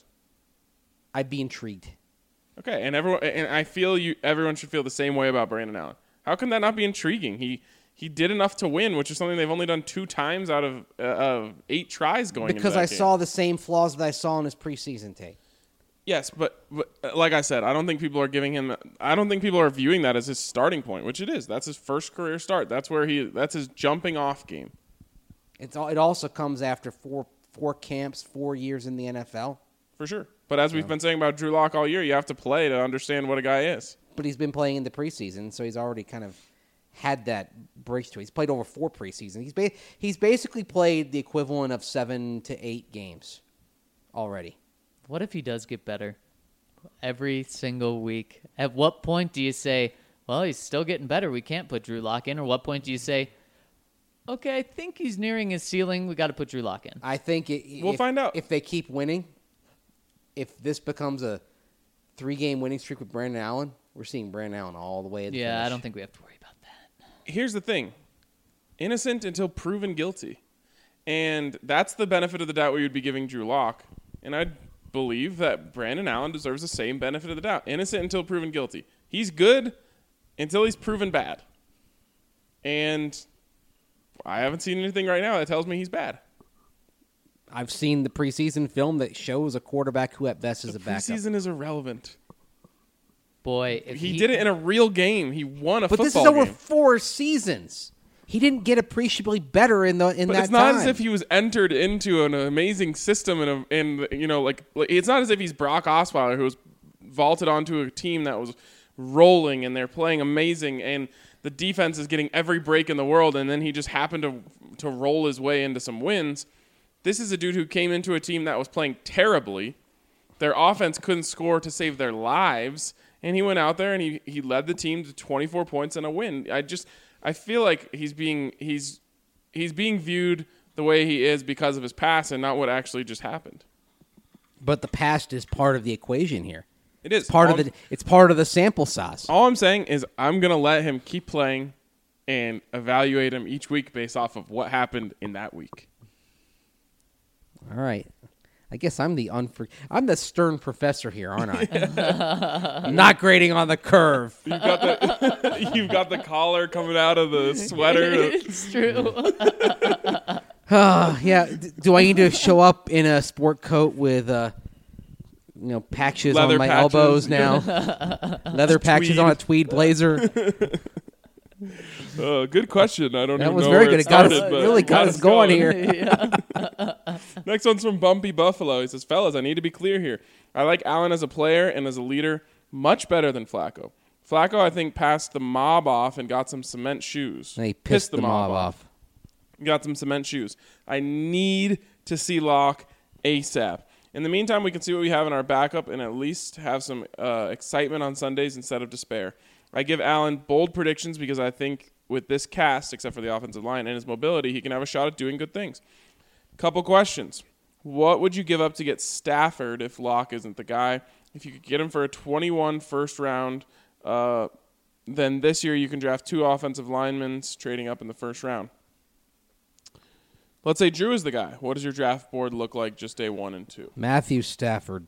I'd be intrigued. Okay, and everyone, and I feel you. Everyone should feel the same way about Brandon Allen. How can that not be intriguing? He he did enough to win, which is something they've only done two times out of uh, of eight tries going. Because into I that game. saw the same flaws that I saw in his preseason tape. Yes, but, but uh, like I said, I don't think people are giving him. I don't think people are viewing that as his starting point, which it is. That's his first career start. That's where he. That's his jumping off game. It's all, it also comes after four four camps, four years in the N F L. For sure. But as we've been saying about Drew Lock all year, you have to play to understand what a guy is. but he's been playing in the preseason, so he's already kind of had that breakthrough. He's played over four preseasons. He's ba- he's basically played the equivalent of seven to eight games already. What if he does get better every single week? At what point do you say, well, he's still getting better, we can't put Drew Lock in? Or what point do you say, okay, I think he's nearing his ceiling, we got to put Drew Lock in? I think it, We'll if, find out. if they keep winning. If this becomes a three-game winning streak with Brandon Allen, we're seeing Brandon Allen all the way to the Yeah, finish. I don't think we have to worry about that. Here's the thing. Innocent until proven guilty. And that's the benefit of the doubt we would be giving Drew Lock. And I believe that Brandon Allen deserves the same benefit of the doubt. Innocent until proven guilty. He's good until he's proven bad. And I haven't seen anything right now that tells me he's bad. I've seen the preseason film that shows a quarterback who at best is The a backup. preseason is irrelevant. Boy, if He, he, did it in a real game. He won a But football this is over game. four seasons. He didn't get appreciably better in the in But that it's not time. as if he was entered into an amazing system and a, and you know like, like it's not as if he's Brock Osweiler who was vaulted onto a team that was rolling and they're playing amazing and the defense is getting every break in the world and then he just happened to to roll his way into some wins. This is a dude who came into a team that was playing terribly. Their offense couldn't score to save their lives, and he went out there and he, he led the team to twenty-four points and a win. I just I feel like he's being he's he's being viewed the way he is because of his past and not what actually just happened. But the past is part of the equation here. It is It's part all of the it's part of the sample size. All I'm saying is I'm gonna let him keep playing and evaluate him each week based off of what happened in that week. All right. I guess I'm the unfor- I'm the stern professor here, aren't I? I'm not grading on the curve. You've got the you've got the collar coming out of the sweater. it's true. Uh, yeah. D- do I need to show up in a sport coat with uh, you know, patches Leather on my patches. elbows now? Leather patches Tweed. on a tweed blazer. Uh, good question. I don't That even was know very where good. it It got us, started, but really got us going here. Next one's from Bumpy Buffalo. He says, fellas, I need to be clear here. I like Allen as a player and as a leader much better than Flacco. Flacco, I think, passed the mob off and got some cement shoes. And he pissed, the, mob off. Got some cement shoes. I need to see Locke ASAP. In the meantime, we can see what we have in our backup and at least have some uh, excitement on Sundays instead of despair. I give Allen bold predictions because I think with this cast, except for the offensive line and his mobility, he can have a shot at doing good things. Couple questions. What would you give up to get Stafford if Locke isn't the guy? If you could get him for a twenty-one first round, uh, then this year you can draft two offensive linemen trading up in the first round. Let's say Drew is the guy. What does your draft board look like just day one and two? Matthew Stafford.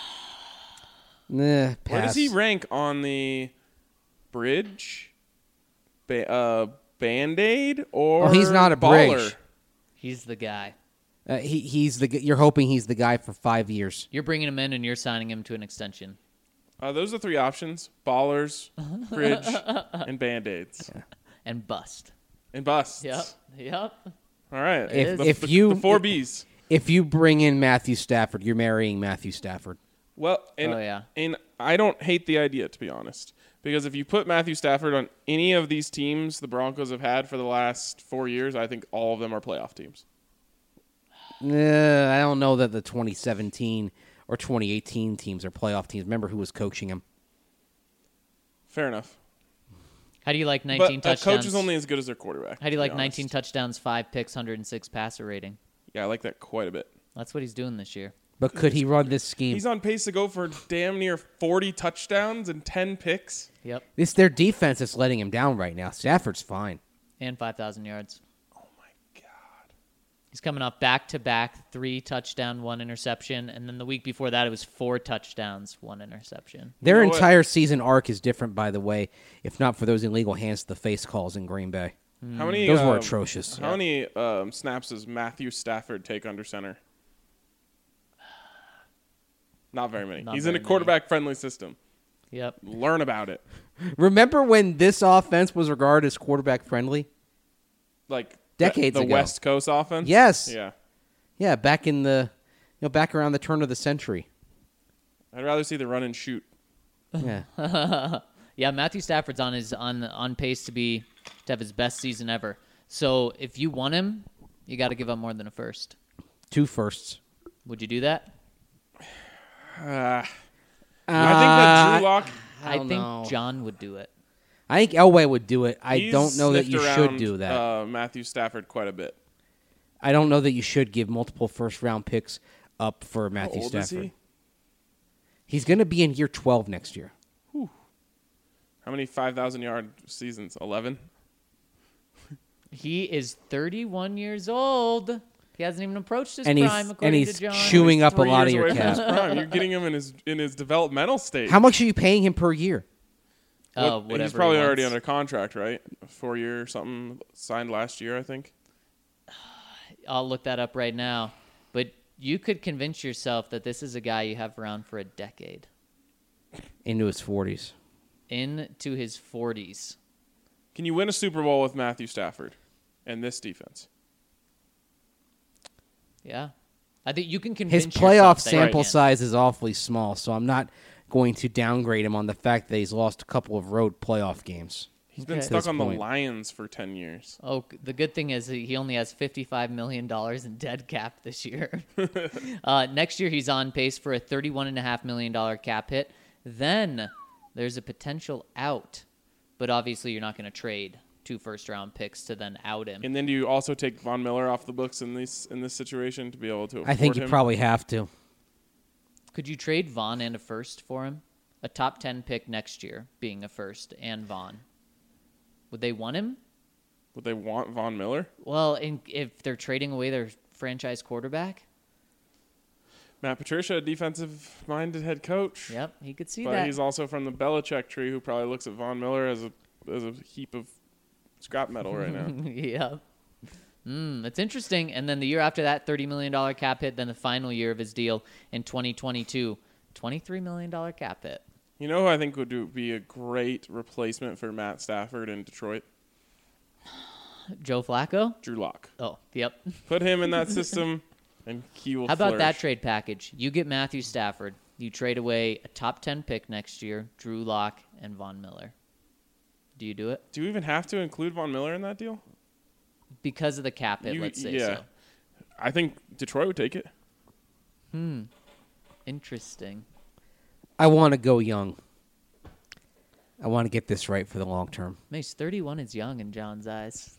Nah, pass. Where does he rank on the bridge, ba- uh, Band-Aid, or Oh, he's not a baller? bridge. He's the guy. Uh, he, he's the. g- You're hoping he's the guy for five years. You're bringing him in and you're signing him to an extension. Uh, those are three options: ballers, bridge, and Band-Aids, And bust. and busts. Yep. Yep. All right. If- the, if the- you- the four if- B's. If you bring in Matthew Stafford, you're marrying Matthew Stafford. Well, and, Oh, yeah. and I don't hate the idea, to be honest, because if you put Matthew Stafford on any of these teams the Broncos have had for the last four years, I think all of them are playoff teams. Uh, I don't know that the twenty seventeen or twenty eighteen teams are playoff teams. Remember who was coaching them? Fair enough. How do you like nineteen But a touchdowns? coach is only as good as their quarterback. How do you to be like honest. nineteen touchdowns, five picks, one hundred six passer rating? Yeah, I like that quite a bit. That's what he's doing this year. But could he run this scheme? He's on pace to go for damn near forty touchdowns and ten picks. Yep. It's their defense that's letting him down right now. Stafford's fine. And five thousand yards. Oh, my God. He's coming off back-to-back, three touchdown, one interception. And then the week before that, it was four touchdowns, one interception. Their You know what? entire season arc is different, by the way, if not for those illegal hands to the face calls in Green Bay. How many? Those were um, atrocious. How many um, snaps does Matthew Stafford take under center? Not very many. Not He's in very a many. quarterback-friendly system. Yep. Learn about it. Remember when this offense was regarded as quarterback friendly? Like Decades the, the ago. West Coast offense. Yes. Yeah. Yeah, back in the, you know, back around the turn of the century. I'd rather see the run and shoot. Yeah. Yeah, Yeah, Matthew Stafford's on his on on pace to be to have his best season ever. So if you want him, you got to give up more than a first. Two firsts. Would you do that? Uh, I think that Drew Lock. I, don't think know. John would do it. I think Elway would do it. I he's don't know that sniffed you around, should do that. Uh, Matthew Stafford quite a bit. I don't know that you should give multiple first round picks up for How Matthew old Stafford. is he? He's going to be in year twelve next year. How many five thousand yard seasons? eleven? He is thirty-one years old. He hasn't even approached his And he's- prime, and according he's to John. chewing up a Three lot of years your away from cap. his prime. You're getting him in his in his developmental stage. How much are you paying him per year? Oh, What- whatever He's probably he already wants. under contract, right? Four year or something signed last year, I think. I'll look that up right now. But you could convince yourself that this is a guy you have around for a decade. Into his forties. Into his forties. Can you win a Super Bowl with Matthew Stafford and this defense? Yeah. I think you can convince His yourself playoff that you sample can. size is awfully small, so I'm not going to downgrade him on the fact that he's lost a couple of road playoff games. He's been Okay. stuck This on point. the Lions for ten years. Oh, the good thing is he only has fifty-five million dollars in dead cap this year. uh, next year, he's on pace for a thirty-one point five million dollars cap hit. Then there's a potential out, but obviously you're not going to trade two first-round picks to then out him. And then do you also take Von Miller off the books in this in this situation to be able to afford I think you him? probably have to. Could you trade Vaughn and a first for him? A top ten pick next year being a first and Vaughn. Would they want him? Would they want Von Miller? Well, in, if they're trading away their franchise quarterback, Matt Patricia, a defensive-minded head coach. yep, he could see But that. he's also from the Belichick tree, who probably looks at Von Miller as a as a heap of scrap metal right now. yeah. Mm, it's interesting. And then the year after that, thirty million dollars cap hit. Then the final year of his deal in twenty twenty-two, twenty-three million dollars cap hit. You know who I think would do, be a great replacement for Matt Stafford in Detroit? Joe Flacco? Drew Lock. Oh, yep. Put him in that system, and he will How about that flourish. trade package? You get Matthew Stafford. You trade away a top ten pick next year, Drew Lock and Von Miller. Do you do it? Do you even have to include Von Miller in that deal? Because of the cap hit, You- let's say yeah. so. I think Detroit would take it. Interesting. I want to go young. I want to get this right for the long term. Mace, thirty-one is young in John's eyes.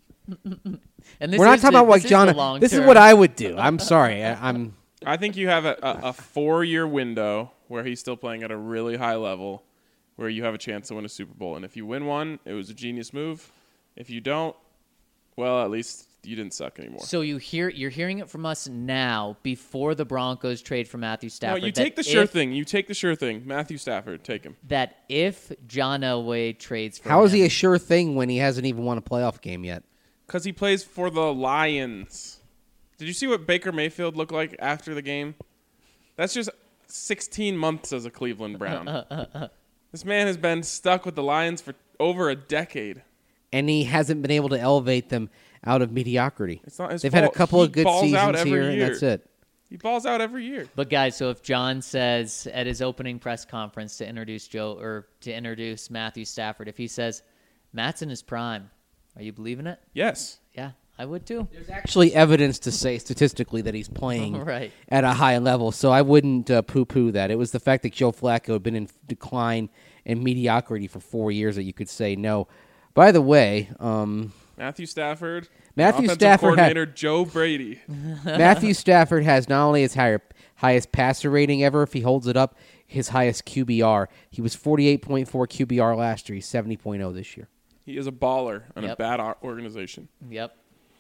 and this We're not is talking the- about like this is the John. long This is term. what I would do. I'm sorry. I, I'm. I think you have a, a, a four-year window where he's still playing at a really high level, where you have a chance to win a Super Bowl. And if you win one, it was a genius move. If you don't, well, at least you didn't suck anymore. So you hear you're hearing it from us now before the Broncos trade for Matthew No, Stafford. you that take the sure if- thing. You take the sure thing. Matthew Stafford, take him. That if John Elway trades for How is him, he a sure thing when he hasn't even won a playoff game yet? Because he plays for the Lions. Did you see what Baker Mayfield looked like after the game? That's just sixteen months as a Cleveland Brown. This man has been stuck with the Lions for over a decade. And he hasn't been able to elevate them out of mediocrity. It's not his They've had a fault. couple He of good balls out seasons every here, and year. that's it. He balls out every year. But guys, so if John says at his opening press conference to introduce Joe or to introduce Matthew Stafford, if he says Matt's in his prime, are you believing it? Yes. Yeah, I would too. There's actually evidence to say statistically that he's playing Right. at a high level, so I wouldn't uh, poo-poo that. It was the fact that Joe Flacco had been in decline and mediocrity for four years that you could say no. By the way, um, Matthew Stafford. Matthew offensive Stafford had- coordinator Joe Brady. Matthew Stafford has not only his higher, highest passer rating ever, if he holds it up, his highest Q B R. He was forty-eight point four Q B R last year. He's seventy point oh this year. He is a baller on a Yep. bad o- organization. Yep.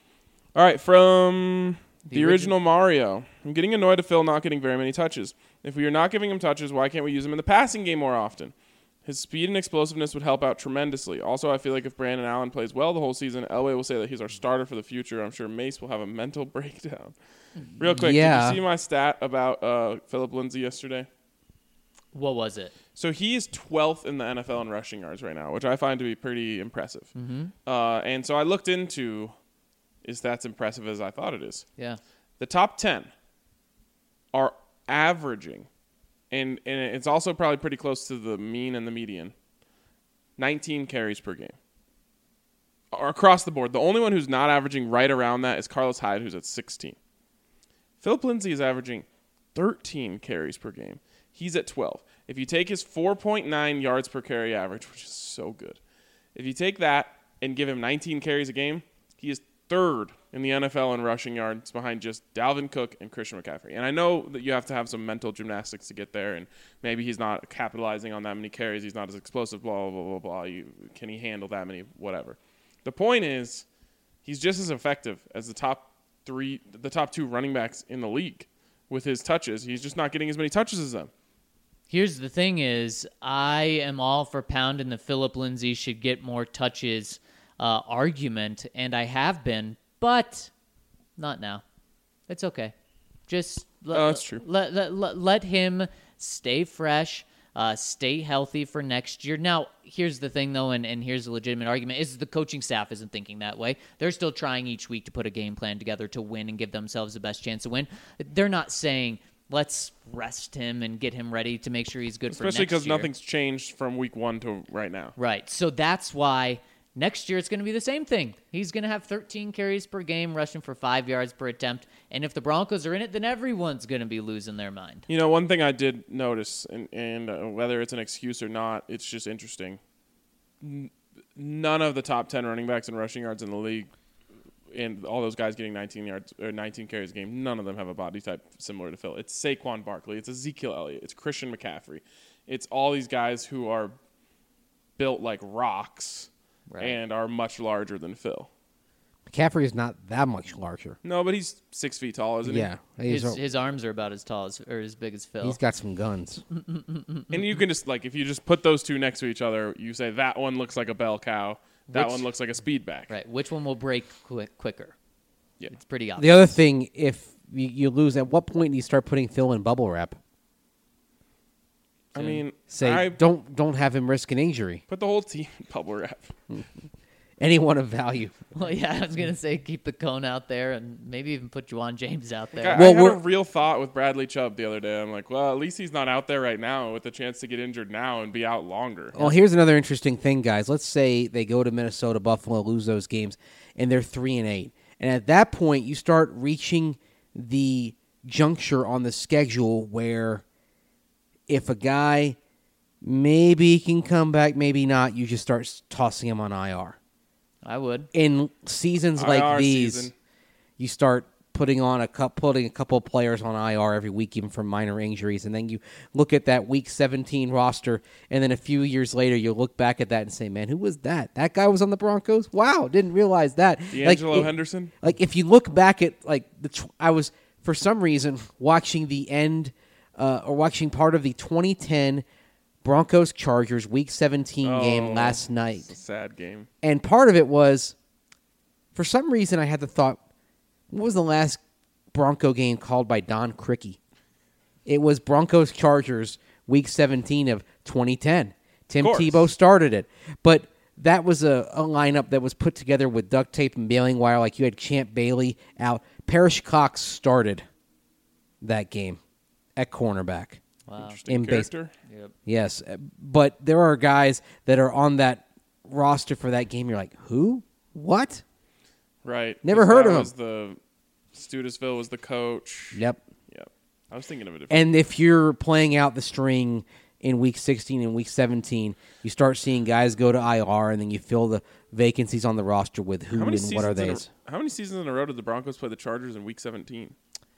All right, from the, The original Mario. I'm getting annoyed at Phil not getting very many touches. If we are not giving him touches, why can't we use him in the passing game more often? His speed and explosiveness would help out tremendously. Also, I feel like if Brandon Allen plays well the whole season, Elway will say that he's our starter for the future. I'm sure Mace will have a mental breakdown. Real quick, Yeah. did you see my stat about uh, Philip Lindsay yesterday? What was it? So he is twelfth in the N F L in rushing yards right now, which I find to be pretty impressive. Mm-hmm. Uh, and so I looked into, is that as impressive as I thought it is? Yeah. The top ten are averaging, and, and it's also probably pretty close to the mean and the median, nineteen carries per game. Or across the board. The only one who's not averaging right around that is Carlos Hyde, who's at sixteen. Philip Lindsay is averaging thirteen carries per game. He's at twelve. If you take his four point nine yards per carry average, which is so good, if you take that and give him nineteen carries a game, he is third in the N F L in rushing yards behind just Dalvin Cook and Christian McCaffrey. And I know that you have to have some mental gymnastics to get there, and maybe he's not capitalizing on that many carries. He's not as explosive, blah, blah, blah, blah. You, can he handle that many, whatever. The point is, he's just as effective as the top three, the top two running backs in the league with his touches. He's just not getting as many touches as them. Here's the thing is, I am all for pounding the Philip Lindsay should get more touches uh, argument, and I have been, but not now. It's okay. Just let, Oh, that's true. Let, let, let, let him stay fresh, uh, stay healthy for next year. Now, here's the thing, though, and, and here's a legitimate argument, is the coaching staff isn't thinking that way. They're still trying each week to put a game plan together to win and give themselves the best chance to win. They're not saying, let's rest him and get him ready to make sure he's good for next Especially because year. nothing's changed from week one to right now. Right. So that's why next year it's going to be the same thing. He's going to have thirteen carries per game, rushing for five yards per attempt. And if the Broncos are in it, then everyone's going to be losing their mind. You know, one thing I did notice, and, and uh, whether it's an excuse or not, it's just interesting. N- none of the top ten running backs in rushing yards in the league, and all those guys getting nineteen yards or nineteen carries a game, none of them have a body type similar to Phil. It's Saquon Barkley, it's Ezekiel Elliott, it's Christian McCaffrey. It's all these guys who are built like rocks Right. and are much larger than Phil. McCaffrey is not that much larger. No, but he's six feet tall, isn't he? Yeah, he's, His, his arms are about as tall as or as big as Phil. he's got some guns. And you can just, like, if you just put those two next to each other, you say that one looks like a bell cow, that Which- one looks like a speed back. Right. Which one will break quick, quicker? Yeah. It's pretty obvious. The other thing, if you, you lose, at what point do you start putting Phil in bubble wrap? I mean, Say, I don't don't have him risk an injury. put the whole team in bubble wrap. Anyone of value. Well, yeah, I was going to say keep the cone out there and maybe even put Juwan James out there. I, Well, I had a we're- real thought with Bradley Chubb the other day. I'm like, well, at least he's not out there right now with the chance to get injured now and be out longer. Well, here's another interesting thing, guys. Let's say they go to Minnesota, Buffalo, lose those games, and they're three and eight. And at that point, you start reaching the juncture on the schedule where if a guy maybe can come back, maybe not, you just start s- tossing him on I R. I would. In seasons like I R these, season. you start putting on a couple, putting a couple of players on I R every week, even for minor injuries, and then you look at that Week seventeen roster, and then a few years later, you look back at that and say, "Man, who was that? That guy was on the Broncos. Wow, didn't realize that." D'Angelo like, it- Henderson? Like if you look back at like the, tw- I was for some reason watching the end uh, or watching part of the twenty ten Broncos Chargers Week seventeen Oh, game last night. It's a sad game. And part of it was, for some reason, I had the thought, what was the last Bronco game called by Don Criqui? It was Broncos Chargers Week seventeen of twenty ten. Tim Of course. Tebow started it. But that was a, a lineup that was put together with duct tape and baling wire. Like you had Champ Bailey out. Parrish Cox started that game at cornerback. Wow. Interesting In base- character. Yep. Yes, uh, but there are guys that are on that roster for that game. You're like, who? What? Right. Never 'Cause heard that of him. was the Studesville was the coach. Yep. Yep. I was thinking of a different. And if you're playing out the string in week sixteen and week seventeen, you start seeing guys go to I R, and then you fill the vacancies on the roster with who how many and what are seasons in they? a, how many seasons in a row did the Broncos play the Chargers in Week seventeen?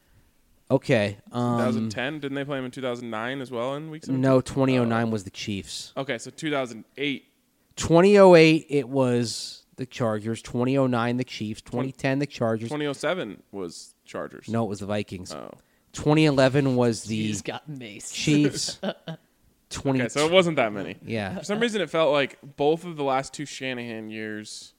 Okay. Um, twenty ten. Didn't they play them in two thousand nine as well in Week seventeen? no, twenty oh nine was the Chiefs. Okay, so two thousand eight. twenty oh eight, it was the Chargers. twenty oh nine, the Chiefs. twenty ten, the Chargers. twenty oh seven was Chargers. No, it was the Vikings. Oh. twenty eleven was the He's got maced. Chiefs. twenty Okay, so it wasn't that many. Yeah. For some reason, it felt like both of the last two Shanahan years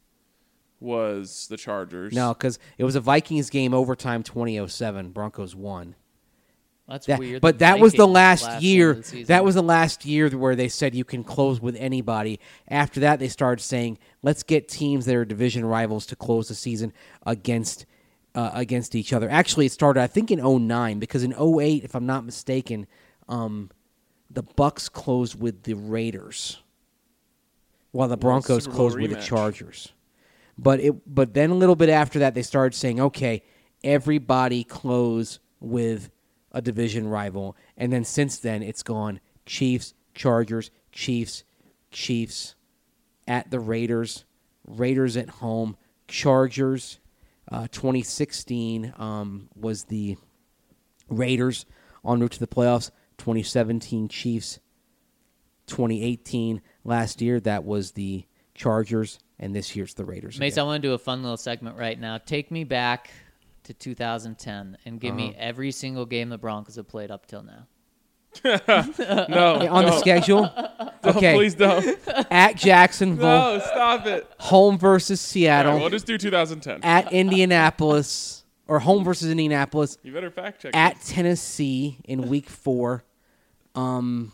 was the Chargers. No, because it was a Vikings game overtime twenty oh seven. Broncos won. That's That- weird. but The that was the Vikings last, last year. one of the season. That was the last year where they said you can close with anybody. After that, they started saying, let's get teams that are division rivals to close the season against uh, against each other. Actually, it started, I think, in oh nine, because in oh eight, if I'm not mistaken, um, the Bucks closed with the Raiders. while the Well, Broncos Super Bowl closed with the rematch. Chargers. But it, but then a little bit after that, they started saying, okay, everybody close with a division rival. And then since then, it's gone Chiefs, Chargers, Chiefs, Chiefs at the Raiders, Raiders at home, Chargers. Uh, twenty sixteen um, was the Raiders en route to the playoffs. twenty seventeen Chiefs. twenty eighteen last year, that was the Chargers, and this year's the Raiders. Mace, again. I want to do a fun little segment right now. Take me back to two thousand ten and give me every single game the Broncos have played up till now. No, Okay, on the no. schedule, Don't, okay, please don't. at Jacksonville, No, stop it. home versus All Seattle, right, we'll just do two thousand ten. at Indianapolis, or home versus Indianapolis, You better fact check. at this. Tennessee in week four, um,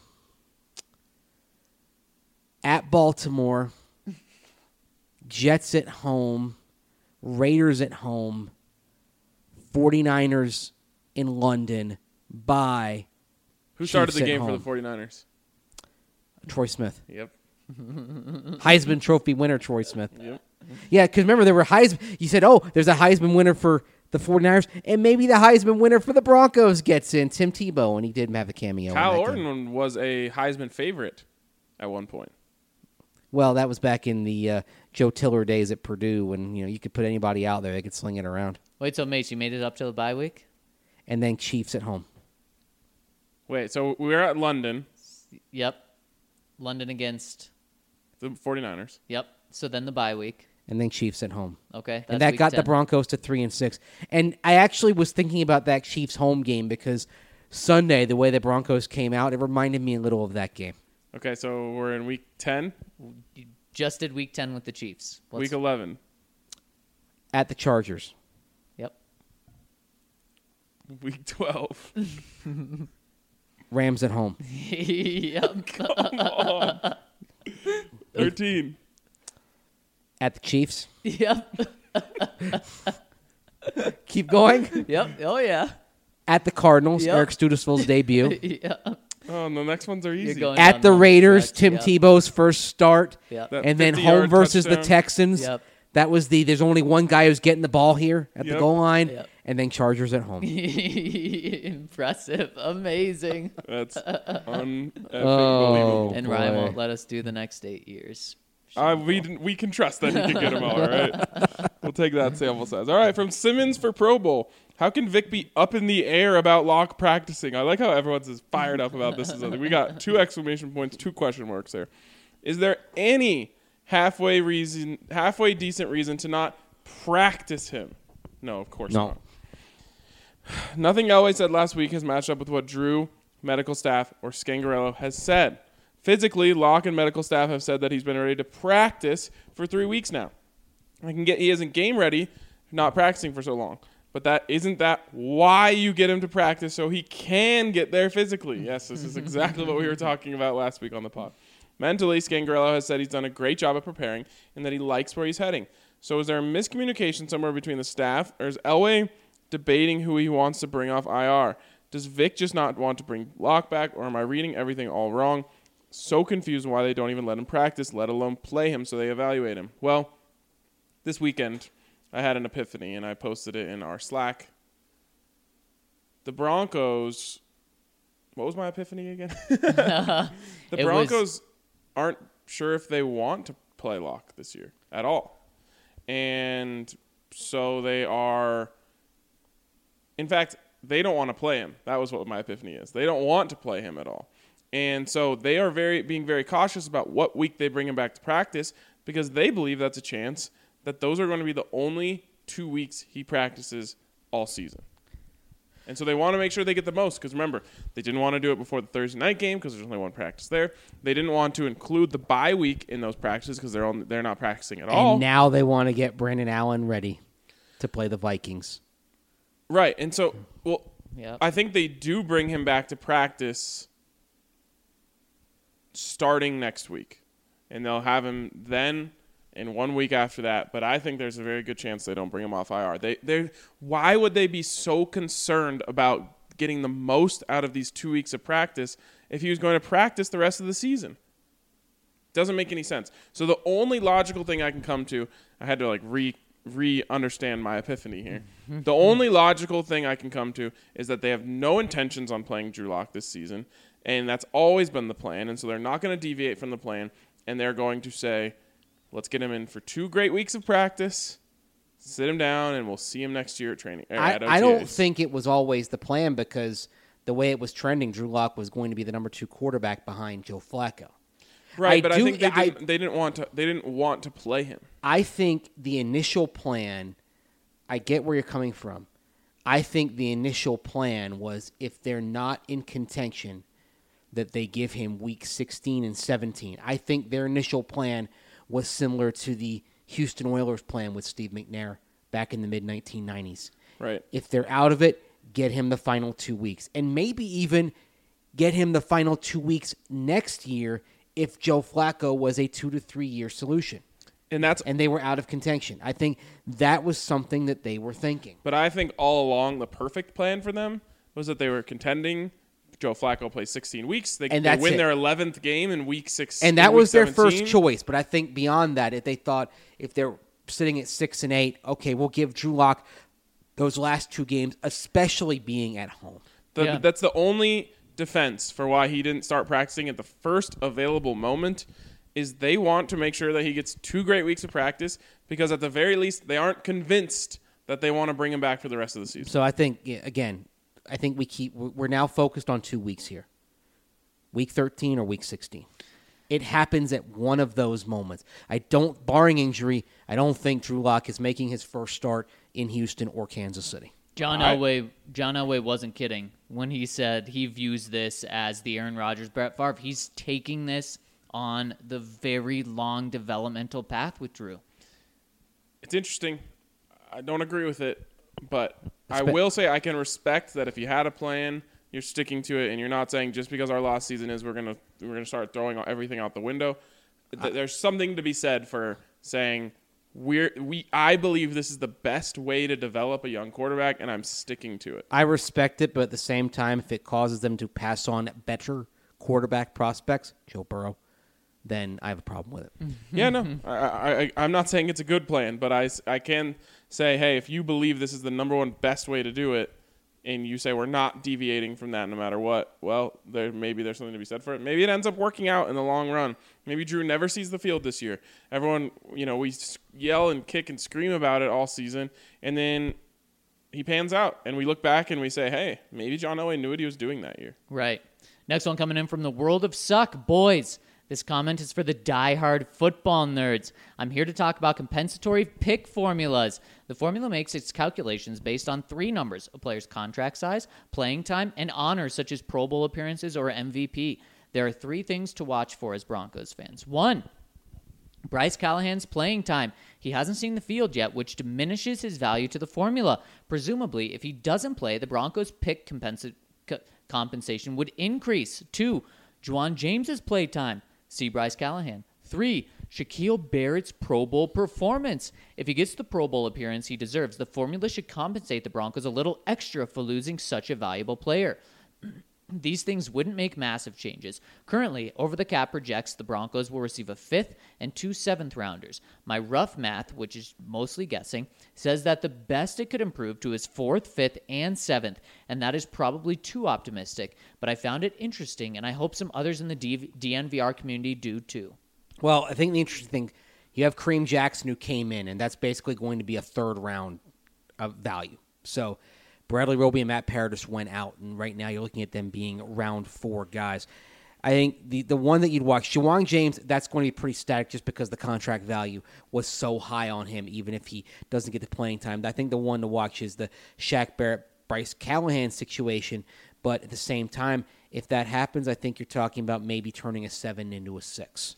at Baltimore, Jets at home, Raiders at home, 49ers in London by Who started Chiefs the at game home. for the 49ers? Troy Smith. Yep. Heisman Trophy winner Troy Smith. Yep. Yeah, because remember, there were Heisman. You said, oh, there's a Heisman winner for the 49ers, and maybe the Heisman winner for the Broncos gets in, Tim Tebow, and he did have a cameo. in Kyle that game. Orton was a Heisman favorite at one point. Well, that was back in the uh, Joe Tiller days at Purdue when you know you could put anybody out there, they could sling it around. Wait, so Mace, you made it up till the bye week? And then Chiefs at home. Wait, so we were at London, Yep. London against. the 49ers. Yep. So then the bye week. And then Chiefs at home. Okay. and that's that week got the ten. Broncos to three and six. And I actually was thinking about that Chiefs home game because Sunday, the way the Broncos came out, it reminded me a little of that game. Okay, so we're in week ten, You just did week ten with the Chiefs. Let's- week eleven, At the Chargers. Yep. week twelve. Rams at home. yep. Come on. thirteen. At the Chiefs. Yep. Keep going. Yep. Oh yeah. At the Cardinals. Yep. Eric Studesville's debut. yeah. Oh, and the next ones are You're easy. going At down the home Raiders, stretch. Tim Yep. Tebow's first start. Yep. That And then fifty-yard home versus the touchdown. Texans. Yep. That was the, there's only one guy who's getting the ball here at the Yep. goal line. Yep. And then Chargers at home. Impressive. Amazing. That's un Oh, and Ryan boy. won't let us do the next eight years. Uh, we didn't, we can trust that he can get them all, all right? We'll take that sample size. All right, from Simmons for Pro Bowl. How can Vic be up in the air about Locke practicing? I like how everyone's as fired up about this as other. We got two exclamation points, two question marks there. Is there any halfway reason, halfway decent reason to not practice him? No, of course No. not. Nothing Elway said last week has matched up with what Drew, medical staff, or Scangarello has said. Physically, Locke and medical staff have said that he's been ready to practice for three weeks now. I can get he isn't game ready, not practicing for so long. But that isn't that why you get him to practice so he can get there physically. Yes, this is exactly what we were talking about last week on the pod. Mentally, Scangarello has said he's done a great job of preparing and that he likes where he's heading. So is there a miscommunication somewhere between the staff, or is Elway debating who he wants to bring off I R? Does Vic just not want to bring Locke back, or am I reading everything all wrong? So confused why they don't even let him practice, let alone play him so they evaluate him. Well, this weekend I had an epiphany, and I posted it in our Slack. The Broncos... What was my epiphany again? the It was- Broncos aren't sure if they want to play Locke this year at all. And so they are... In fact, they don't want to play him. That was what my epiphany is. They don't want to play him at all. And so they are very being very cautious about what week they bring him back to practice because they believe that's a chance that those are going to be the only two weeks he practices all season. And so they want to make sure they get the most because, remember, they didn't want to do it before the Thursday night game because there's only one practice there. They didn't want to include the bye week in those practices because they're, on, they're not practicing at all. And now they want to get Brandon Allen ready to play the Vikings. Right. And so, well, Yep. I think they do bring him back to practice starting next week. And they'll have him then and one week after that. But I think there's a very good chance they don't bring him off I R. They, they, why would they be so concerned about getting the most out of these two weeks of practice if he was going to practice the rest of the season? doesn't make any sense. So the only logical thing I can come to, I had to like re re-understand my epiphany here. The only logical thing I can come to is that they have no intentions on playing Drew Lock this season, and that's always been the plan, and so they're not going to deviate from the plan, and they're going to say, let's get him in for two great weeks of practice, sit him down, and we'll see him next year at training. Er, I, at I don't O T As. think it was always the plan because the way it was trending, Drew Lock was going to be the number two quarterback behind Joe Flacco. Right, I but do- I think they I- didn't, they didn't want to. They didn't want to play him. I think the initial plan, I get where you're coming from. I think the initial plan was if they're not in contention, that they give him week sixteen and seventeen. I think their initial plan was similar to the Houston Oilers plan with Steve McNair back in the mid nineteen nineties. Right. If they're out of it, get him the final two weeks. And maybe even get him the final two weeks next year if Joe Flacco was a two to three year solution And that's and they were out of contention. I think that was something that they were thinking. But I think all along the perfect plan for them was that they were contending. Joe Flacco plays sixteen weeks. They, And they that's win it. their eleventh game in week six. And in that week was their seventeen. first choice. But I think beyond that, if they thought if they're sitting at six and eight, okay, we'll give Drew Lock those last two games, especially being at home. The, Yeah. That's the only defense for why he didn't start practicing at the first available moment is they want to make sure that he gets two great weeks of practice because at the very least they aren't convinced that they want to bring him back for the rest of the season. So I think, yeah, again, I think we keep we're now focused on two weeks here. Week thirteen or week sixteen. It happens at one of those moments. I don't, barring injury, I don't think Drew Lock is making his first start in Houston or Kansas City. John I- Elway, John Elway wasn't kidding when he said he views this as the Aaron Rodgers, Brett Favre. He's taking this on the very long developmental path with Drew. It's interesting. I don't agree with it, but I Espe- will say I can respect that if you had a plan, you're sticking to it, and you're not saying just because our last season is we're gonna we're gonna start throwing everything out the window. Th- There's something to be said for saying we're we. I believe this is the best way to develop a young quarterback, and I'm sticking to it. I respect it, but at the same time, if it causes them to pass on better quarterback prospects, Joe Burrow, then I have a problem with it. Yeah, no, I, I, I, I'm not saying it's a good plan, but I, s- I can say, hey, if you believe this is the number one best way to do it, and you say we're not deviating from that no matter what, well, there maybe there's something to be said for it. Maybe it ends up working out in the long run. Maybe Drew never sees the field this year. Everyone, you know, we s- yell and kick and scream about it all season, and then he pans out, and we look back and we say, hey, maybe John Elway knew what he was doing that year. Right. Next one coming in from the world of suck, boys. This comment is for the diehard football nerds. I'm here to talk about compensatory pick formulas. The formula makes its calculations based on three numbers: a player's contract size, playing time, and honors such as Pro Bowl appearances or M V P. There are three things to watch for as Broncos fans. One, Bryce Callahan's playing time. He hasn't seen the field yet, which diminishes his value to the formula. Presumably, if he doesn't play, the Broncos' pick compensa- co- compensation would increase. Two, Juwan James's play time. See Bryce Callahan. Three, Shaquille Barrett's Pro Bowl performance. If he gets the Pro Bowl appearance he deserves, the formula should compensate the Broncos a little extra for losing such a valuable player. These things wouldn't make massive changes. Currently, Over the Cap projects the Broncos will receive a fifth and two seventh rounders. My rough math, which is mostly guessing, says that the best it could improve to is fourth, fifth, and seventh, and that is probably too optimistic, but I found it interesting, and I hope some others in the D- DNVR community do too. Well, I think the interesting thing, you have Kareem Jackson who came in, and that's basically going to be a third round of value. So Bradley Roby and Matt Paradis went out, and right now you're looking at them being round four guys. I think the, the one that you'd watch, Juwan James, that's going to be pretty static just because the contract value was so high on him, even if he doesn't get the playing time. I think the one to watch is the Shaq Barrett, Bryce Callahan situation, but at the same time, if that happens, I think you're talking about maybe turning a seven into a six.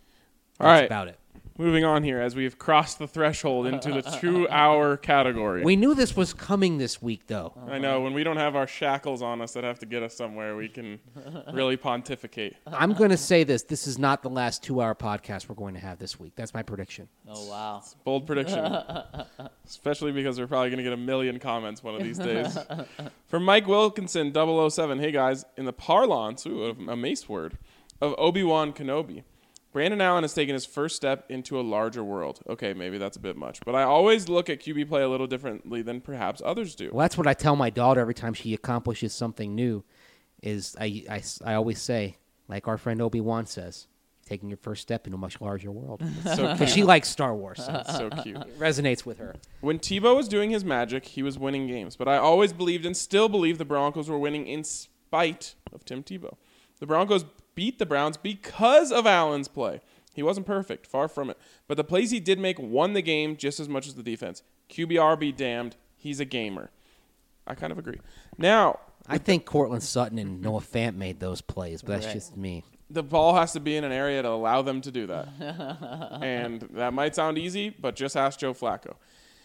All That's right. about it. Moving on here as we've crossed the threshold into the two-hour category. We knew this was coming this week, though. I know, when we don't have our shackles on us that have to get us somewhere, we can really pontificate. I'm going to say this. This is not the last two-hour podcast we're going to have this week. That's my prediction. Oh, wow. Bold prediction. Especially because we're probably going to get a million comments one of these days. From Mike Wilkinson, double oh seven. Hey, guys. In the parlance, ooh, a Mace word, of Obi-Wan Kenobi, Brandon Allen has taken his first step into a larger world. Okay, maybe that's a bit much, but I always look at Q B play a little differently than perhaps others do. Well, that's what I tell my daughter every time she accomplishes something new. Is I, I, I always say, like our friend Obi-Wan says, taking your first step into a much larger world. So Because she likes Star Wars. So That's so cute. it resonates with her. When Tebow was doing his magic, he was winning games. But I always believed and still believe the Broncos were winning in spite of Tim Tebow. The Broncos beat the Browns because of Allen's play. He wasn't perfect, far from it. But the plays he did make won the game just as much as the defense. Q B R be damned. He's a gamer. I kind of agree. Now, I think Cortland Sutton and Noah Fant made those plays, but that's Right. just me. the ball has to be in an area to allow them to do that. And that might sound easy, but just ask Joe Flacco.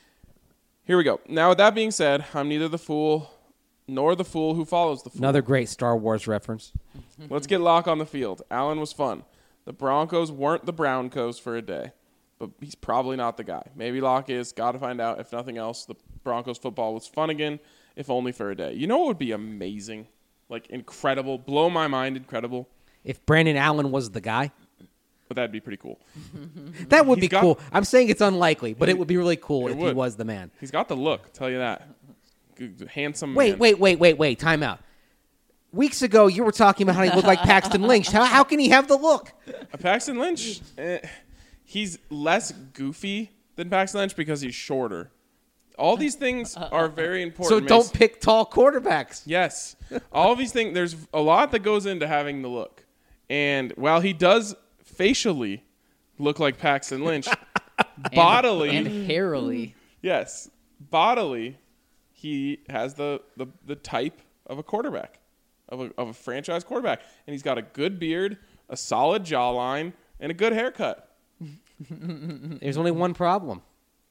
Here we go. Now, with that being said, I'm neither the fool nor the fool who follows the fool. Another great Star Wars reference. Let's get Locke on the field. Allen was fun. The Broncos weren't the Broncos for a day, but he's probably not the guy. Maybe Locke is. Got to find out. If nothing else, the Broncos football was fun again, if only for a day. You know what would be amazing? Like, incredible. Blow my mind, incredible. If Brandon Allen was the guy, But that'd be pretty cool. that would He's be got- cool. I'm saying it's unlikely, but it would be really cool It if he would. was the man. He's got the look, I'll tell you that. Good- Handsome Wait, man. wait, wait, wait, wait. Time out. Weeks ago, you were talking about how he looked like Paxton Lynch. How, how can he have the look? Uh, Paxton Lynch, eh, he's less goofy than Paxton Lynch because he's shorter. All these things are very So important. don't Mason. pick tall quarterbacks. Yes. All of these things, there's a lot that goes into having the look. And while he does facially look like Paxton Lynch, bodily, and, and hairily. yes, bodily, he has the, the, the type of a quarterback, of a, of a franchise quarterback. And he's got a good beard, a solid jawline, and a good haircut. There's only one problem.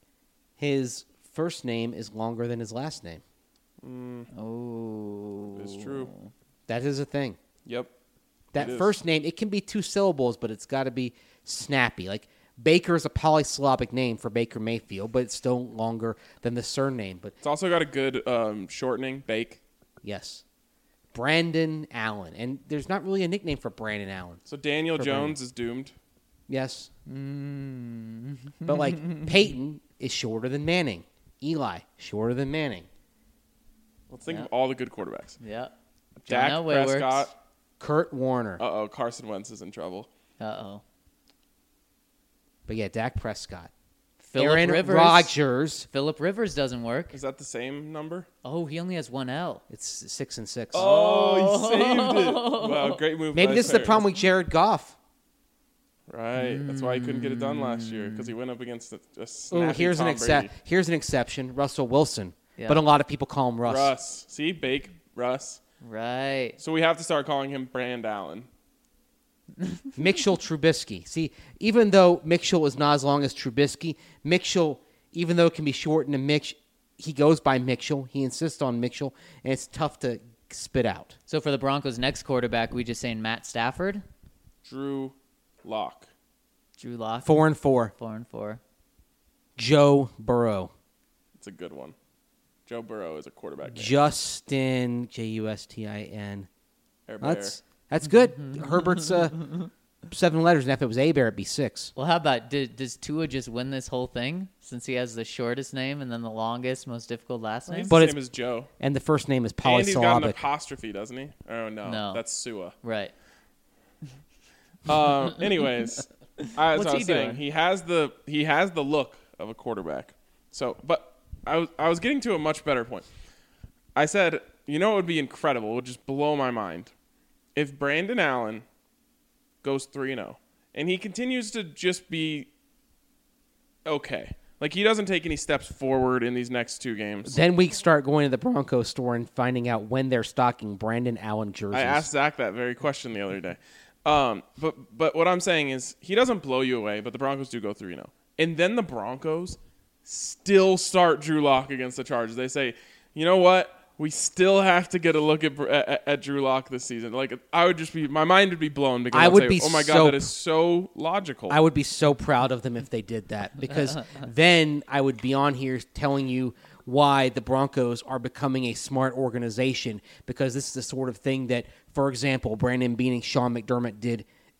His first name is longer than his last name. Oh. It's true. That is a thing. Yep. That It is. first name, it can be two syllables, but it's got to be snappy. Like Baker is a polysyllabic name for Baker Mayfield, but it's still longer than the surname. But It's also got a good um, shortening, Bake. yes, Brandon Allen, and there's not really a nickname for Brandon Allen. So Daniel For Jones is doomed. Yes, but like Peyton is shorter than Manning. Eli shorter than Manning. Let's think Yeah. of all the good quarterbacks. Yeah. Dak John Elway works. Prescott. Kurt Warner. Uh-oh, Carson Wentz is in trouble. Uh-oh. But yeah, Dak Prescott. Phillip Aaron Rivers. Rodgers. Phillip Rivers doesn't work. Is that the same number? Oh, he only has one L. It's six and six. Oh, he saved it. Wow, great move. Maybe by this is the Sarah. problem with Jared Goff. Right. That's why he couldn't get it done last year, because he went up against a, a Ooh, snappy here's Tom an exce- Brady. Here's an exception. Russell Wilson. Yeah. But a lot of people call him Russ. Russ. See? Bake. Russ. Right. So we have to start calling him Brand Allen. Mitchell Trubisky. See, even though Mitchell is not as long as Trubisky, Mitchell, even though it can be shortened to Mitch, he goes by Mitchell. He insists on Mitchell, and it's tough to spit out. So for the Broncos' next quarterback, we just saying Matt Stafford, Drew Lock. Drew Lock, Four and four. four and four. Joe Burrow. It's a good one. Joe Burrow is a quarterback. name. Justin, J U S T I N. Air Bear. That's that's good. Herbert's uh, seven letters, and if it was A Bear, it'd be six. Well, how about did, does Tua just win this whole thing since he has the shortest name and then the longest, most difficult last name? He's But the it's- same as Joe. And the first name is And he's got an polysyllabic. apostrophe, doesn't he? Oh, no. No. That's Sua. Right. Um, anyways, I, as What's I he was saying, doing? he has the he has the look of a quarterback. So, but I was I was getting to a much better point. I said, you know, it would be incredible. It would just blow my mind if Brandon Allen goes three and zero, and he continues to just be okay. Like he doesn't take any steps forward in these next two games. Then we start going to the Broncos store and finding out when they're stocking Brandon Allen jerseys. I asked Zach that very question the other day. Um, but but what I'm saying is he doesn't blow you away, but the Broncos do go three and oh. And then the Broncos still start Drew Lock against the Chargers. They say, you know what? We still have to get a look at at, at Drew Lock this season. Like I would just be, my mind would be blown because I I'd would say, be oh my god, so- that is so logical. I would be so proud of them if they did that, because then I would be on here telling you why the Broncos are becoming a smart organization, because this is the sort of thing that, for example, Brandon Beane and Sean McDermott did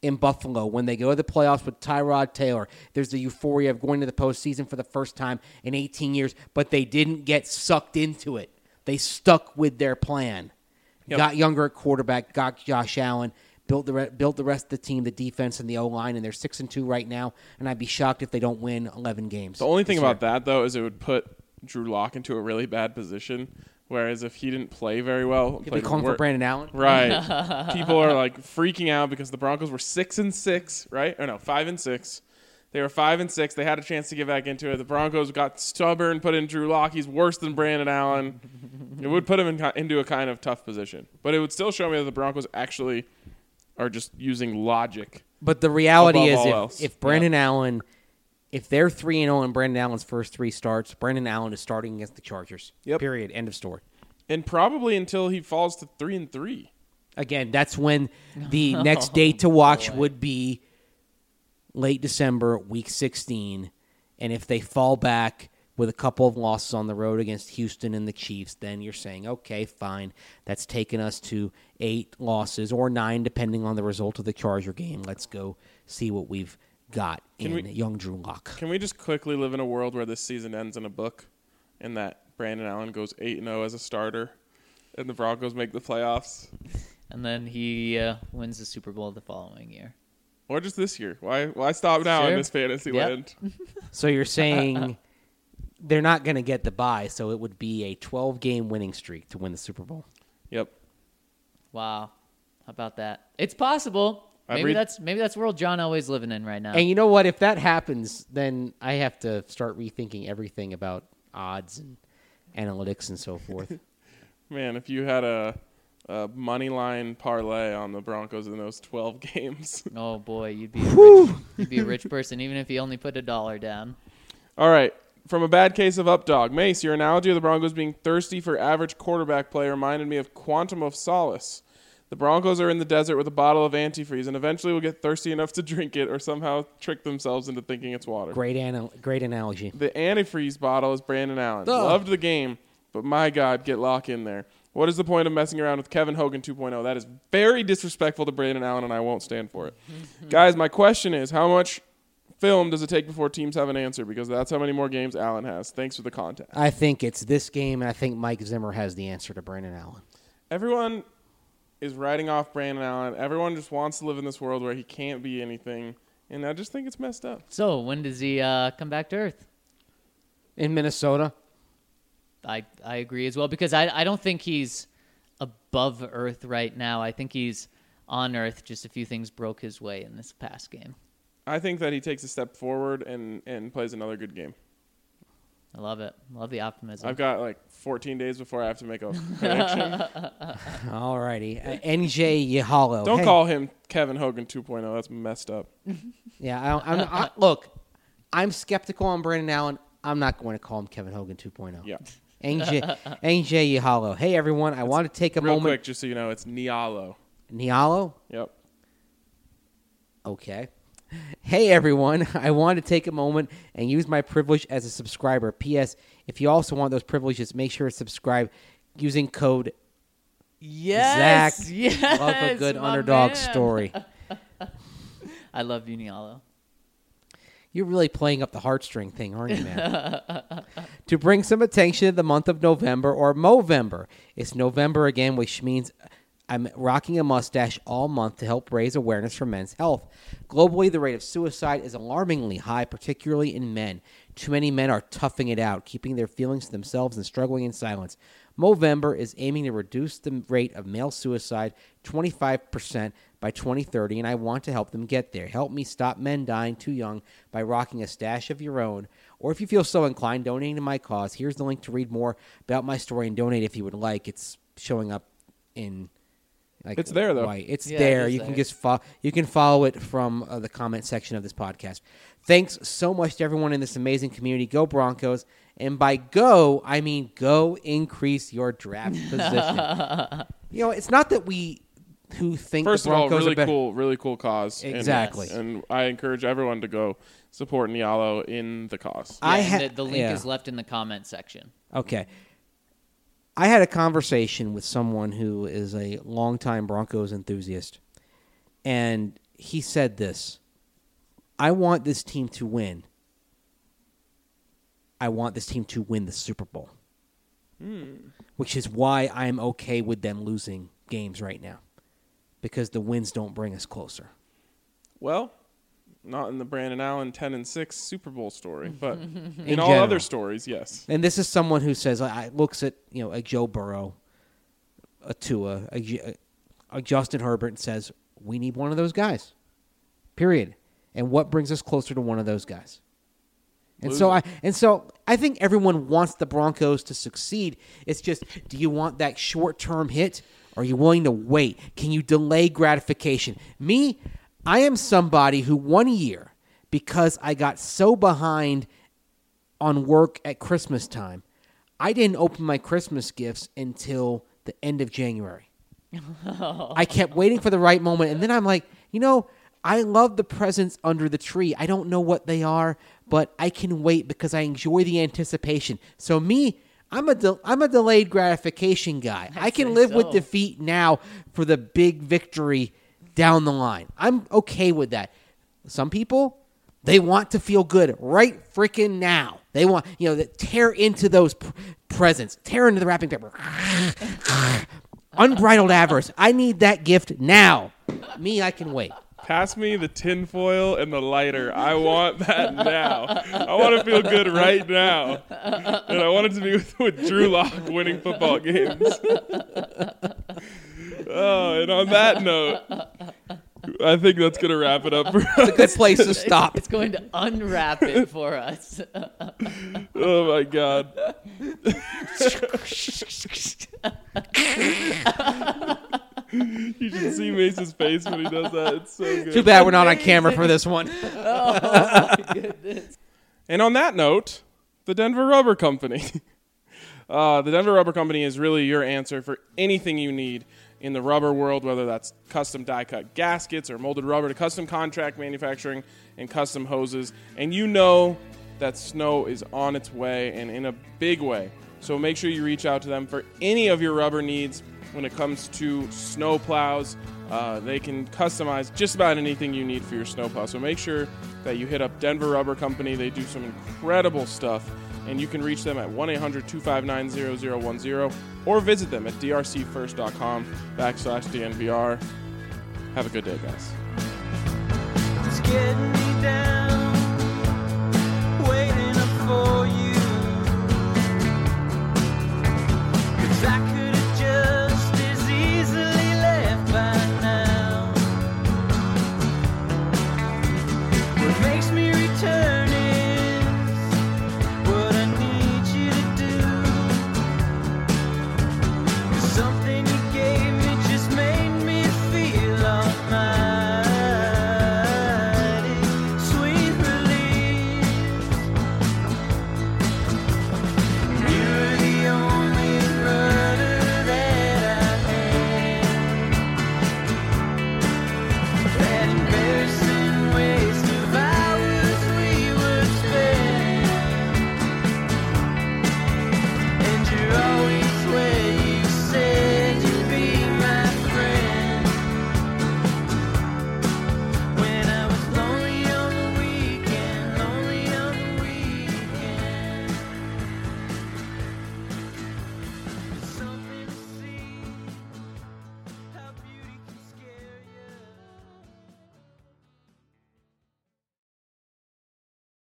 in Buffalo, when they go to the playoffs with Tyrod Taylor, there's the euphoria of going to the postseason for the first time in eighteen years, but they didn't get sucked into it. They stuck with their plan. Yep. Got younger at quarterback, got Josh Allen, built the re- built the rest of the team, the defense and the O-line, and they're six and two right now, and I'd be shocked if they don't win eleven games. The only thing this about year. that, though, is it would put Drew Lock into a really bad position, whereas if he didn't play very well... You'll be played calling wor- for Brandon Allen? Right. People are, like, freaking out because the Broncos were six and six, right? Or no, five and six. They were five and six. They had a chance to get back into it. The Broncos got stubborn, put in Drew Lock. He's worse than Brandon Allen. It would put him in, into a kind of tough position. But it would still show me that the Broncos actually are just using logic. But the reality Above is, all if, else. if Brandon Allen, if they're three and zero in Brandon Allen's first three starts, Brandon Allen is starting against the Chargers. Yep. Period. End of story. And probably until he falls to three and three. Again, that's when the next date to watch boy. would be late December, week sixteen. And if they fall back with a couple of losses on the road against Houston and the Chiefs, then you're saying, okay, fine. That's taken us to eight losses or nine, depending on the result of the Charger game. Let's go see what we've got Can in we- young Drew Lock. Can we just quickly live in a world where this season ends in a book and that Brandon Allen goes eight and oh as a starter and the Broncos make the playoffs? And then he uh, wins the Super Bowl the following year. Or just this year? Why Why stop now in Sure. this fantasy Yep. land? So you're saying they're not going to get the bye, so it would be a twelve-game winning streak to win the Super Bowl. Yep. Wow. How about that? It's possible. I'd Maybe read- that's maybe that's world John Elway's living in right now. And you know what? If that happens, then I have to start rethinking everything about odds and analytics and so forth. Man, if you had a, a money line parlay on the Broncos in those twelve games. Oh boy, you'd be a rich, you'd be a rich person even if you only put a dollar down. All right. From a bad case of updog. Mace, your analogy of the Broncos being thirsty for average quarterback play reminded me of Quantum of Solace. The Broncos are in the desert with a bottle of antifreeze and eventually will get thirsty enough to drink it or somehow trick themselves into thinking it's water. Great, anal- great analogy. The antifreeze bottle is Brandon Allen. Ugh. Loved the game, but my God, get Lock in there. What is the point of messing around with Kevin Hogan two point oh? That is very disrespectful to Brandon Allen, and I won't stand for it. Guys, my question is, how much film does it take before teams have an answer? Because that's how many more games Allen has. Thanks for the contact. I think it's this game, and I think Mike Zimmer has the answer to Brandon Allen. Everyone is writing off Brandon Allen. Everyone just wants to live in this world where he can't be anything, and I just think it's messed up. So when does he uh, come back to Earth? In Minnesota, I I agree as well because I I don't think he's above Earth right now. I think he's on Earth. Just a few things broke his way in this past game. I think that he takes a step forward and, and plays another good game. I love it. Love the optimism. I've got like fourteen days before I have to make a prediction. all righty. Uh, N J Yahalo. Don't Hey. call him Kevin Hogan two point oh. That's messed up. Yeah, I, I'm, I, look, I'm skeptical on Brandon Allen. I'm not going to call him Kevin Hogan two point oh. Yeah. N J N J Yahalo. Hey, everyone. I want to take a Real moment. quick, just so you know, it's Nialo. Nialo? Yep. Okay. Hey, everyone. I want to take a moment and use my privilege as a subscriber. P S. If you also want those privileges, make sure to subscribe using code yes, Zach. yes, Love a good my underdog man. story. I love Unialo. You're really playing up the heartstring thing, aren't you, man? To bring some attention to the month of November or Movember. It's November again, which means I'm rocking a mustache all month to help raise awareness for men's health. Globally, the rate of suicide is alarmingly high, particularly in men. Too many men are toughing it out, keeping their feelings to themselves and struggling in silence. Movember is aiming to reduce the rate of male suicide twenty-five percent by twenty thirty, and I want to help them get there. Help me stop men dying too young by rocking a stash of your own. Or if you feel so inclined, donating to my cause. Here's the link to read more about my story and donate if you would like. It's showing up in... Like It's there, though. white. It's Yeah, there. it is You can there. just fo- you can follow it from uh, the comment section of this podcast. Thanks so much to everyone in this amazing community. Go Broncos! And by go, I mean go increase your draft position. You know, it's not that we who think First the of all, Broncos really are better. cool, really cool cause. And- Exactly. And, I encourage everyone to go support Nialo in the cause. I Yeah, ha- and the, the link yeah. is left in the comment section. Okay. I had a conversation with someone who is a longtime Broncos enthusiast, and he said this. I want this team to win. I want this team to win the Super Bowl. Mm. Which is why I'm okay with them losing games right now. Because the wins don't bring us closer. Well, not in the Brandon Allen ten and six Super Bowl story, but in, in all general. other stories, yes. And this is someone who says, I looks at, you know, a Joe Burrow, a Tua, a, a Justin Herbert, and says, we need one of those guys. Period. And what brings us closer to one of those guys? And so I and so I think everyone wants the Broncos to succeed. It's just, do you want that short-term hit? Or are you willing to wait? Can you delay gratification? Me, I am somebody who one year, because I got so behind on work at Christmas time, I didn't open my Christmas gifts until the end of January. I kept waiting for the right moment, and then I'm like, you know, I love the presents under the tree. I don't know what they are, but I can wait because I enjoy the anticipation. So me, I'm a de- I'm a delayed gratification guy. I I can say live so. with defeat now for the big victory down the line. I'm okay with that. Some people, they want to feel good right freaking now. They want, you know, that tear into those pr- presents, tear into the wrapping paper. Unbridled avarice. I need that gift now. Me, I can wait. Pass me the tinfoil and the lighter. I want that now. I want to feel good right now. And I want it to be with, with Drew Lock winning football games. Oh, and on that note, I think that's going to wrap it up for us. It's a good place to stop. It's going to unwrap it for us. Oh, my God. You should see Mace's face when he does that. It's so good. Too bad we're not on camera for this one. Oh, my goodness. And on that note, the Denver Rubber Company. Uh, the Denver Rubber Company is really your answer for anything you need in the rubber world, whether that's custom die-cut gaskets or molded rubber to custom contract manufacturing and custom hoses. And you know that snow is on its way and in a big way. So make sure you reach out to them for any of your rubber needs when it comes to snow plows. Uh, they can customize just about anything you need for your snow plow. So make sure that you hit up Denver Rubber Company. They do some incredible stuff. And you can reach them at one eight hundred two five nine zero zero one zero or visit them at drcfirst.com backslash DNVR. Have a good day, guys. It's getting